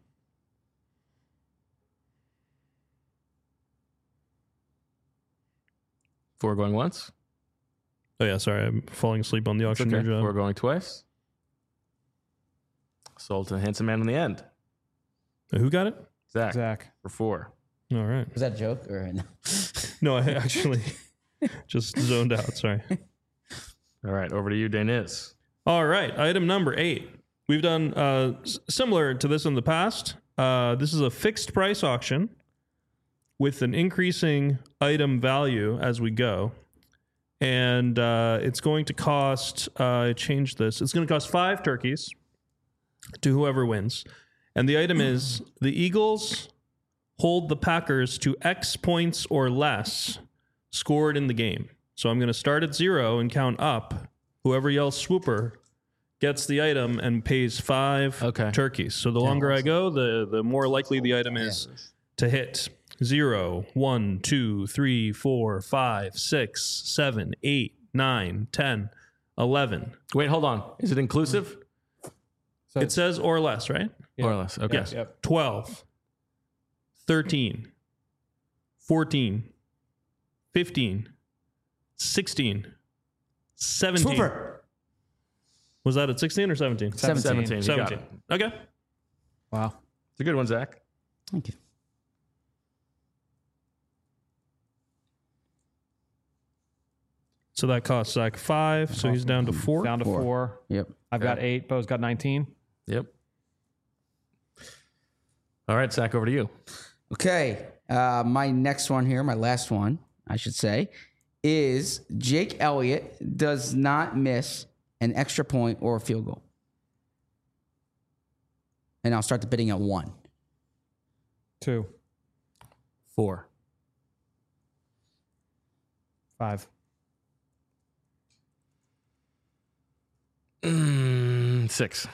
Four going once. Oh, yeah. Sorry. I'm falling asleep on the It's auction okay. there, John. Four going twice. Sold to the handsome man in the end. Who got it? Zach. For 4. All right. Was that a joke or no? No, I actually just zoned out. Sorry. All right. Over to you, Daniz. All right. Item number 8. We've done similar to this in the past. This is a fixed price auction with an increasing item value as we go. And it's going to cost, change this. It's going to cost 5 turkeys to whoever wins. And the item is the Eagles hold the Packers to X points or less scored in the game. So I'm going to start at 0 and count up. Whoever yells swooper gets the item and pays 5 turkeys. So the longer I go, the more likely the item is to hit. 0, 1, 2, 3, 4, 5, 6, 7, 8, 9, 10, 11. Wait, hold on. Is it inclusive? So It says or less, right? More or less. Okay. Yes. Yep. 12, 13, 14, 15, 16, 17. Swooper. Was that at 16 or 17? 17. You got 17. it. Okay. wow. It's a good one, Zach. Thank you. So that costs Zach 5. So he's down to 4. Down to 4. Yep. I've got 8. Bo's got 19. Yep. All right, Zach, over to you. Okay. My next one here, my last one, I should say, is Jake Elliott does not miss an extra point or a field goal. And I'll start the bidding at 1. 2. 4. 5. 6.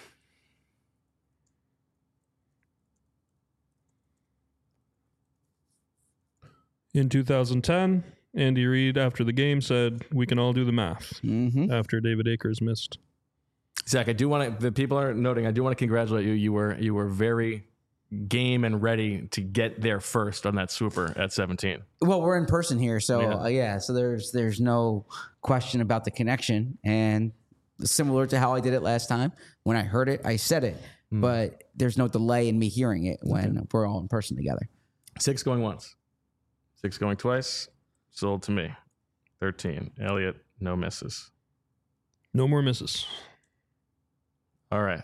In 2010, Andy Reid, after the game, said, we can all do the math after David Akers missed. Zach, I do want to. The people are noting. I do want to congratulate you. You were very game and ready to get there first on that swooper at 17. Well, we're in person here, so so there's no question about the connection, and similar to how I did it last time. When I heard it, I said it, but there's no delay in me hearing it when we're all in person together. 6 going once. 6 going twice. Sold to me. 13. Elliott, no misses. No more misses. All right.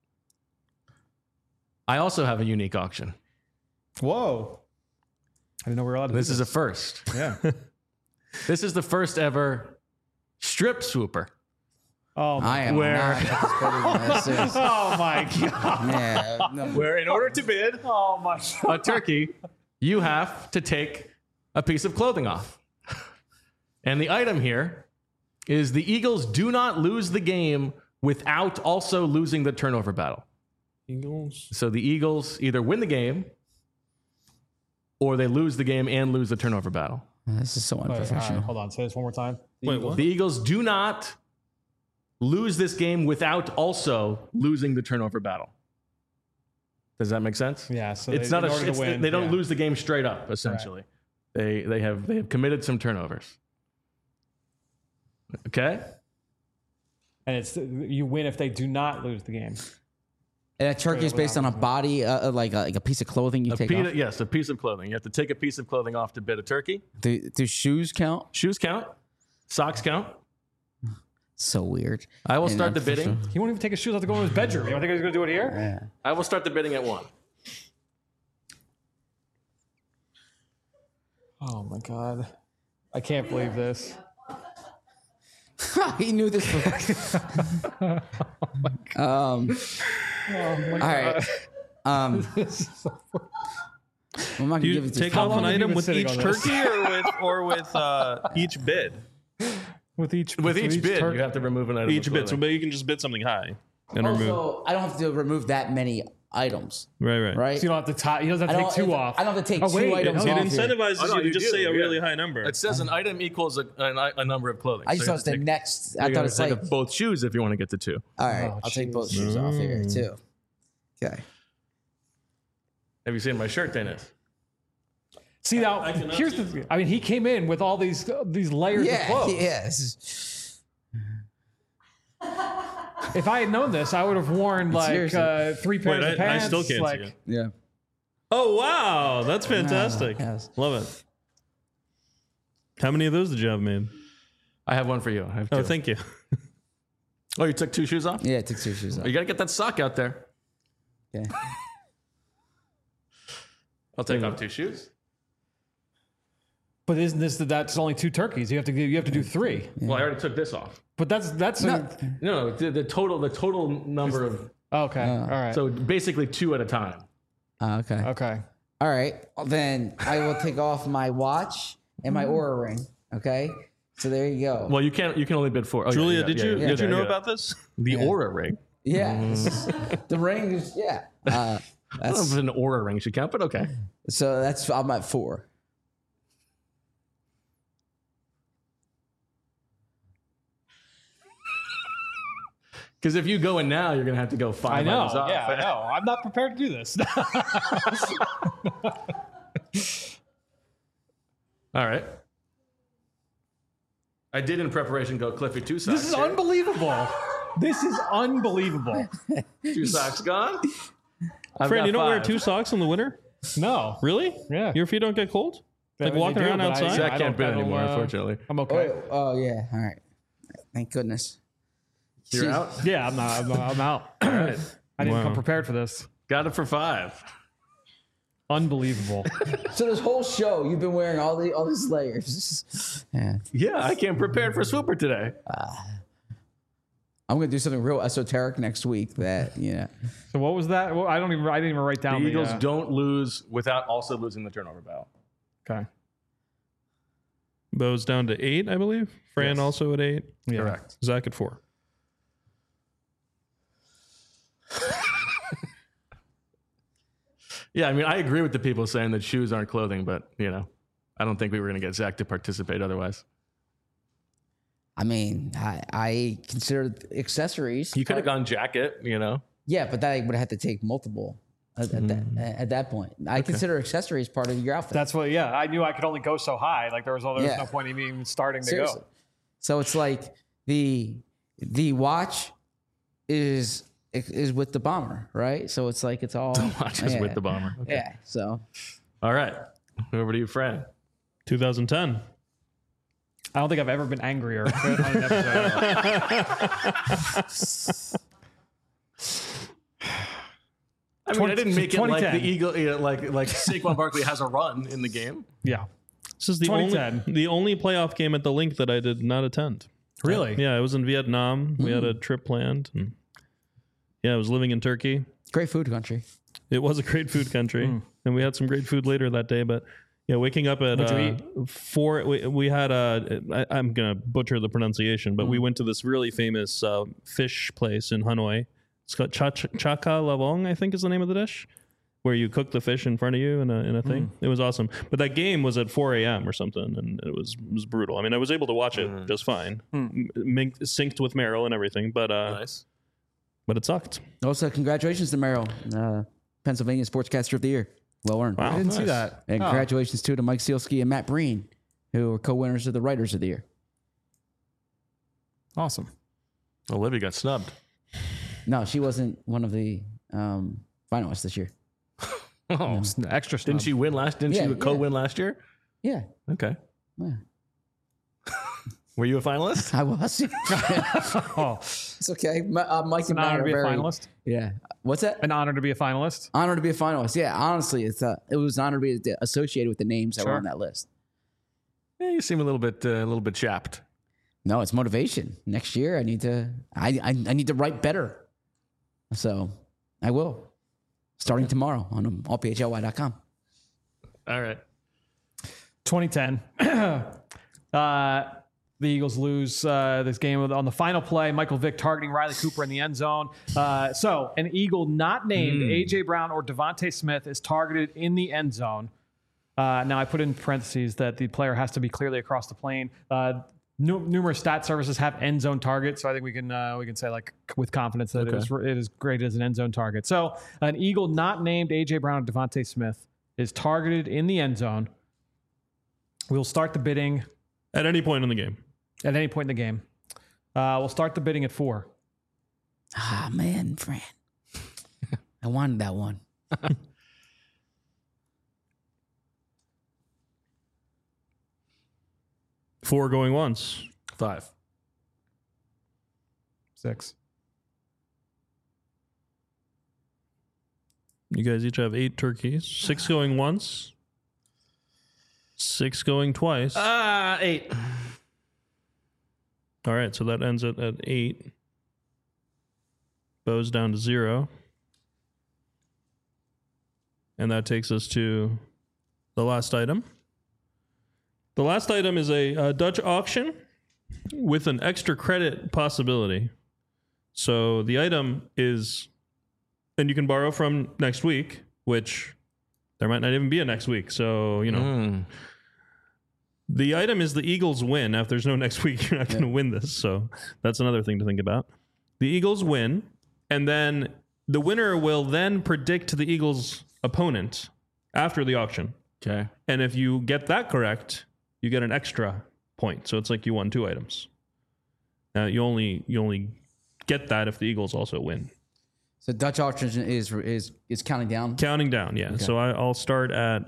I also have a unique auction. Whoa. I didn't know we were allowed to This do is a first. Yeah. This is the first ever strip swooper. Oh, I am Where- not participating in this. Is- oh my God. yeah, no, Where in order to bid Oh my God. a turkey, you have to take a piece of clothing off. And the item here is the Eagles do not lose the game without also losing the turnover battle. Eagles. So the Eagles either win the game or they lose the game and lose the turnover battle. this is so Wait, all right, unprofessional. hold on. Say this one more time. Wait, what? The Eagles do not lose this game without also losing the turnover battle. Does that make sense? Yeah. So It's they, not in a. order to It's, win, they don't yeah. lose the game straight up. Essentially, they have committed some turnovers. Okay. And it's you win if they do not lose the game. And a turkey is based on a body, like a piece of clothing you take off. Yes, a piece of clothing. You have to take a piece of clothing off to bid a turkey. Do shoes count? Shoes count. Socks count. So weird. I will And start the bidding. He won't even take his shoes off to go in his bedroom. You don't think he's going to do it here? Yeah. I will start the bidding at 1. Oh my God. I can't believe this. He knew this. All right. I'm not Do gonna you give it to take you. off long an have you item been with sitting each on this? turkey or with each bid? With each With each bid, turkey. you have to remove an item. Each of bid, so clothing. but you can just bid something high and remove. Also, I don't have to remove that many items, Right. right? So you don't have to tie. He doesn't have to take two off. I don't have to take Oh, two wait, items It off here. incentivizes Oh, no, you to you just do, say a yeah. really high number. It says an item equals a number of clothing. I So just you thought have it's to the take- next. you I thought gotta it's take like, up both shoes if you want to get to 2. all right, Oh, I'll take both shoes off here too. Okay. Have you seen my shirt, Dennis? See now, here's the. I mean, he came in with all these layers of Yeah, clothes. yeah. This is, If I had known this, I would have worn like Seriously. 3 pairs of I pants. still can't like, see it. yeah. Oh wow, that's fantastic. yes. Love it. How many of those did you have made? I have one for you. I have 2. Oh, thank you. Oh, you took 2 shoes off? Yeah, I took 2 shoes off. You got to get that sock out there. Yeah. I'll take off 2 shoes. But isn't this that's only 2 turkeys? You have to do 3. Well, I already took this off. But that's No, the total number of okay. All right. so basically 2 at a time. Okay. okay. All right. Well, then I will take off my watch and my Aura ring. Okay. So there you go. Well, you can only bid 4. Oh, yeah, Julia, yeah, did yeah, you yeah, did you yeah, know yeah. about this? the Aura ring? Yeah. this is- the ring is yeah. I don't know if an Aura ring should count, but okay. So that's I'm at 4. Because if you go in now, you're gonna have to go 5 I know. items off. Yeah, I know. I'm not prepared to do this. All right. I did in preparation go Cliffy 2 socks. This is here. unbelievable. This is unbelievable. 2 socks gone. I've Fran, got you don't wear 5. 2 socks in the winter? No. Really? Yeah. Your feet don't get cold? I Like mean, walking they do, around but outside? Zach I can't bid don't anymore, pedal, unfortunately. I'm okay. Oh yeah. All right. Thank goodness. You're Jeez. out. Yeah, I'm out. All right. I didn't Wow. come prepared for this. Got it for 5. Unbelievable. So this whole show, you've been wearing all these layers. Yeah. Yeah, I came prepared for Swooper today. I'm gonna do something real esoteric next week. That So what was that? Well, I didn't even write The down Eagles the, don't lose without also losing the turnover battle. Okay. Bo's down to 8, I believe. Fran Yes. also at 8. Yeah. Correct. Zach at 4. Yeah, I mean, I agree with the people saying that shoes aren't clothing, but, I don't think we were going to get Zach to participate otherwise. I mean, I consider accessories. You could have gone jacket, Yeah, but that I would have to take multiple at that point. I consider accessories part of your outfit. That's what. Yeah, I knew I could only go so high. Like there was no Yeah. point in me even starting to Seriously. go. So it's like the watch is with the bomber, right? So it's like it's all Watch us with the bomber. Okay. Yeah. So All right. Over to you, Fran. 2010. I don't think I've ever been angrier on an episode. I mean, I didn't make it like 2010. the Eagle, like Saquon Barkley has a run in the game. Yeah. This is the 2010. only playoff game at the link that I did not attend. Really? Yeah, I was in Vietnam. We had a trip planned. And I was living in Turkey. great food country. It was a great food country, and we had some great food later that day. But waking up at What'd you 4, we had I'm gonna butcher the pronunciation, but we went to this really famous fish place in Hanoi. It's called Chaka Lavong, I think is the name of the dish, where you cook the fish in front of you in a thing. It was awesome. But that game was at 4 a.m. or something, and it was brutal. I mean, I was able to watch it just fine, synced with Meryl and everything, but Nice. but it sucked. Also, congratulations to Merrill, Pennsylvania Sportscaster of the Year. Well earned. I didn't see nice. that. And Oh. congratulations too to Mike Sealski and Matt Breen, who were co-winners of the Writers of the Year. Awesome. Olivia got snubbed. No, she wasn't one of the finalists this year. Oh, It's an extra snub. didn't she win last? Didn't Yeah, she co-win last year? Yeah, Okay. Yeah. Were you a finalist? I was. Oh, It's okay. Mike it's and an Matt honor are to be a very. finalist. Yeah. What's that? An honor to be a finalist. Honor to be a finalist. Yeah, honestly, it was an honor to be associated with the names that were Sure. on that list. Yeah, you seem a little bit chapped. No, it's motivation. Next year, I need to write better. So I will, starting tomorrow on allphly.com. All right. 2010. The Eagles lose this game on the final play. Michael Vick targeting Riley Cooper in the end zone. So an Eagle not named A.J. Brown or Devontae Smith is targeted in the end zone. Now I put in parentheses that the player has to be clearly across the plane. Numerous stat services have end zone targets, so I think we can say like with confidence that it is graded as an end zone target. So an Eagle not named A.J. Brown or Devontae Smith is targeted in the end zone. We'll start the bidding At any point in the game. at any point in the game. We'll start the bidding at 4. Ah, man, Fran. I wanted that one. Four going once. 5. 6. You guys each have 8 turkeys. 6 going once. 6 going twice. 8. All right, so that ends at 8. Bo's down to 0. And that takes us to the last item. The last item is a Dutch auction with an extra credit possibility. So the item is, and you can borrow from next week, which there might not even be a next week. So, the item is the Eagles win. Now, if there's no next week, you're not going to win this. So that's another thing to think about. The Eagles win, and then the winner will then predict the Eagles' opponent after the auction. Okay. And if you get that correct, you get an extra point. So it's like you won 2 items. Now you only get that if the Eagles also win. So Dutch auction is counting down. Counting down, yeah. Okay. So I'll start at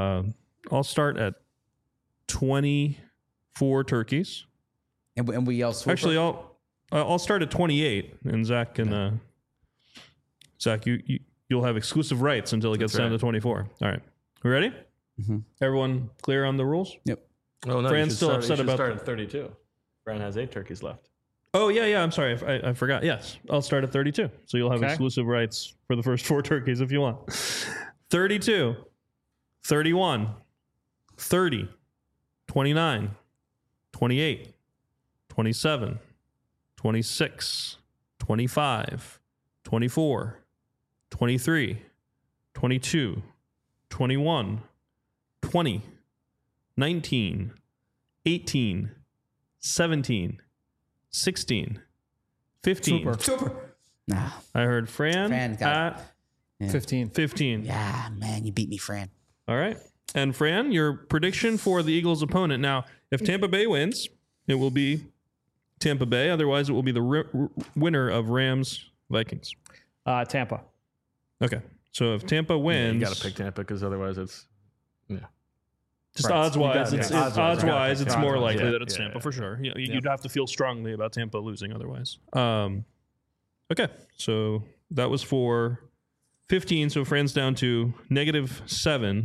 24 turkeys. And we all swap. Actually, I'll start at 28, and Zach can Zach, you'll have exclusive rights until it gets down to 24. All right, we ready? Mm-hmm. Everyone clear on the rules? Yep. Oh, no. Fran's still upset about start at 32. Fran has 8 turkeys left. Oh, yeah. I'm sorry. I forgot. Yes. I'll start at 32. So you'll have exclusive rights for the first 4 turkeys if you want. 32, 31, 30, 29, 28, 27, 26, 25, 24, 23, 22, 21, 20, 19, 18, 17, 16, 15. Super. Nah. I heard Fran got at 15. 15. Yeah, man, you beat me, Fran. All right. And Fran, your prediction for the Eagles' opponent. Now, if Tampa Bay wins, it will be Tampa Bay. Otherwise, it will be the winner of Rams-Vikings. Tampa. Okay. So if Tampa wins... you got to pick Tampa because otherwise it's... Yeah. Just Right. odds-wise, Odds-wise, it's right. more likely Yeah, that it's yeah, Tampa yeah. for sure. You'd have to feel strongly about Tampa losing otherwise. Okay, so that was for 15. So Fran's down to -7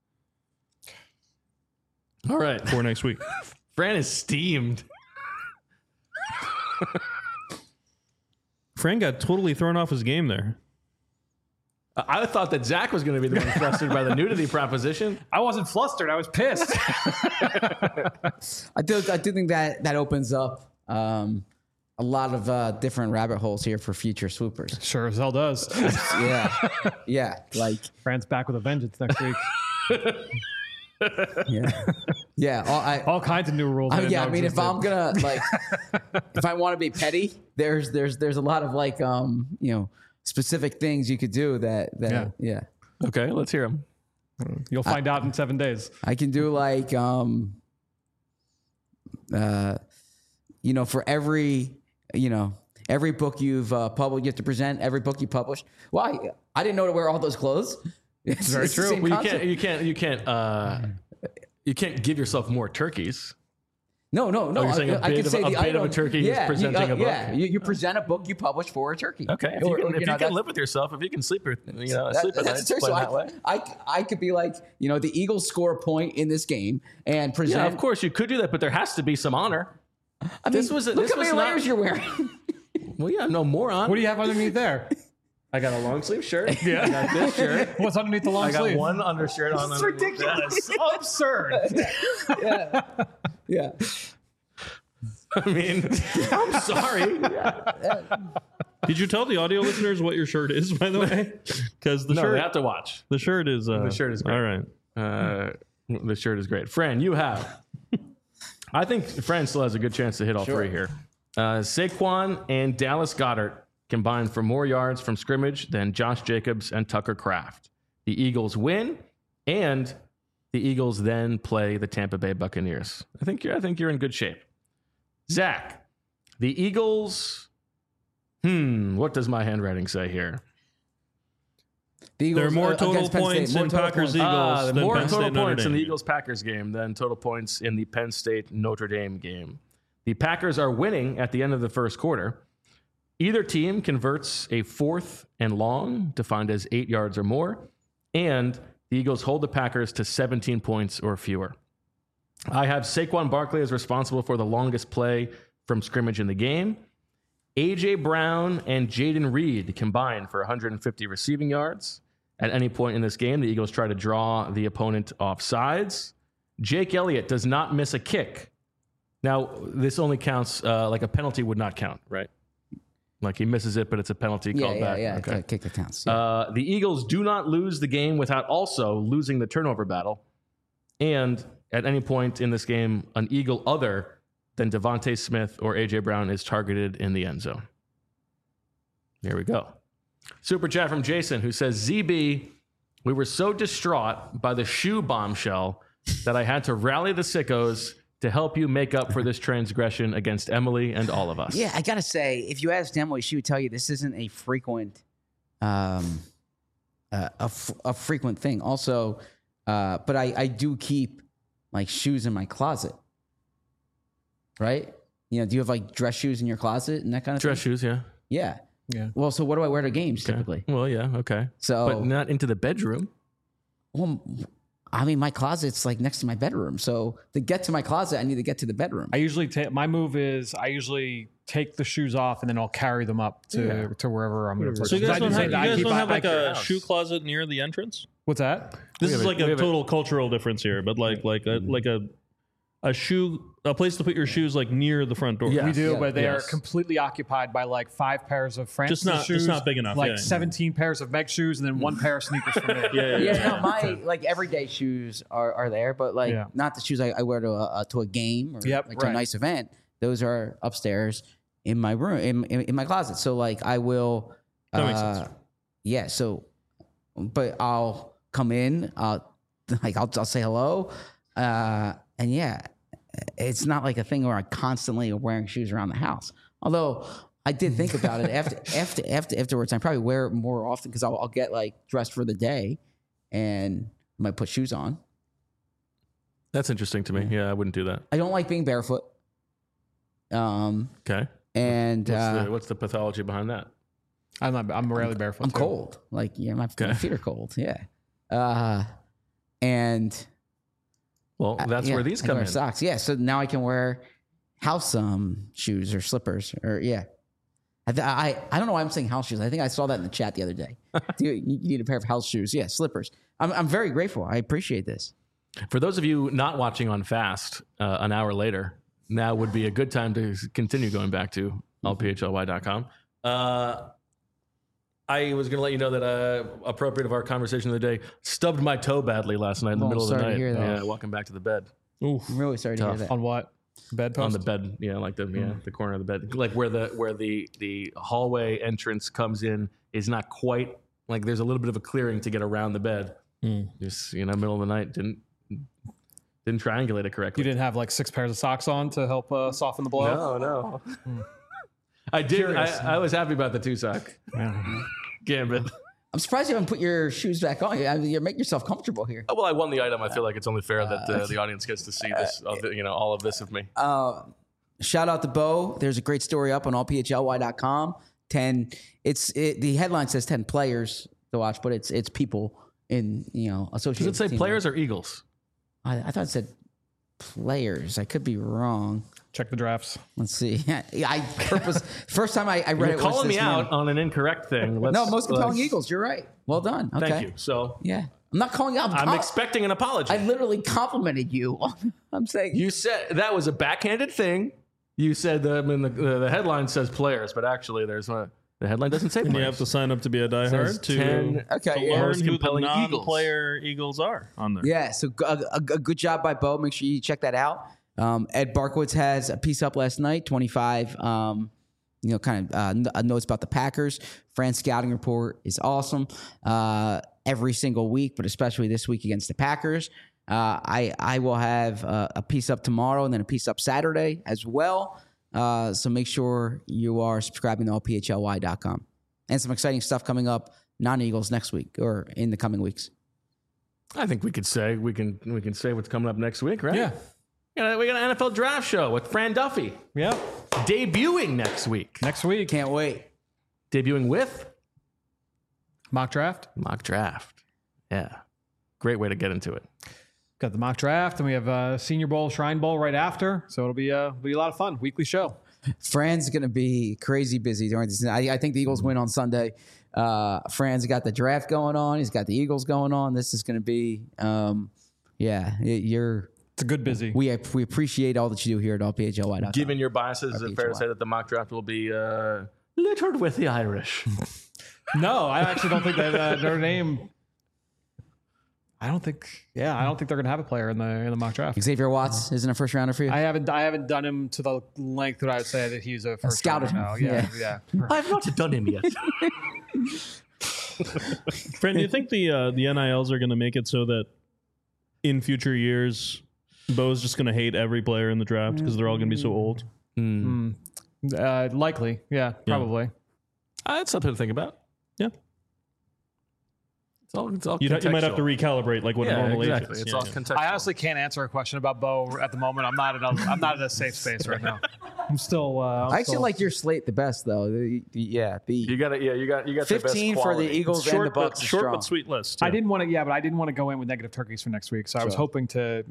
All right. for next week. Fran is steamed. Fran got totally thrown off his game there. I thought that Zach was going to be the one flustered by the nudity proposition. I wasn't flustered. I was pissed. I do think that opens up a lot of different rabbit holes here for future swoopers. Sure as hell does. Yeah, like Fran's back with a vengeance next week. yeah. All kinds of new rules. I didn't know mean, if existed. I'm gonna like, if I want to be petty, there's a lot of like specific things you could do that yeah. Okay, let's hear him. You'll find out in 7 days. I can do like for every book you've published, you have to present every book you published. Well, I didn't know to wear all those clothes. It's very the true. same Well, concept. you can't give yourself more turkeys. No. you're saying a I bit can of- say a the bit of item. a turkey is presenting a book? Yeah, you present a book you publish for a turkey. Okay, if you can live with yourself, if you can sleep, sleep at night, That's true. play So that way. I could be like, the Eagles score a point in this game and present. Yeah, of course you could do that, but there has to be some honor. I mean, look how many layers you're wearing. Well, yeah, no moron. What do you have underneath there? I got a long sleeve shirt. Yeah. I got this shirt. What's underneath the long I got sleeve? one undershirt on. It's ridiculous. Absurd. Yeah. I mean, I'm sorry. Did you tell the audio listeners what your shirt is, by the way? Because the No, shirt they have to watch. the shirt is The shirt is great. all right. The shirt is great. Fran, you have. I think Fran still has a good chance to hit all three here. Saquon and Dallas Goedert combined for more yards from scrimmage than Josh Jacobs and Tucker Kraft. The Eagles win, and the Eagles then play the Tampa Bay Buccaneers. I think you're in good shape. Zach, the Eagles. What does my handwriting say here? The Eagles, There are more total against Penn State, points more in total Packers points. Eagles than more Penn total State Notre points in Dame. the Eagles-Packers game than total points in the Penn State Notre Dame game. The Packers are winning at the end of the first quarter. Either team converts a 4th and long, defined as 8 yards or more, and the Eagles hold the Packers to 17 points or fewer. I have Saquon Barkley as responsible for the longest play from scrimmage in the game. A.J. Brown and Jaden Reed combined for 150 receiving yards. At any point in this game, the Eagles try to draw the opponent off sides. Jake Elliott does not miss a kick. Now, this only counts, like a penalty would not count, right? Like he misses it, but it's a penalty called back. Yeah. Okay. Kick that counts. Yeah. The Eagles do not lose the game without also losing the turnover battle. And at any point in this game, an Eagle other than Devontae Smith or A.J. Brown is targeted in the end zone. There we go. Super chat from Jason, who says, ZB, we were so distraught by the shoe bombshell that I had to rally the sickos to help you make up for this transgression against Emily and all of us. Yeah, I gotta say, if you asked Emily, she would tell you this isn't a frequent, a frequent thing. Also, but I do keep like shoes in my closet, right? You know, do you have like dress shoes in your closet and that kind of Dress thing? shoes, yeah. Yeah. Yeah. Well, so what do I wear to games typically? Well, yeah, okay. So, But not into the bedroom. well, I mean, my closet's like next to my bedroom. So to get to my closet, I need to get to the bedroom. I usually take my move is I usually take the shoes off and then I'll carry them up to wherever I'm going to put So them. you guys don't have, like your a house. shoe closet near the entrance? What's that? This We is have like we a have total cultural difference here, but like a shoe, a place to put your shoes like near the front door. Yeah. We do, Yeah. but they Yes. are completely occupied by like 5 pairs of Francis Just shoes. not big enough, Like yeah. 17 pairs of Meg shoes and then 1 pair of sneakers for me. Yeah, no, my like everyday shoes are there, but like Yeah. not the shoes I wear to a game or Yep, like to a right. nice event. Those are upstairs in my room, in my closet. So like I will. That makes sense. Yeah. So, but I'll come in. I'll say hello, and yeah, it's not like a thing where I constantly are wearing shoes around the house. Although I did think about it afterwards. I probably wear it more often because I'll get like dressed for the day, and I might put shoes on. That's interesting to me. Yeah, I wouldn't do that. I don't like being barefoot. Okay. And What's the pathology behind that? I'm rarely barefoot. I'm too. cold. Like, yeah, my feet are cold. Yeah. And Well, that's yeah, where these I come wear in. socks. Yeah. So now I can wear house shoes or slippers or yeah. I don't know why I'm saying house shoes. I think I saw that in the chat the other day. Dude, you need a pair of house shoes. Yeah, slippers. I'm very grateful. I appreciate this. For those of you not watching on Fast an hour later, now would be a good time to continue going back to allphly.com. I was going to let you know that appropriate of our conversation of the day, stubbed my toe badly last night in the Oh, middle of the sorry to night. hear that. Yeah, walking back to the bed. I'm really sorry to hear that. On what? Bedpost? On the bed, yeah, like the corner of the bed, like where the hallway entrance comes in is not quite like there's a little bit of a clearing to get around the bed. Just middle of the night, didn't triangulate it correctly. You didn't have like 6 pairs of socks on to help soften the blow? No. I did. I was happy about the 2-sock gambit. I'm surprised you haven't put your shoes back on. You make yourself comfortable here. Well, I won the item. I feel like it's only fair that the audience gets to see this, all of this of me. Shout out to Bo. There's a great story up on allphly.com. The headline says 10 players to watch, but it's people in associated. Does it say team. players or Eagles? I thought it said players. I could be wrong. Check the drafts. Let's see. First time I read You're it was calling me this out morning. on an incorrect thing. No, most compelling Eagles. You're right. Well done. Okay. Thank you. So Yeah. I'm not calling you out. I'm expecting an apology. I literally complimented you. I'm saying You said that was a backhanded thing. You said the headline says players, but actually there's the headline doesn't say And players. you have to sign up to be a Says diehard to 10 Okay, to yeah. learn most who the compelling Eagles. non-player Eagles are on there. Yeah, so a good job by Bo. Make sure you check that out. Ed Barkowitz has a piece up last night, 25, kind of notes about the Packers. Fran's scouting report is awesome every single week, but especially this week against the Packers. I will have a piece up tomorrow and then a piece up Saturday as well. So make sure you are subscribing to allphly.com. And some exciting stuff coming up, non-Eagles next week or in the coming weeks. I think we can say what's coming up next week, right? Yeah. We got an NFL draft show with Fran Duffy Yeah. debuting next week. Next week. Can't wait. Debuting with Mock draft. mock draft. Yeah, great way to get into it. Got the mock draft, and we have Senior Bowl, Shrine Bowl right after. So it'll be a lot of fun. Weekly show. Fran's going to be crazy busy during this. I think the Eagles win on Sunday. Fran's got the draft going on. He's got the Eagles going on. This is going to be, It's a good busy. we appreciate all that you do here at allphly.com. Given your biases, is it fair to say that the mock draft will be littered with the Irish? No, I actually don't think that their name. I don't think they're going to have a player in the mock draft. Xavier Watts isn't a first rounder for you. I haven't done him to the length that I would say that he's a first Scouted rounder him. now. Yeah. I've not done him yet. Fran, do you think the NILs are going to make it so that in future years, Bo's just going to hate every player in the draft because they're all going to be so old? Likely. Yeah, probably. That's something to think about. Yeah. It's all You might have to contextual. recalibrate like what a Yeah, normal exactly. age is. It's Yeah, all yeah. contextual. I honestly can't answer a question about Bo at the moment. I'm not in a safe space right now. I'm still. I actually like your slate the best, though. You got it. Yeah, you got the best 15 for the quality. Eagles and the Short, Bucks. but, is short strong. but sweet list. I yeah. didn't want to. But I didn't want to go in with negative turkeys for next week. So I was hoping to.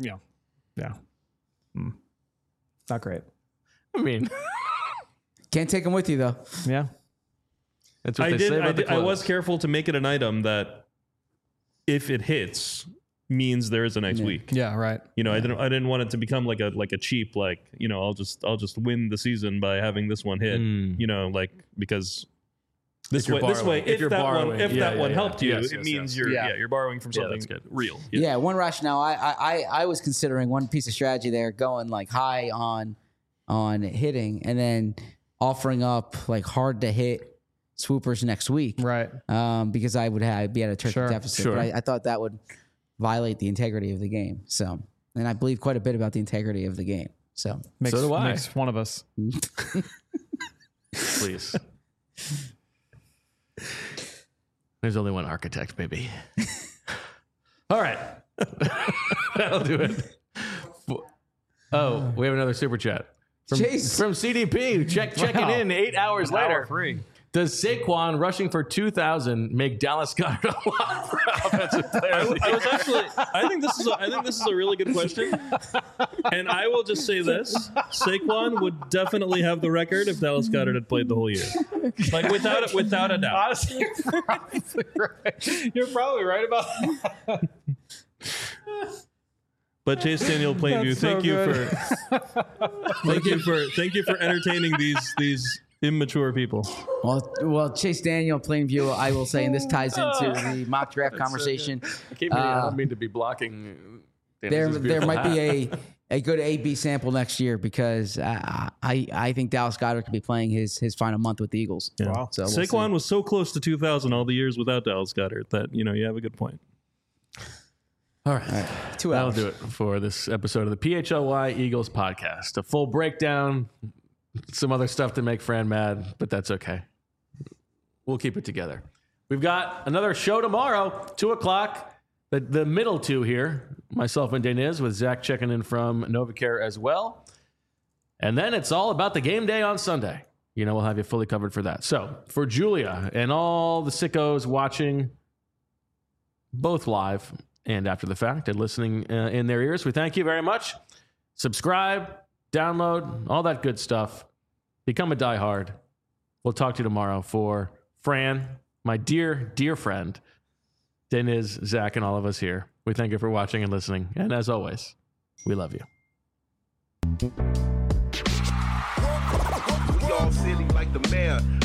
Not great. I mean, Can't take them with you, though. Yeah. that's what I they did. say about the I clothes. was careful to make it an item that, if it hits, means there is a next week. Yeah. Right. You know, I didn't want it to become like a cheap I'll just win the season by having this one hit. You know, because this way if that one helped you, Yes, it yes, means yes. you're borrowing from something that's good. real. Yeah, one rationale. I was considering one piece of strategy there, going like high on hitting, and then offering up like hard to hit swoopers next week, Right. because I would be at a turkey Sure, deficit. sure. But I thought that would violate the integrity of the game. So, and I believe quite a bit about the integrity of the game. So, Makes, So do I. Makes one of us. Please. There's only one architect, baby. All right. That'll do it. Oh, we have another super chat. Chase. From CDP, checking in 8 hours later. 3. Does Saquon rushing for 2,000 make Dallas Goedert a lot for offensive player? I think this is a really good question, and I will just say this: Saquon would definitely have the record if Dallas Goedert had played the whole year, like without a doubt. Honestly, you're probably right. You're probably right about that. But Chase Daniel Plainview, That's so thank you for entertaining these immature people. well, Chase Daniel, Plainview, I will say, and this ties into the mock draft conversation. I don't mean to be blocking. There might be a good A/B sample next year, because I think Dallas Goedert could be playing his final month with the Eagles. Yeah. Wow. So we'll Saquon see. was so close to 2,000 all the years without Dallas Goedert that you have a good point. All right. 2 That'll hours. do it for this episode of the PHLY Eagles podcast. A full breakdown, some other stuff to make Fran mad, but that's okay. We'll keep it together. We've got another show tomorrow, 2 o'clock, the middle two here, myself and Deniz, with Zach checking in from NovaCare as well. And then it's all about the game day on Sunday. We'll have you fully covered for that. So for Julia and all the sickos watching both live and after the fact and listening in their ears, we thank you very much. Subscribe, download, all that good stuff. Become a diehard. We'll talk to you tomorrow. For Fran, my dear, dear friend, Deniz, Zach, and all of us here, we thank you for watching and listening. And as always, we love you. We all silly like the mayor.